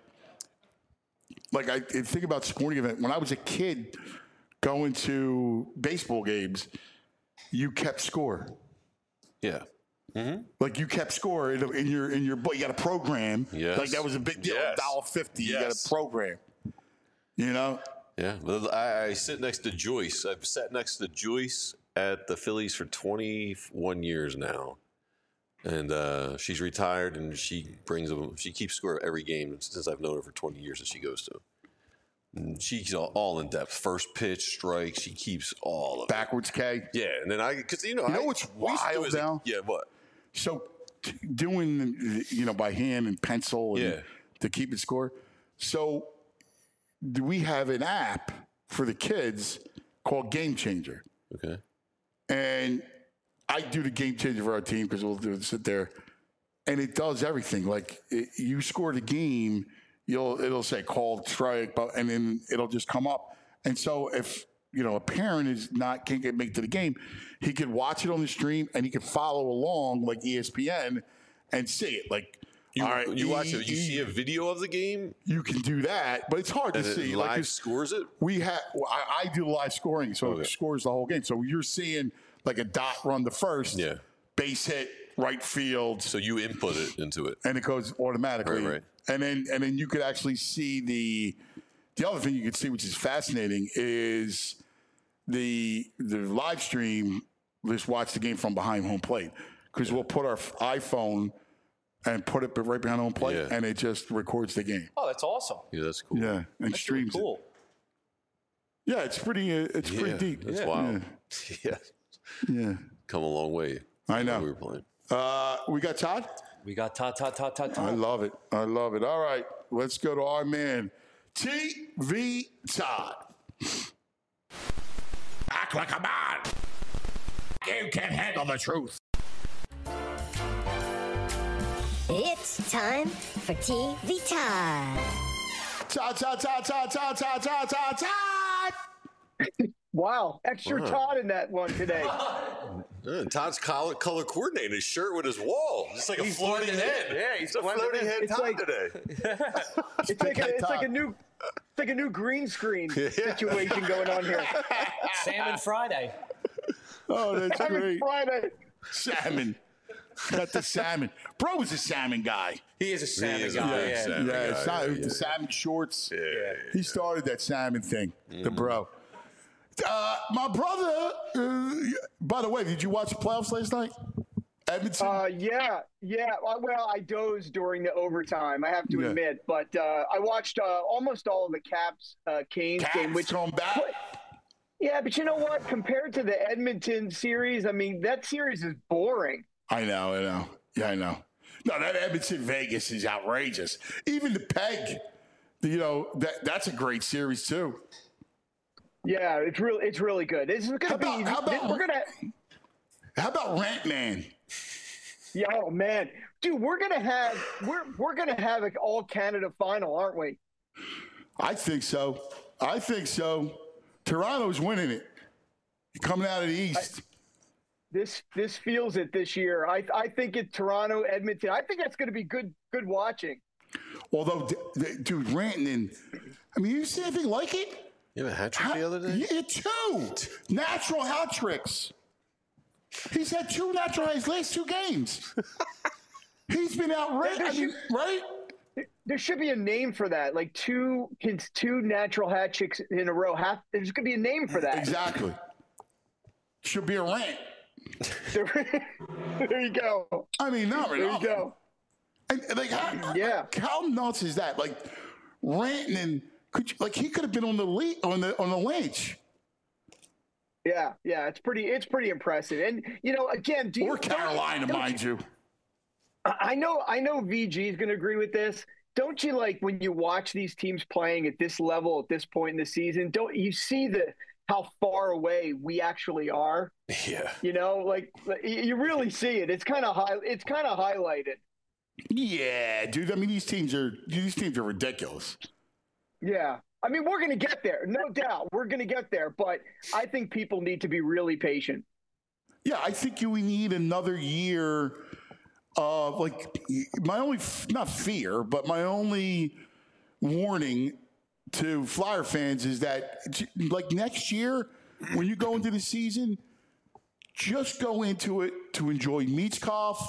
I think about sporting event. When I was a kid going to baseball games, you kept score. Yeah. Like you kept score in your book. You got a program. Yes. Like that was a big deal. Yes. $1.50. You got Yes. a program. You know? Yeah. Well, I sit next to Joyce. I've sat next to Joyce at the Phillies for 21 years now. And she's retired, and she keeps score every game since I've known her for 20 years that she goes to. And she's all in depth. First pitch, strike. She keeps all of it. Backwards K. Yeah, and then because You know what's we used to do wild as a- now? Yeah, what? So doing, by hand and pencil and Yeah. to keep it score. So we have an app for the kids called Game Changer. Okay. And I do the Game Changer for our team because we'll sit there. And it does everything. Like you score the game, it'll say called strike, and then it'll just come up. And so if a parent can't make to the game, he could watch it on the stream and he could follow along like ESPN and see it. Like all right, You watch it. You see a video of the game, you can do that, but it's hard to and see. it Like live it's- scores it. I do live scoring, so it scores the whole game. So you're seeing like a dot run the first, Yeah. base hit, right field, So you input it into it. and it goes automatically. Right. And then you could actually see the other thing you could see, which is fascinating, is the live stream. Just watch the game from behind home plate because we'll put our iPhone and put it right behind home plate, Yeah. and it just records the game. Oh, that's awesome. Yeah, that's cool. Yeah, and That's streams really cool. it. Yeah, it's pretty. It's Yeah, pretty deep. That's wild. Yeah. Yeah. Come a long way. I know. When we were playing. We got Todd. We got Todd. I love it. I love it. All right, let's go to our man, TV Todd. Act like a man. You can't handle the truth. It's time for TV time. Todd. Wow, extra Todd in that one today. Todd's color coordinated his shirt with his wall. It's like a floating head. Yeah, he's a floating head It's Todd like- today. It's like a new green screen situation going on here. Salmon Friday. Oh, that's Every great. Friday. Salmon. Got the salmon. Bro was a salmon guy. He is a salmon is a guy. big Yeah. salmon. Yeah, it's not, yeah. the salmon shorts. Yeah. He started that salmon thing, the bro. My brother, by the way, did you watch the playoffs last night? Edmonton? Yeah. Well, I dozed during the overtime, I have to Yeah. admit, but I watched almost all of the Caps Canes game, Caps which come back. yeah, but you know what? Compared to the Edmonton series, I mean, that series is boring. I know. Yeah, I know. No, that Edmonton Vegas is outrageous. Even the Peg, that's a great series too. Yeah, it's really good. This is going to be. We're gonna. How about Rant Man? Yeah, oh man, dude, we're gonna have an all Canada final, aren't we? I think so. Toronto's winning it. Coming out of the East. This feels it this year. I think it's Toronto, Edmonton. I think that's going to be good watching. Although, dude, Rantanen, I mean, you see anything like it? You have a hat trick the other day? Yeah, 2 natural hat tricks. He's had 2 natural his last 2 games. He's been outrageous, right? There should be a name for that. Like two natural hat tricks in a row. There's going to be a name for that. Exactly. Should be a rant. There you go. I mean, not really. There you go. And like, how nuts is that? Like, Rantanen, he could have been on the lynch. Yeah, it's pretty impressive. And again, or Carolina, mind you. I know VG is going to agree with this. Don't you like when you watch these teams playing at this level at this point in the season? Don't you see how far away we actually are? Yeah. You really see it. It's kind of highlighted. Yeah, dude. I mean, these teams are ridiculous. Yeah. I mean, we're going to get there. No doubt. We're going to get there. But I think people need to be really patient. Yeah, I think we need another year of, my only, not fear, but my only warning to Flyer fans is that, next year, when you go into the season, just go into it to enjoy Michkov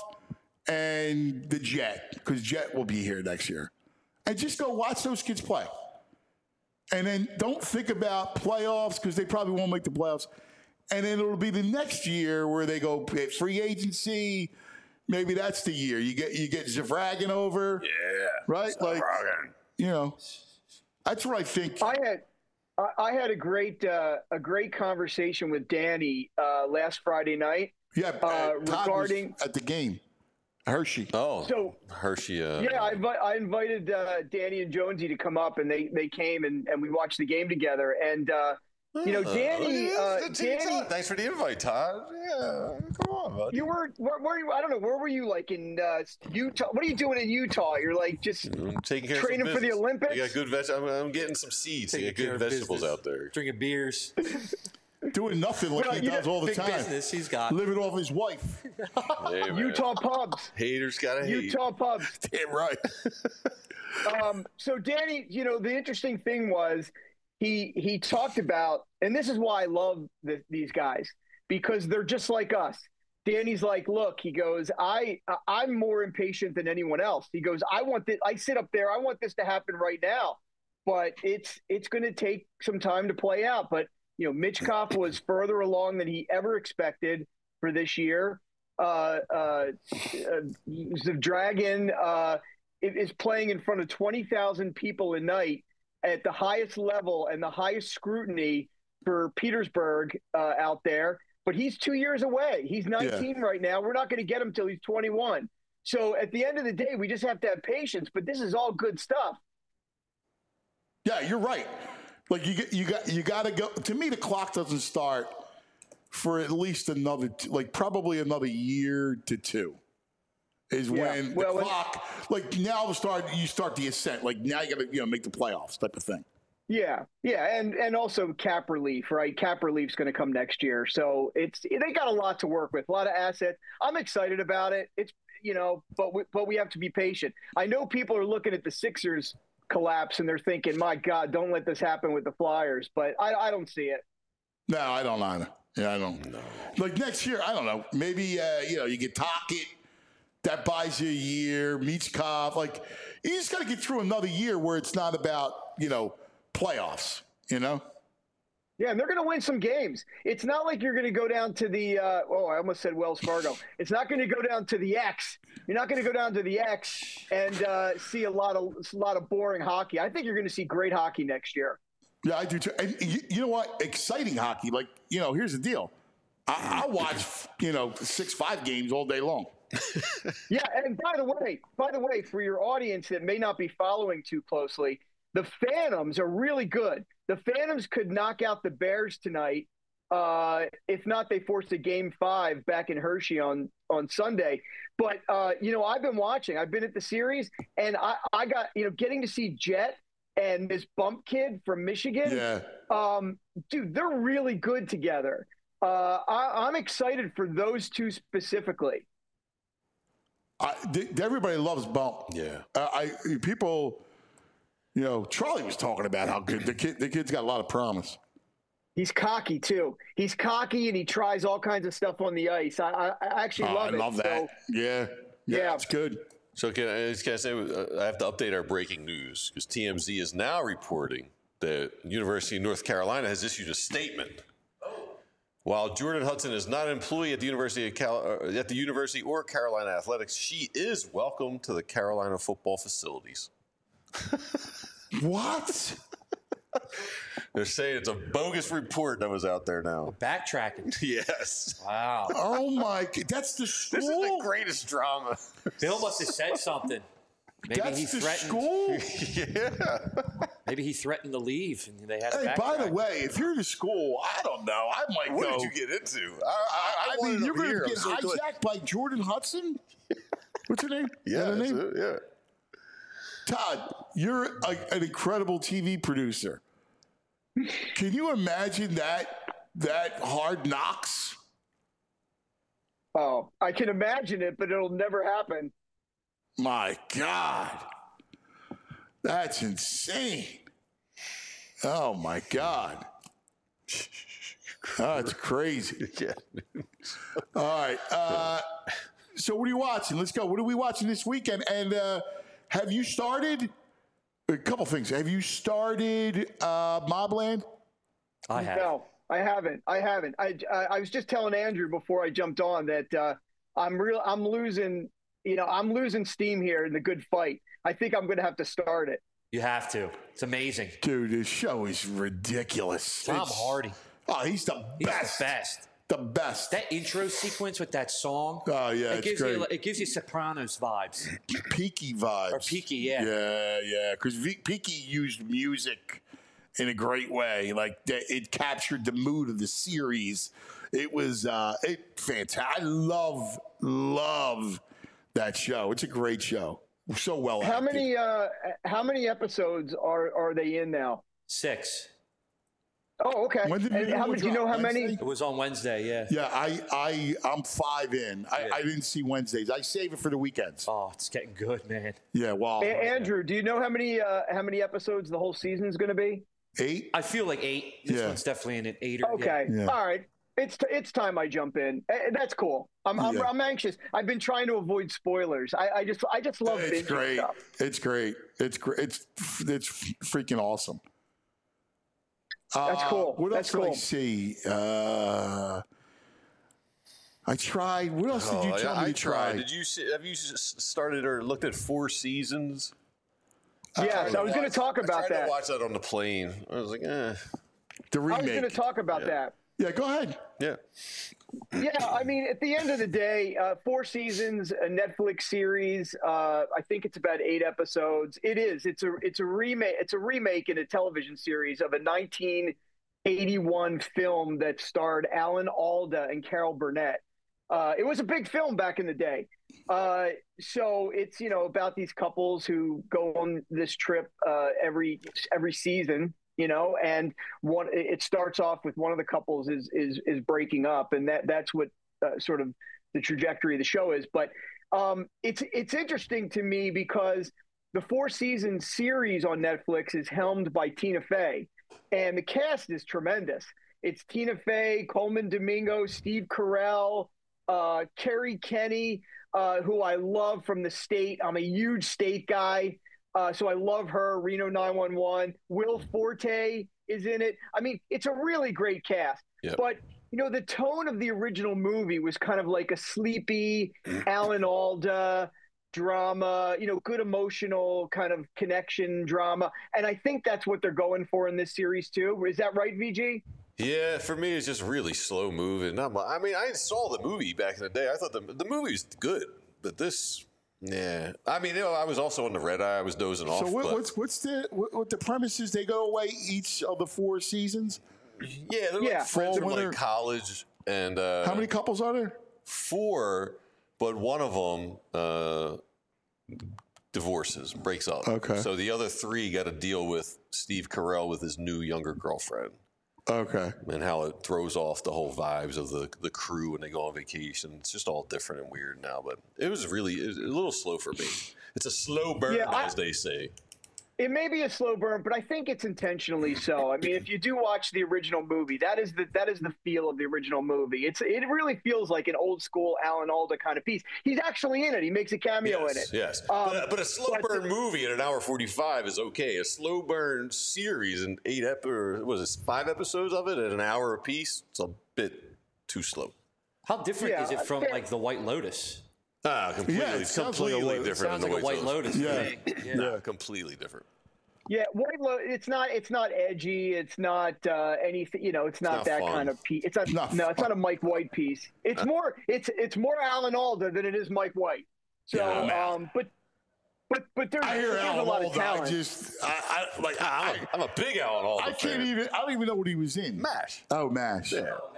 and the Jet, because Jet will be here next year. And just go watch those kids play. And then don't think about playoffs, because they probably won't make the playoffs. And then it'll be the next year where they go free agency. Maybe that's the year. You get Zavragin over. Yeah. Right? Zavragin. That's what I think. I had a great conversation with Danny last Friday night. Yeah, regarding at the game, Hershey. Oh, so Hershey. Yeah, I invited Danny and Jonesy to come up, and they came and we watched the game together. And Danny, thanks for the invite, Todd. Yeah, come on, buddy. you were I don't know, where were you? Like in Utah? What are you doing in Utah? You're like just I'm taking care training of for the Olympics. I got good I'm getting some seeds. I got good vegetables out there. Drinking beers. Doing nothing like he does all the big time. Business he's got. Living off his wife. Hey, Utah pubs. Haters gotta hate. Utah pubs. Damn right. So Danny, the interesting thing was he talked about, and this is why I love these guys, because they're just like us. Danny's like, look, he goes, I'm more impatient than anyone else. He goes, I sit up there, I want this to happen right now, but it's going to take some time to play out. But Michkov was further along than he ever expected for this year. the Dragon is playing in front of 20,000 people a night at the highest level and the highest scrutiny for Petersburg out there. But he's 2 years away. He's 19 right now. We're not going to get him till he's 21. So at the end of the day, we just have to have patience. But this is all good stuff. Yeah, you're right. Like you got to go. To me, the clock doesn't start for at least another, probably another year to two. Is when the clock, now you start the ascent. Like now you got to make the playoffs type of thing. Yeah, and also cap relief, right? Cap relief's going to come next year, so they got a lot to work with, a lot of assets. I'm excited about it. It's but we have to be patient. I know people are looking at the Sixers collapse and they're thinking, "My God, don't let this happen with the Flyers." But I don't see it. No, I don't either. Yeah, I don't know. Like next year, I don't know. Maybe you get Tocchet. That buys you a year. Michkov. Like you just got to get through another year where it's not about playoffs. Yeah, and they're going to win some games. It's not like you're going to go down to the I almost said Wells Fargo. It's not going to go down to the X. You're not going to go down to the X and see a lot of boring hockey. I think you're going to see great hockey next year. Yeah, I do too. And you know what? Exciting hockey. Like, here's the deal. I'll watch 6-5 games all day long. Yeah, and by the way, for your audience that may not be following too closely, the Phantoms are really good. The Phantoms could knock out the Bears tonight. If not, they forced a Game 5 back in Hershey on Sunday. But, I've been watching. I've been at the series, and I got, getting to see Jet and this bump kid from Michigan. Yeah. Dude, they're really good together. I'm excited for those two specifically. Everybody loves Bump. Yeah. People, Charlie was talking about how good the kid's got a lot of promise. He's cocky too. He's cocky and he tries all kinds of stuff on the ice. I actually love it. I love that. So, yeah, it's good. So can I say I have to update our breaking news because TMZ is now reporting that University of North Carolina has issued a statement. While Jordan Hudson is not an employee at the University or Carolina Athletics, she is welcome to the Carolina football facilities. What? They're saying it's a bogus report that was out there now. Backtracking. Yes. Wow. Oh my! That's the school. This is the greatest drama. Bill must have said something. Maybe That's he the threatened. School? Yeah. Maybe he threatened to leave, and they had. Hey, by the way, if you're the school, I don't know. I might what go. What did you get into? I mean, you're going to get hijacked by Jordan Hudson. What's her name? Yeah, her name? It, yeah. Todd, you're an incredible TV producer. Can you imagine that Hard Knocks? Oh, I can imagine it, but it'll never happen. My God. That's insane. Oh, my God. That's crazy. Yeah. All right. So what are you watching? Let's go. What are we watching this weekend? And have you started? A couple things. Have you started Mobland? I have. No, I haven't. I was just telling Andrew before I jumped on that I'm losing. I'm losing steam here in the good fight. I think I'm going to have to start it. You have to. It's amazing. Dude, this show is ridiculous. Tom Hardy. Oh, he's the best. The best. The best. That intro sequence with that song. Oh, yeah, it gives you Sopranos vibes. Peaky vibes. Or Peaky, yeah. Yeah. Because Peaky used music in a great way. Like, it captured the mood of the series. It was fantastic. I love that show. It's a great show. So well acted. How many episodes are they in now? 6. Oh, okay. When did do you know how many? It was on Wednesday, yeah. Yeah, I'm 5 in. I didn't see Wednesdays. I save it for the weekends. Oh, it's getting good, man. Yeah, wow. Andrew, do you know how many episodes the whole season is going to be? 8? I feel like 8. This one's definitely in an 8. Okay, yeah. All right. It's time I jump in. That's cool. I'm anxious. I've been trying to avoid spoilers. I just love it's great. Stuff. It's great. It's great. It's freaking awesome. That's cool. What That's else cool. did I see? I tried. What else did you tell me I to try? tried. Have you started or looked at Four Seasons? Yes, I was going to talk about I tried that. to watch that on the plane. I was like, The I remake. was going to talk about that. Yeah, go ahead. Yeah. Yeah, I mean, at the end of the day, 4 seasons, a Netflix series. I think it's about 8 episodes. It is. It's a remake. It's a remake in a television series of a 1981 film that starred Alan Alda and Carol Burnett. It was a big film back in the day. So it's about these couples who go on this trip every season. And it starts off with one of the couples is breaking up, and that's what sort of the trajectory of the show is. But it's interesting to me because the 4-season series on Netflix is helmed by Tina Fey, and the cast is tremendous. It's Tina Fey, Coleman Domingo, Steve Carell, Kerry Kenny, who I love from The State. I'm a huge State guy. So I love her. Reno 911. Will Forte is in it. I mean, it's a really great cast. Yep. But, the tone of the original movie was kind of like a sleepy Alan Alda drama, good emotional kind of connection drama. And I think that's what they're going for in this series, too. Is that right, VG? Yeah, for me, it's just really slow moving. I mean, I saw the movie back in the day. I thought the movie was good, but this... Yeah, I mean, I was also on the red eye. I was dozing off. So what's the premise is? They go away each of the 4 seasons. Yeah, they're like friends from like college, and how many couples are there? 4, but one of them divorces, breaks up. Okay. So the other 3 got to deal with Steve Carell with his new younger girlfriend. Okay. And how it throws off the whole vibes of the crew when they go on vacation. It's just all different and weird now, but it was a little slow for me. It's a slow burn, as they say. It may be a slow burn, but I think it's intentionally so. I mean, if you do watch the original movie, that is the feel of the original movie. It really feels like an old school Alan Alda kind of piece. He's actually in it. He makes a cameo in it. Yes, but a slow burn movie at an hour 45 is okay. A slow burn series in 5 episodes of it at an hour apiece, it's a bit too slow. How different is it from like The White Lotus? Completely different. Sounds like a White Lotus. Yeah, completely different. Yeah, White Lotus. It's not edgy. It's not anything. It's not that fun. Kind of piece. It's not a Mike White piece. It's more. It's more Alan Alda than it is Mike White. So, but there's a lot of talent. I'm a big Alan Alda fan. I don't even know what he was in. MASH. Oh, MASH.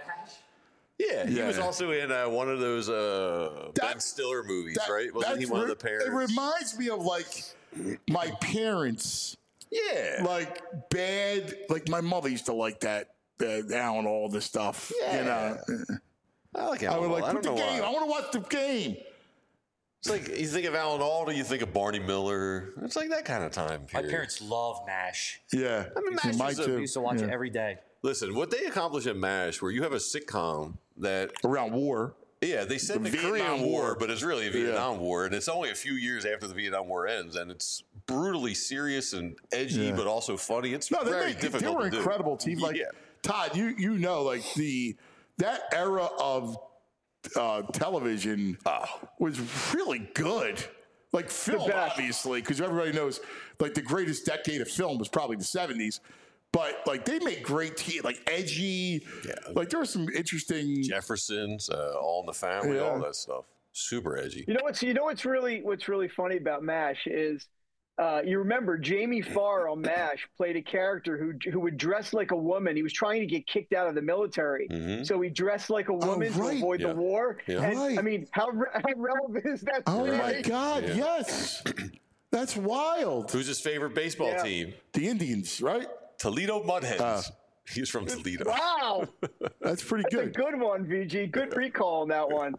Yeah, he was also in one of those Ben Stiller movies, right? Wasn't he one of the parents? It reminds me of like my parents. Yeah. Like bad, like my mother used to like that Alan Alda stuff. Yeah. I like Alan Alda. I want to watch the game. It's like you think of Alan Alda, you think of Barney Miller. It's like that kind of time period. My parents love MASH. Yeah. I mean, MASH we used to watch it every day. Listen, what they accomplished at MASH, where you have a sitcom that... Around war. Yeah, they said the Korean War, but it's really a Vietnam War, and it's only a few years after the Vietnam War ends, and it's brutally serious and edgy, but also funny. It's very difficult to do. They were incredible team. Like, Todd, you know, like that era of television was really good. Like film, obviously, because everybody knows, like the greatest decade of film was probably the 70s. But like they made great TV, like edgy. Yeah. Like there was some interesting Jeffersons, All in the Family, all that stuff. Super edgy. You know what's really funny about MASH is you remember Jamie Farr on MASH played a character who would dress like a woman. He was trying to get kicked out of the military, so he dressed like a woman to avoid the war. Yeah. And, I mean, how relevant is that? Oh my God! Yeah. Yes, that's wild. Who's his favorite baseball team? The Indians, right? Toledo Mudhens. He's from Toledo. Wow. That's pretty good. That's a good one, VG. Good recall on that one.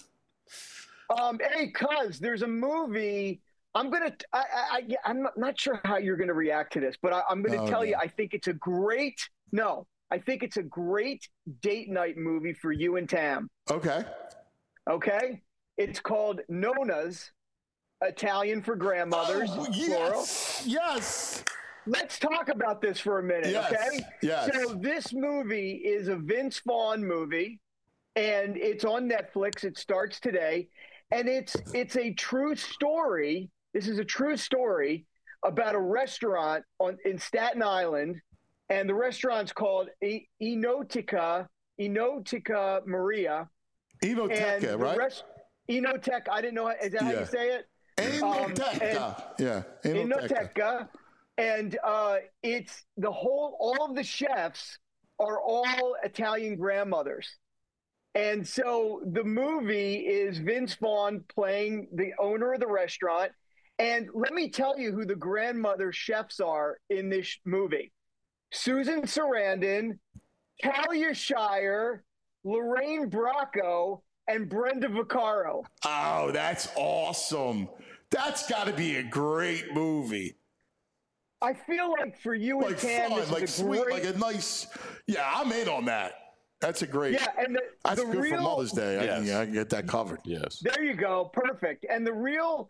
Hey, cuz, there's a movie. I'm not sure how you're going to react to this, but I'm going to tell you, I think it's a great date night movie for you and Tam. Okay. It's called Nona's, Italian for grandmothers. Oh, yes. Yes. Let's talk about this for a minute, okay? Yes. So this movie is a Vince Vaughn movie. and it's on Netflix. It starts today, and it's a true story. This is a true story about a restaurant in Staten Island, and the restaurant's called Enoteca Maria. Enoteca, right? Enoteca. I didn't know. Is that how you say it? Enoteca. Enoteca. And it's all of the chefs are all Italian grandmothers. And so the movie is Vince Vaughn playing the owner of the restaurant. And let me tell you who the grandmother chefs are in this movie. Susan Sarandon, Talia Shire, Lorraine Bracco, and Brenda Vaccaro. Oh, that's awesome. That's got to be a great movie. I feel like for you and Tam, fun, this like is a sweet, great... like a nice. Yeah, I'm in on that. That's a great. Yeah, and that's the good real, for Mother's Day. Yes. I can get that covered. Yes. There you go. Perfect. And the real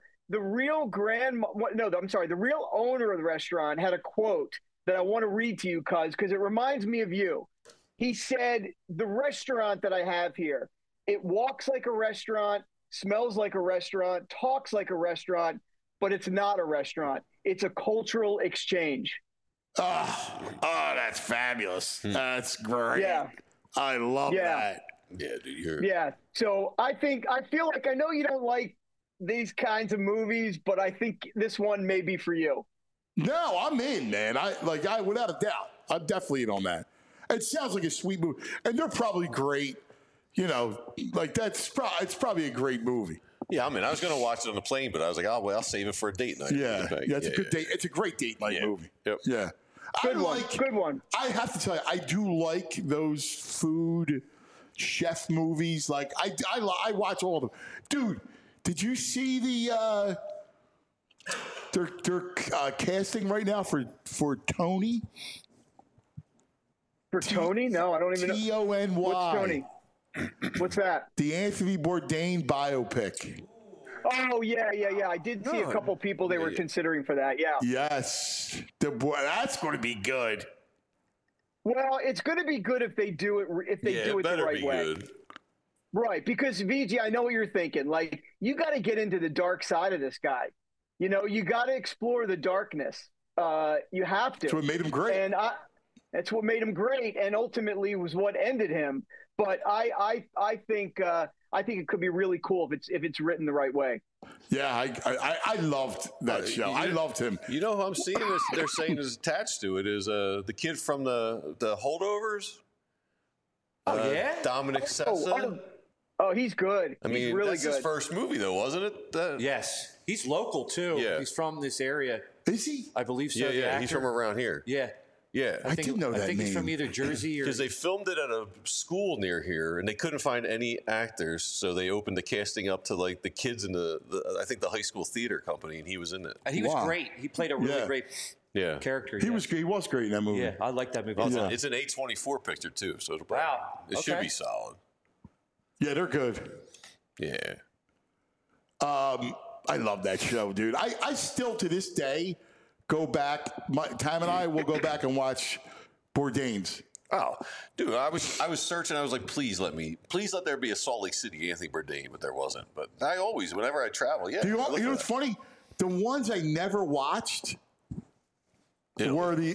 owner of the restaurant had a quote that I want to read to you, because it reminds me of you. He said, "The restaurant that I have here, it walks like a restaurant, smells like a restaurant, talks like a restaurant, but it's not a restaurant. It's a cultural exchange." Oh, that's fabulous. That's great. Yeah. I love that. Yeah, dude. Yeah. So I feel like, I know you don't like these kinds of movies, but I think this one may be for you. No, I'm in, man. I without a doubt. I'm definitely in on that. It sounds like a sweet movie, and they're probably great. You know, like it's probably a great movie. Yeah, I mean, I was going to watch it on the plane, but I was like, oh, well, I'll save it for a date night. Yeah, it's a good date. It's a great date night movie. Yep. Yeah. Good one. I have to tell you, I do like those food chef movies. Like I watch all of them. Dude, did you see they're casting right now for Tony? For Tony? No, I don't even know. Tony. What's Tony? What's that? The Anthony Bourdain biopic. Oh, yeah. I did see a couple people they were considering for that, yeah. Yes. That's going to be good. Well, it's going to be good if they do it the right way. Good. Right, because VG, I know what you're thinking. Like, you got to get into the dark side of this guy. You know, you got to explore the darkness. You have to. That's what made him great. And that's what made him great, and ultimately was what ended him. But I think it could be really cool if it's written the right way. Yeah, I loved that show. I loved him. You know who I'm seeing they're saying is attached to it is the kid from the Holdovers. Yeah, Dominic Sessa. Oh, he's good. I mean, he's really that's good. his first movie, though, wasn't it? Yes, he's local too. Yeah. He's from this area. Is he? I believe so. Yeah, he's from around here. Yeah. Yeah, I didn't know that I think name. he's from either Jersey or because they filmed it at a school near here, and they couldn't find any actors, so they opened the casting up to like the kids in the I think the high school theater company, and he was in it. And he was great. He played a really great character. He was great in that movie. Yeah, I like that movie. Well, it's an A24 picture too, so it should be solid. Yeah, they're good. Yeah. I love that show, dude. I still to this day go back. Tam and I will go back and watch Bourdain's. Oh, dude, I was searching. I was like, please let there be a Salt Lake City Anthony Bourdain, but there wasn't. But I always, whenever I travel, You know what's funny? The ones I never watched were the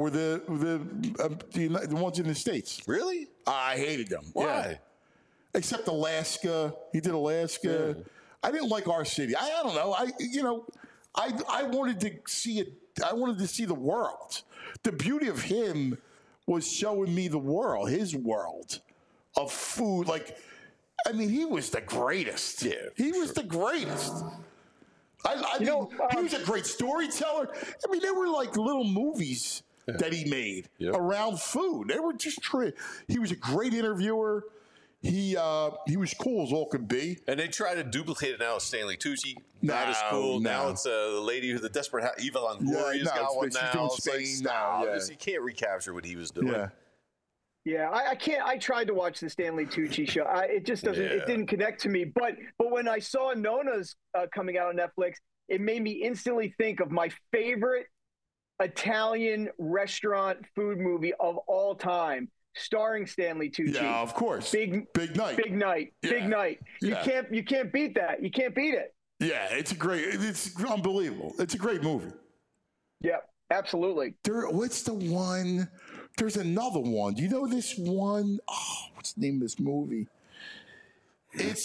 ones in the States. Really? I hated them. Why? Yeah. Except Alaska. He did Alaska. Yeah. I didn't like our city. I don't know. I wanted to see it. I wanted to see the world. The beauty of him was showing me the world, his world of food. Like, I mean, he was the greatest. Yeah, he was the greatest. I mean, he was a great storyteller. I mean, there were like little movies that he made around food. They were just he was a great interviewer. He was cool as all could be. And they try to duplicate it now with Stanley Tucci. Not as cool. No. Now it's the lady who's the desperate Eva Longoria's got one now. She's doing Spain now. You can't recapture what he was doing. Yeah, I can't. I tried to watch the Stanley Tucci show. It just doesn't. It didn't connect to me. But when I saw Nona's coming out on Netflix, it made me instantly think of my favorite Italian restaurant food movie of all time, starring Stanley Tucci. Yeah, of course. Big night. Big night. Yeah. Big night. Yeah. You can't beat that. You can't beat it. Yeah, it's unbelievable. It's a great movie. Yeah, absolutely. What's the one? There's another one. Do you know this one? Oh, what's the name of this movie? It's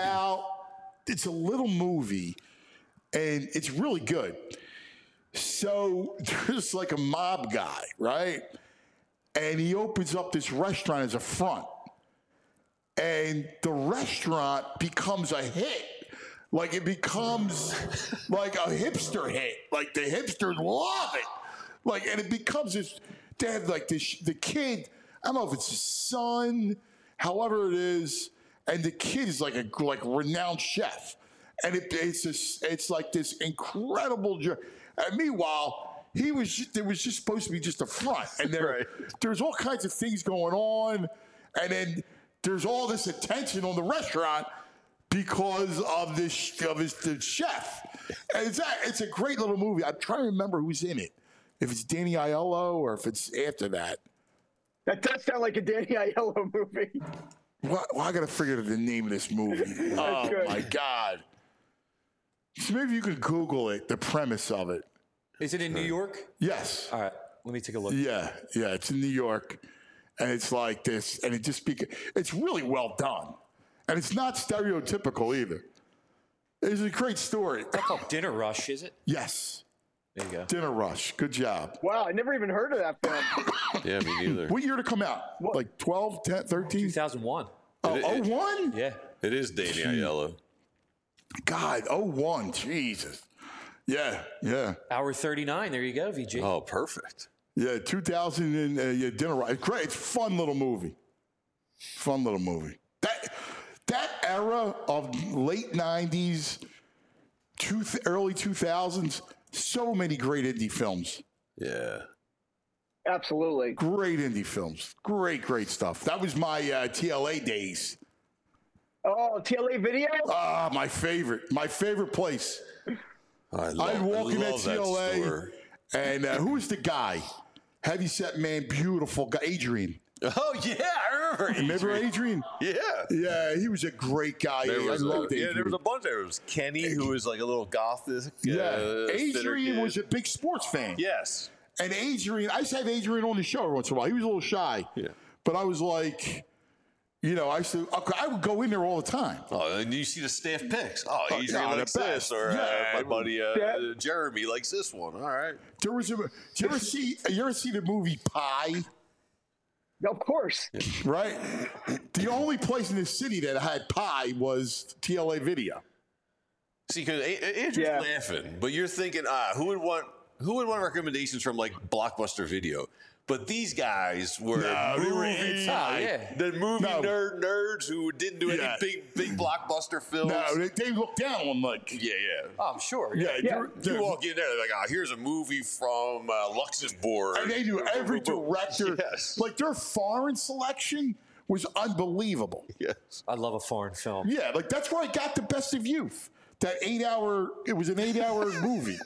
a little movie, and it's really good. So there's like a mob guy, right? And he opens up this restaurant as a front. And the restaurant becomes a hit. Like, it becomes like a hipster hit. Like, the hipsters love it. Like, and it becomes this, they have like this, the kid, I don't know if it's his son, however it is, and the kid is like a renowned chef. And it's like this incredible journey. And meanwhile, there was just supposed to be just a front. And there's all kinds of things going on. And then there's all this attention on the restaurant because of the chef. And it's a great little movie. I'm trying to remember who's in it. If it's Danny Aiello or if it's after that. That does sound like a Danny Aiello movie. Well, I got to figure out the name of this movie. Oh, my God. So maybe you could Google it, the premise of it. Is it in New York? Yes. All right. Let me take a look. Yeah, it's in New York. And it's like this. And it's really well done. And it's not stereotypical either. It's a great story. It's not called Dinner Rush, is it? Yes. There you go. Dinner Rush. Good job. Wow, I never even heard of that film. Yeah, me neither. What year to come out? What? Like 12, 10, 13? 2001. Oh, 01? Yeah. It is Danny Aiello. God, 01. Jesus. Yeah. Hour 39. There you go, VG. Oh, perfect. Yeah, 2000 and Dinner Rush. Great. It's a fun little movie. That era of late 90s, early 2000s, so many great indie films. Yeah. Absolutely. Great indie films. Great stuff. That was my TLA days. Oh, TLA Video? Ah, my favorite place. I'd walk in that TLA, and who was the guy? Heavyset man, beautiful guy, Adrian. Oh, yeah, I remember Adrian. Remember Adrian? Yeah, he was a great guy. I loved Adrian. Yeah, there was a bunch there. It was Kenny, who was like a little gothic. Adrian was a big sports fan. Yes. And Adrian, I used to have Adrian on the show every once in a while. He was a little shy. Yeah. But I was like, I would go in there all the time. Oh, and you see the staff picks. Oh, Adrian likes this. Or my buddy Jeremy likes this one. All right. Did you ever see the movie Pi? Of course. Right? The only place in the city that had Pi was TLA Video. See, because Adrian's laughing, but you're thinking, who would want recommendations from like Blockbuster Video? But these guys were movie nerds who didn't do any big blockbuster films. No, they looked down on like Oh, I'm sure. You walk in there, they're like, here's a movie from Luxembourg. And they do every director. Yes. Like their foreign selection was unbelievable. Yes. I love a foreign film. Yeah, like that's where I got the best of youth. That 8-hour, it was an 8-hour movie.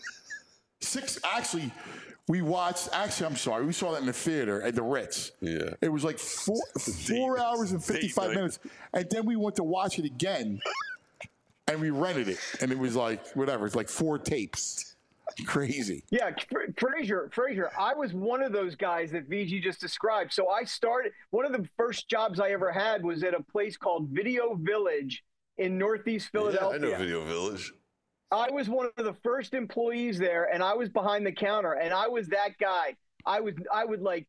We saw that in the theater at the Ritz. Yeah. It was like 4 hours and 55 minutes. And then we went to watch it again and we rented it. And it was like, whatever, it's like 4 tapes. Crazy. Yeah, Frazier, I was one of those guys that VG just described. So I started, one of the first jobs I ever had was at a place called Video Village in Northeast Philadelphia. Yeah, I know Video Village. I was one of the first employees there, and I was behind the counter, and I was that guy. I would like,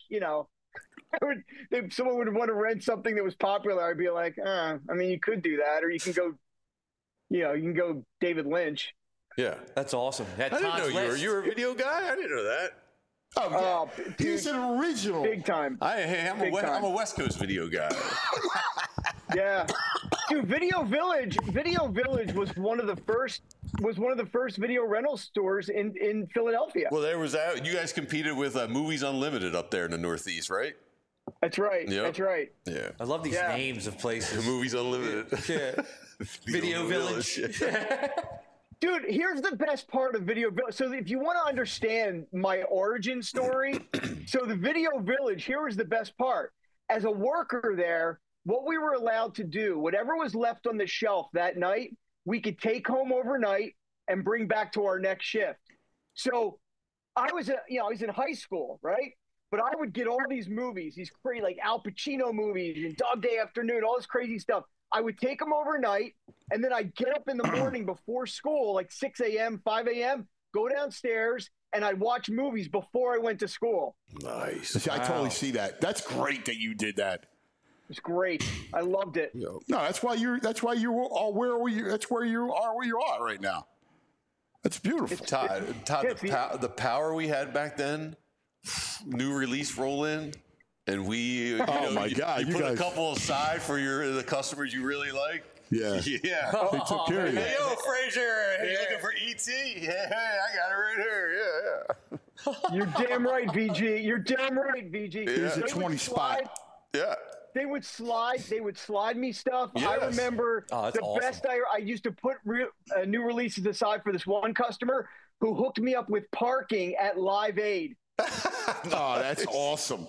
if someone would want to rent something that was popular, I'd be like, you could do that, or you can go, you can go David Lynch. Yeah, that's awesome. I didn't know you were a video guy. I didn't know that. Oh, yeah. He's an original. Big time. I'm a West Coast video guy. Yeah. Dude, Video Village was one of the first video rental stores in Philadelphia. Well, there was that. You guys competed with Movies Unlimited up there in the Northeast, right? That's right. Yep. That's right. Yeah. I love these names of places. Movies Unlimited. Yeah. Video Village. Dude, here's the best part of Video Village. So if you want to understand my origin story, so the Video Village, here was the best part. as a worker there, what we were allowed to do, whatever was left on the shelf that night, we could take home overnight and bring back to our next shift. So I was in high school, right? But I would get all these movies, these crazy, like Al Pacino movies and Dog Day Afternoon, all this crazy stuff. I would take them overnight, and then I'd get up in the morning before school, like 6 a.m., 5 a.m., go downstairs, and I'd watch movies before I went to school. Nice. See, I totally see that. That's great that you did that. It's great. I loved it. No, that's why you are where you are right now. That's beautiful. Todd, the power we had back then, new release roll in, and we you put a couple aside for the customers you really like. Yeah. Yeah. They took care of you. Hey, yo, Frazier. Hey, you looking for E.T.? Yeah, I got it right here. Yeah. You're damn right, VG. You're damn right, VG. Here's a 20 spot. Yeah. They would slide me stuff. Yes. I remember awesome. Best I used to put new releases aside for this one customer who hooked me up with parking at Live Aid. Oh, that's awesome.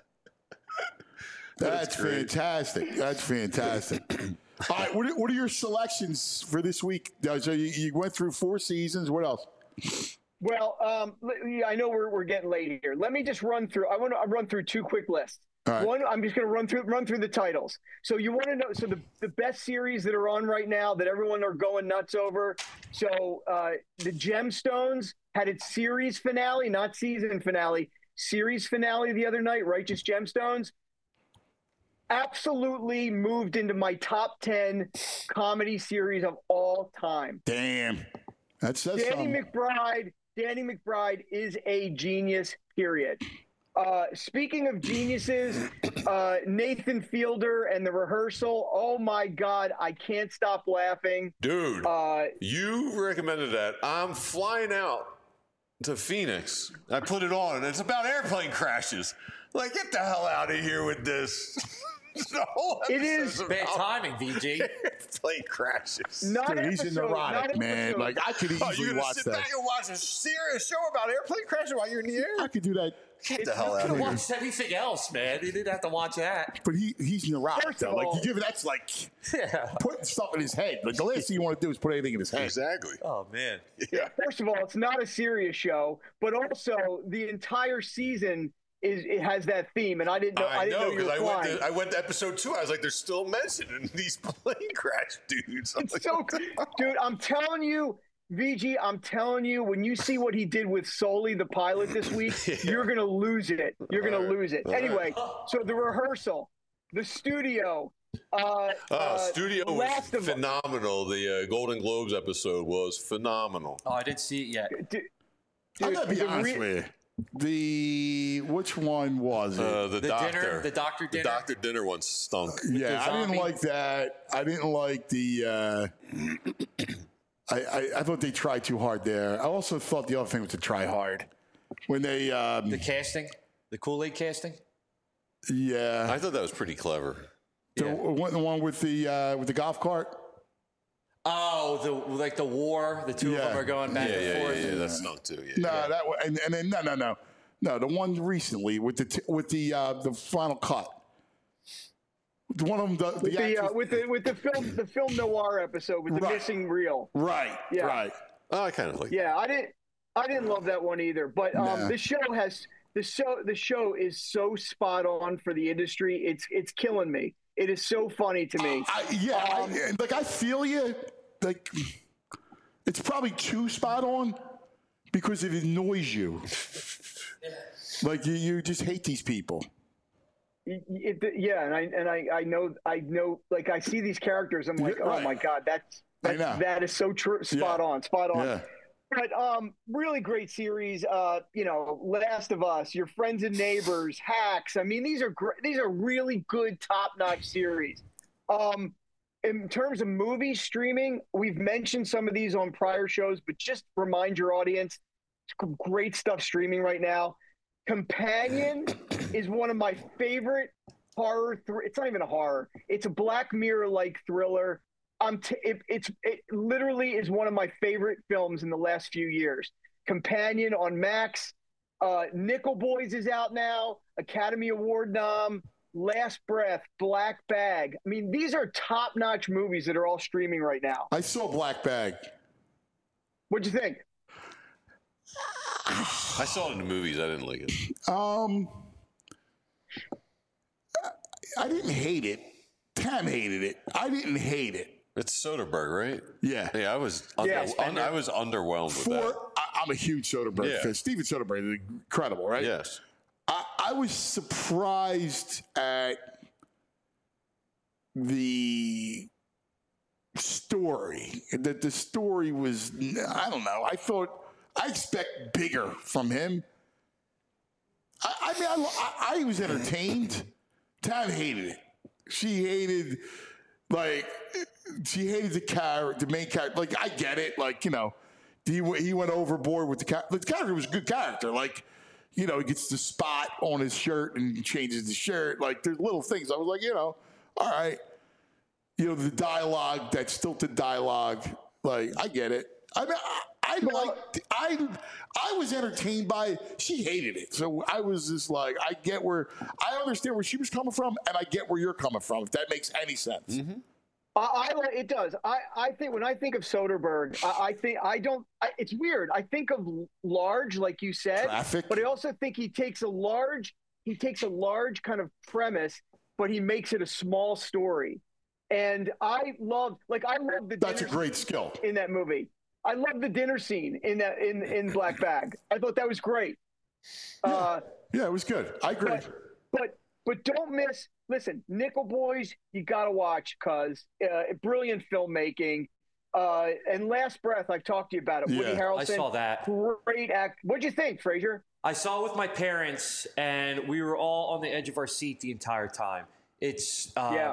That's fantastic. That's fantastic. All right, what are your selections for this week? So you went through 4 seasons. What else? Well, I know we're getting late here. Let me just run through. I want to run through 2 quick lists. Right. One, I'm just going to run through the titles. So you want to know? So the best series that are on right now that everyone are going nuts over. So the Gemstones had its series finale, not season finale. Series finale the other night. Righteous Gemstones. Absolutely moved into my top 10 comedy series of all time. Damn. That's Danny McBride. Danny McBride is a genius, period. Speaking of geniuses, Nathan Fielder and The Rehearsal. Oh my God, I can't stop laughing. Dude, you recommended that. I'm flying out to Phoenix. I put it on, and it's about airplane crashes. Like, get the hell out of here with this. It is bad timing, VG. Plane crashes. Dude, he's a neurotic, man. Like, I could easily you're watch sit that. back and watch a serious show about airplane crashes while you're in the air? I could do that. Get the hell out You of could here. watch anything else, man. You didn't have to watch that. But he's neurotic, First though. of Like, all- you give it, that's like putting stuff in his head. Like, the last thing you want to do is put anything in his head. Exactly. Oh, man. Yeah. First of all, it's not a serious show, but also the entire season it has that theme, and I didn't know. I know, you were because flying. I went to episode 2. I was like, they're still mentioning these plane crash dudes. I'm It's like, so, dude. I'm telling you, VG. I'm telling you, when you see what he did with Sully, the pilot, this week, you're gonna lose it. You're gonna lose it. Anyway, so The Rehearsal, The Studio. Studio was Last of Us. phenomenal. The Golden Globes episode was phenomenal. Oh, I didn't see it yet. I gotta be the honest with you. Which one was it? The Doctor dinner. The doctor dinner one stunk. Yeah, I didn't zombie. like that. I didn't like the. I thought they tried too hard there. I also thought the other thing was to try hard when they. The casting, the Kool-Aid casting. Yeah, I thought that was pretty clever. the one with the golf cart. Oh, the war. The two of them are going back and forth. Yeah, that stunk too. Yeah. No, that one, and then no, the one recently with the final cut. The one of them, with the film noir episode with the Right. missing reel. right, Yeah. right. Oh, I kind of like. Yeah, I didn't love that one either. But Nah. the show is so spot on for the industry. It's killing me. It is so funny to me. I feel you. Like, it's probably too spot on because it annoys you. Like you just hate these people. And I know. Like I see these characters, I'm like, Right. oh my God, that is so true, spot on. Yeah. But really great series. Last of Us, Your Friends and Neighbors, Hacks. I mean, these are really good, top-notch series. In terms of movie streaming, we've mentioned some of these on prior shows, but just remind your audience, great stuff streaming right now. Companion is one of my favorite horror. It's not even a horror. It's a Black Mirror-like thriller. It literally is one of my favorite films in the last few years. Companion on Max. Nickel Boys is out now. Academy Award nom. Last Breath, Black Bag. I mean, these are top-notch movies that are all streaming right now. I saw Black Bag. What'd you think? I saw it in the movies. I didn't like it. I didn't hate it. Tam hated it. I didn't hate it. It's Soderbergh, right? Yeah. Yeah, I was underwhelmed with that. I'm a huge Soderbergh fan. Steven Soderbergh is incredible, right? Yes. I was surprised at the story. That the story was, I don't know. I expect bigger from him. I was entertained. Tam hated it. She hated the main character. Like, I get it. Like, you know, he went overboard with the character. The character was a good character. Like, you know, he gets the spot on his shirt and changes the shirt. Like, there's little things. I was like, you know, all right. You know, the dialogue, that stilted dialogue. Like, I get it. I mean, I was entertained by it. She hated it. So I was just like, I understand where she was coming from, and I get where you're coming from, if that makes any sense. Mm-hmm. It does. I think when I think of Soderbergh, it's weird. I think of large, like you said, Traffic. But I also think he takes a large kind of premise, but he makes it a small story. And I love the. That's a great skill in that movie. I love the dinner scene in Black Bag. I thought that was great. Yeah, it was good. I agree. But don't miss. Listen, Nickel Boys, you got to watch because brilliant filmmaking. And Last Breath, I've talked to you about it. Yeah. Woody Harrelson. I saw that. Great act. What'd you think, Frazier? I saw it with my parents, and we were all on the edge of our seat the entire time. It's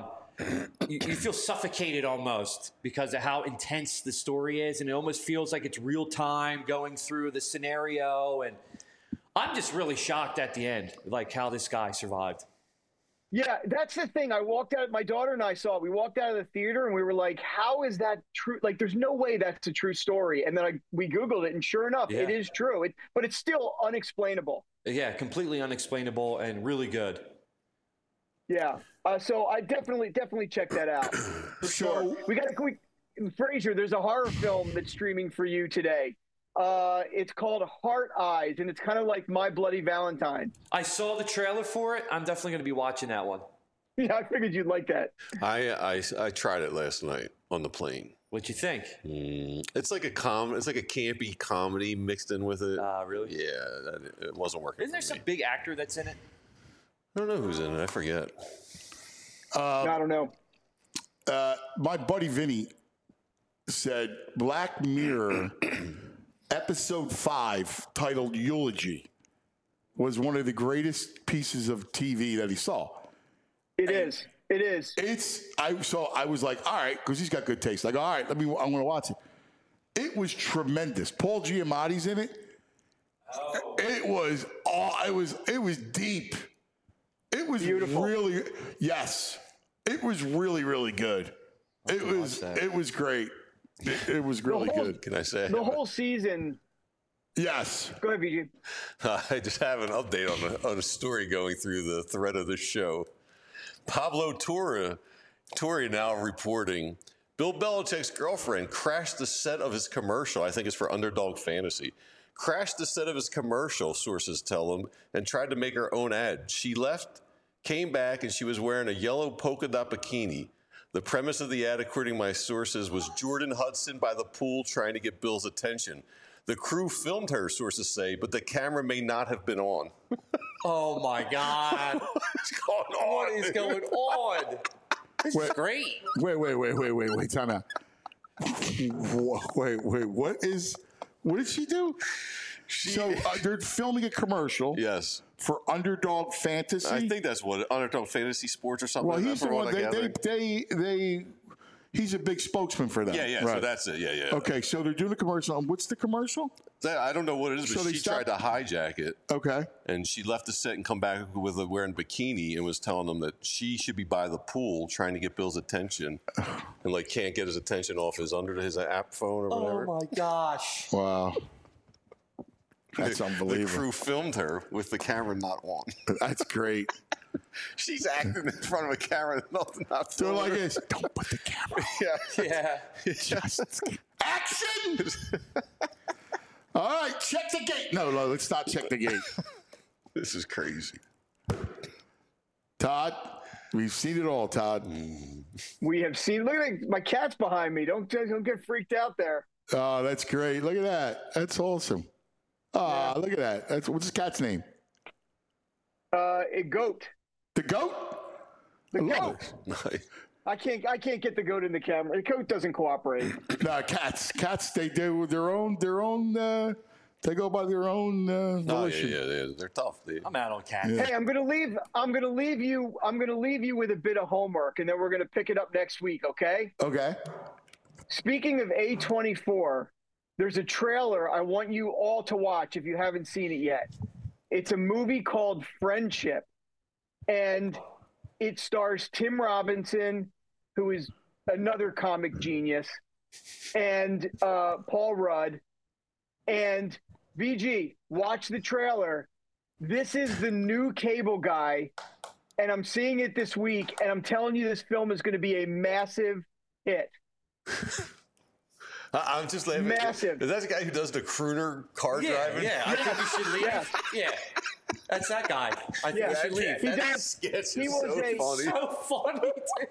you feel suffocated almost because of how intense the story is, and it almost feels like it's real time going through the scenario. And I'm just really shocked at the end, like how this guy survived. Yeah, that's the thing. I walked out. My daughter and I saw it. We walked out of the theater and we were like, "How is that true? Like, there's no way that's a true story." And then we Googled it, and sure enough, it is true. But it's still unexplainable. Yeah, completely unexplainable and really good. Yeah. So I definitely check that out for sure. Frazier, there's a horror film that's streaming for you today. It's called Heart Eyes, and it's kind of like My Bloody Valentine. I saw the trailer for it. I'm definitely going to be watching that one. Yeah, I figured you'd like that. I tried it last night on the plane. What'd you think? It's like it's like a campy comedy mixed in with it. Really? Yeah, it wasn't working. Isn't there some big actor that's in it? I don't know who's in it. I forget. I don't know. My buddy Vinny said Black Mirror episode 5, titled Eulogy, was one of the greatest pieces of TV that he saw. It is. I was like, all right, because he's got good taste. Like, all right, I'm going to watch it. It was tremendous. Paul Giamatti's in it. Oh. It was deep. It was beautiful. Really, yes. It was really, really good. It was great. It was really good. Can I say the whole season? Yes. Go ahead, VG. I just have an update on a story going through the thread of the show. Pablo Torre now reporting Bill Belichick's girlfriend crashed the set of his commercial. I think it's for Underdog Fantasy. Crashed the set of his commercial, sources tell him, and tried to make her own ad. She left, came back, and she was wearing a yellow polka dot bikini. The premise of the ad, according to my sources, was Jordan Hudson by the pool trying to get Bill's attention. The crew filmed her, sources say, but the camera may not have been on. Oh, my God. What's going on? What is going on? This is great. Wait, time out. Wait, what did she do? They're filming a commercial. Yes. For Underdog Fantasy. I think that's what Underdog Fantasy Sports or something. Well, he's the one. He's a big spokesman for them. Yeah. Right. So that's it. Yeah. Okay, so they're doing a commercial. And what's the commercial? I don't know what it is, but she tried to hijack it. Okay. And she left the set and come back with wearing a bikini and was telling them that she should be by the pool trying to get Bill's attention, and can't get his attention off his app phone or whatever. Oh my gosh! Wow. That's unbelievable. The crew filmed her with the camera not on. That's great. She's acting in front of a camera. Not Doing like this. Don't put the camera on. Yeah. Just action! All right, check the gate. No, let's not check the gate. This is crazy. Todd, we've seen it all, Todd. We have seen. Look at my cat's behind me. Don't get freaked out there. Oh, that's great. Look at that. That's awesome. Look at that. What's his cat's name? A goat. The goat? The I love goat. it. Nice. I can't get the goat in the camera. The goat doesn't cooperate. No, cats. They do their own. They go by their own volition. Yeah. They're tough. I'm out on cats. Hey, I'm gonna leave you with a bit of homework, and then we're gonna pick it up next week. Okay? Okay. Speaking of A24, there's a trailer I want you all to watch if you haven't seen it yet. It's a movie called Friendship, and it stars Tim Robinson, who is another comic genius, and Paul Rudd. And VG, watch the trailer. This is the new Cable Guy, and I'm seeing it this week, and I'm telling you this film is going to be a massive hit. I'm just laughing. Massive. Is that the guy who does the crooner car driving? Yeah, I think we should leave. Yeah. That's that guy. I think we should leave. That sketch is He was so funny.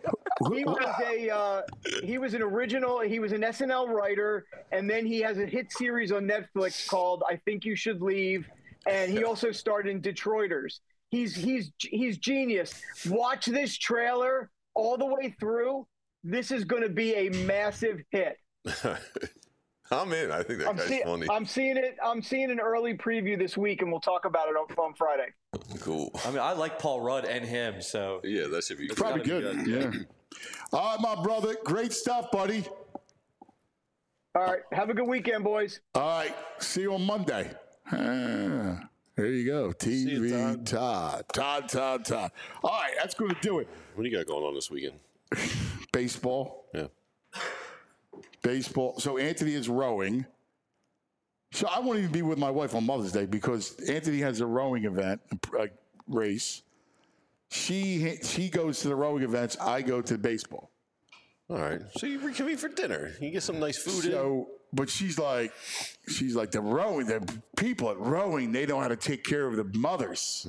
He was an original. He was an SNL writer, and then he has a hit series on Netflix called "I Think You Should Leave," and he also starred in Detroiters. He's genius. Watch this trailer all the way through. This is going to be a massive hit. I'm in. I think that guy's funny. I'm seeing an early preview this week, and we'll talk about it on Friday. Cool. I mean, I like Paul Rudd and him, so yeah, that should be Probably good. Yeah. All right, my brother. Great stuff, buddy. All right. Have a good weekend, boys. All right. See you on Monday. There you go. TV Todd. Todd. All right. That's going to do it. What do you got going on this weekend? Baseball. Yeah. Baseball. So Anthony is rowing. So I won't even be with my wife on Mother's Day because Anthony has a rowing event, a race. She goes to the rowing events. I go to baseball. All right. So you reconvene for dinner. You get some nice food in. But she's like the people at rowing, they know how to take care of the mothers.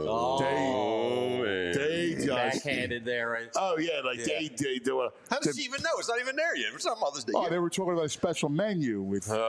They just backhanded there. Right? Oh yeah, they do a. How does she even know? It's not even there yet. It's not Mother's Day. Oh, they were talking about a special menu with, there's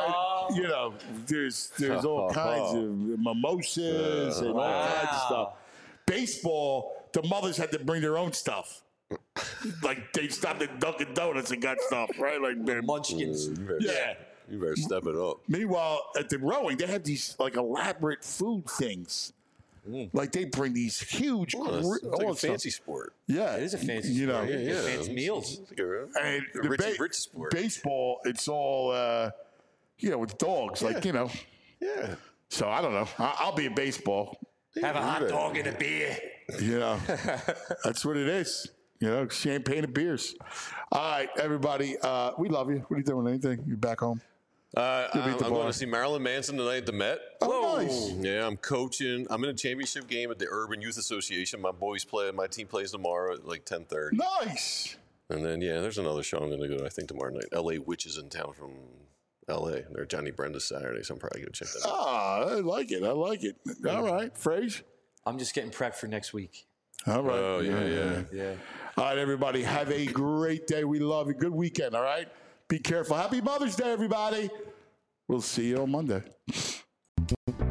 all kinds of mimosas and all kinds of stuff. Baseball, the mothers had to bring their own stuff. Like they stopped at Dunkin' Donuts and got stuff, right? Like their munchkins. You better step it up. Meanwhile, at the rowing, they have these like elaborate food things. Like they bring these huge, it's like a fancy sport. Yeah, it is a fancy sport. Yeah. Fancy meals. And rich sport. Baseball, it's all with dogs, Yeah. So I don't know. I'll be a baseball. Have a hot dog and a beer. That's what it is. Champagne and beers. All right, everybody. We love you. What are you doing? Anything? You back home? I'm going to see Marilyn Manson tonight at the Met. Oh, nice. Yeah, I'm coaching. I'm in a championship game at the Urban Youth Association. My team plays tomorrow at like 10:30. Nice. And then, there's another show I'm going to go to, I think, tomorrow night. LA Witches in town from LA. They're Johnny Brenda's Saturday, so I'm probably going to check that out. I like it. All right, Frage. I'm just getting prepped for next week. All right. Oh, yeah. All right, everybody. Have a great day. We love you. Good weekend, all right? Be careful. Happy Mother's Day, everybody. We'll see you on Monday.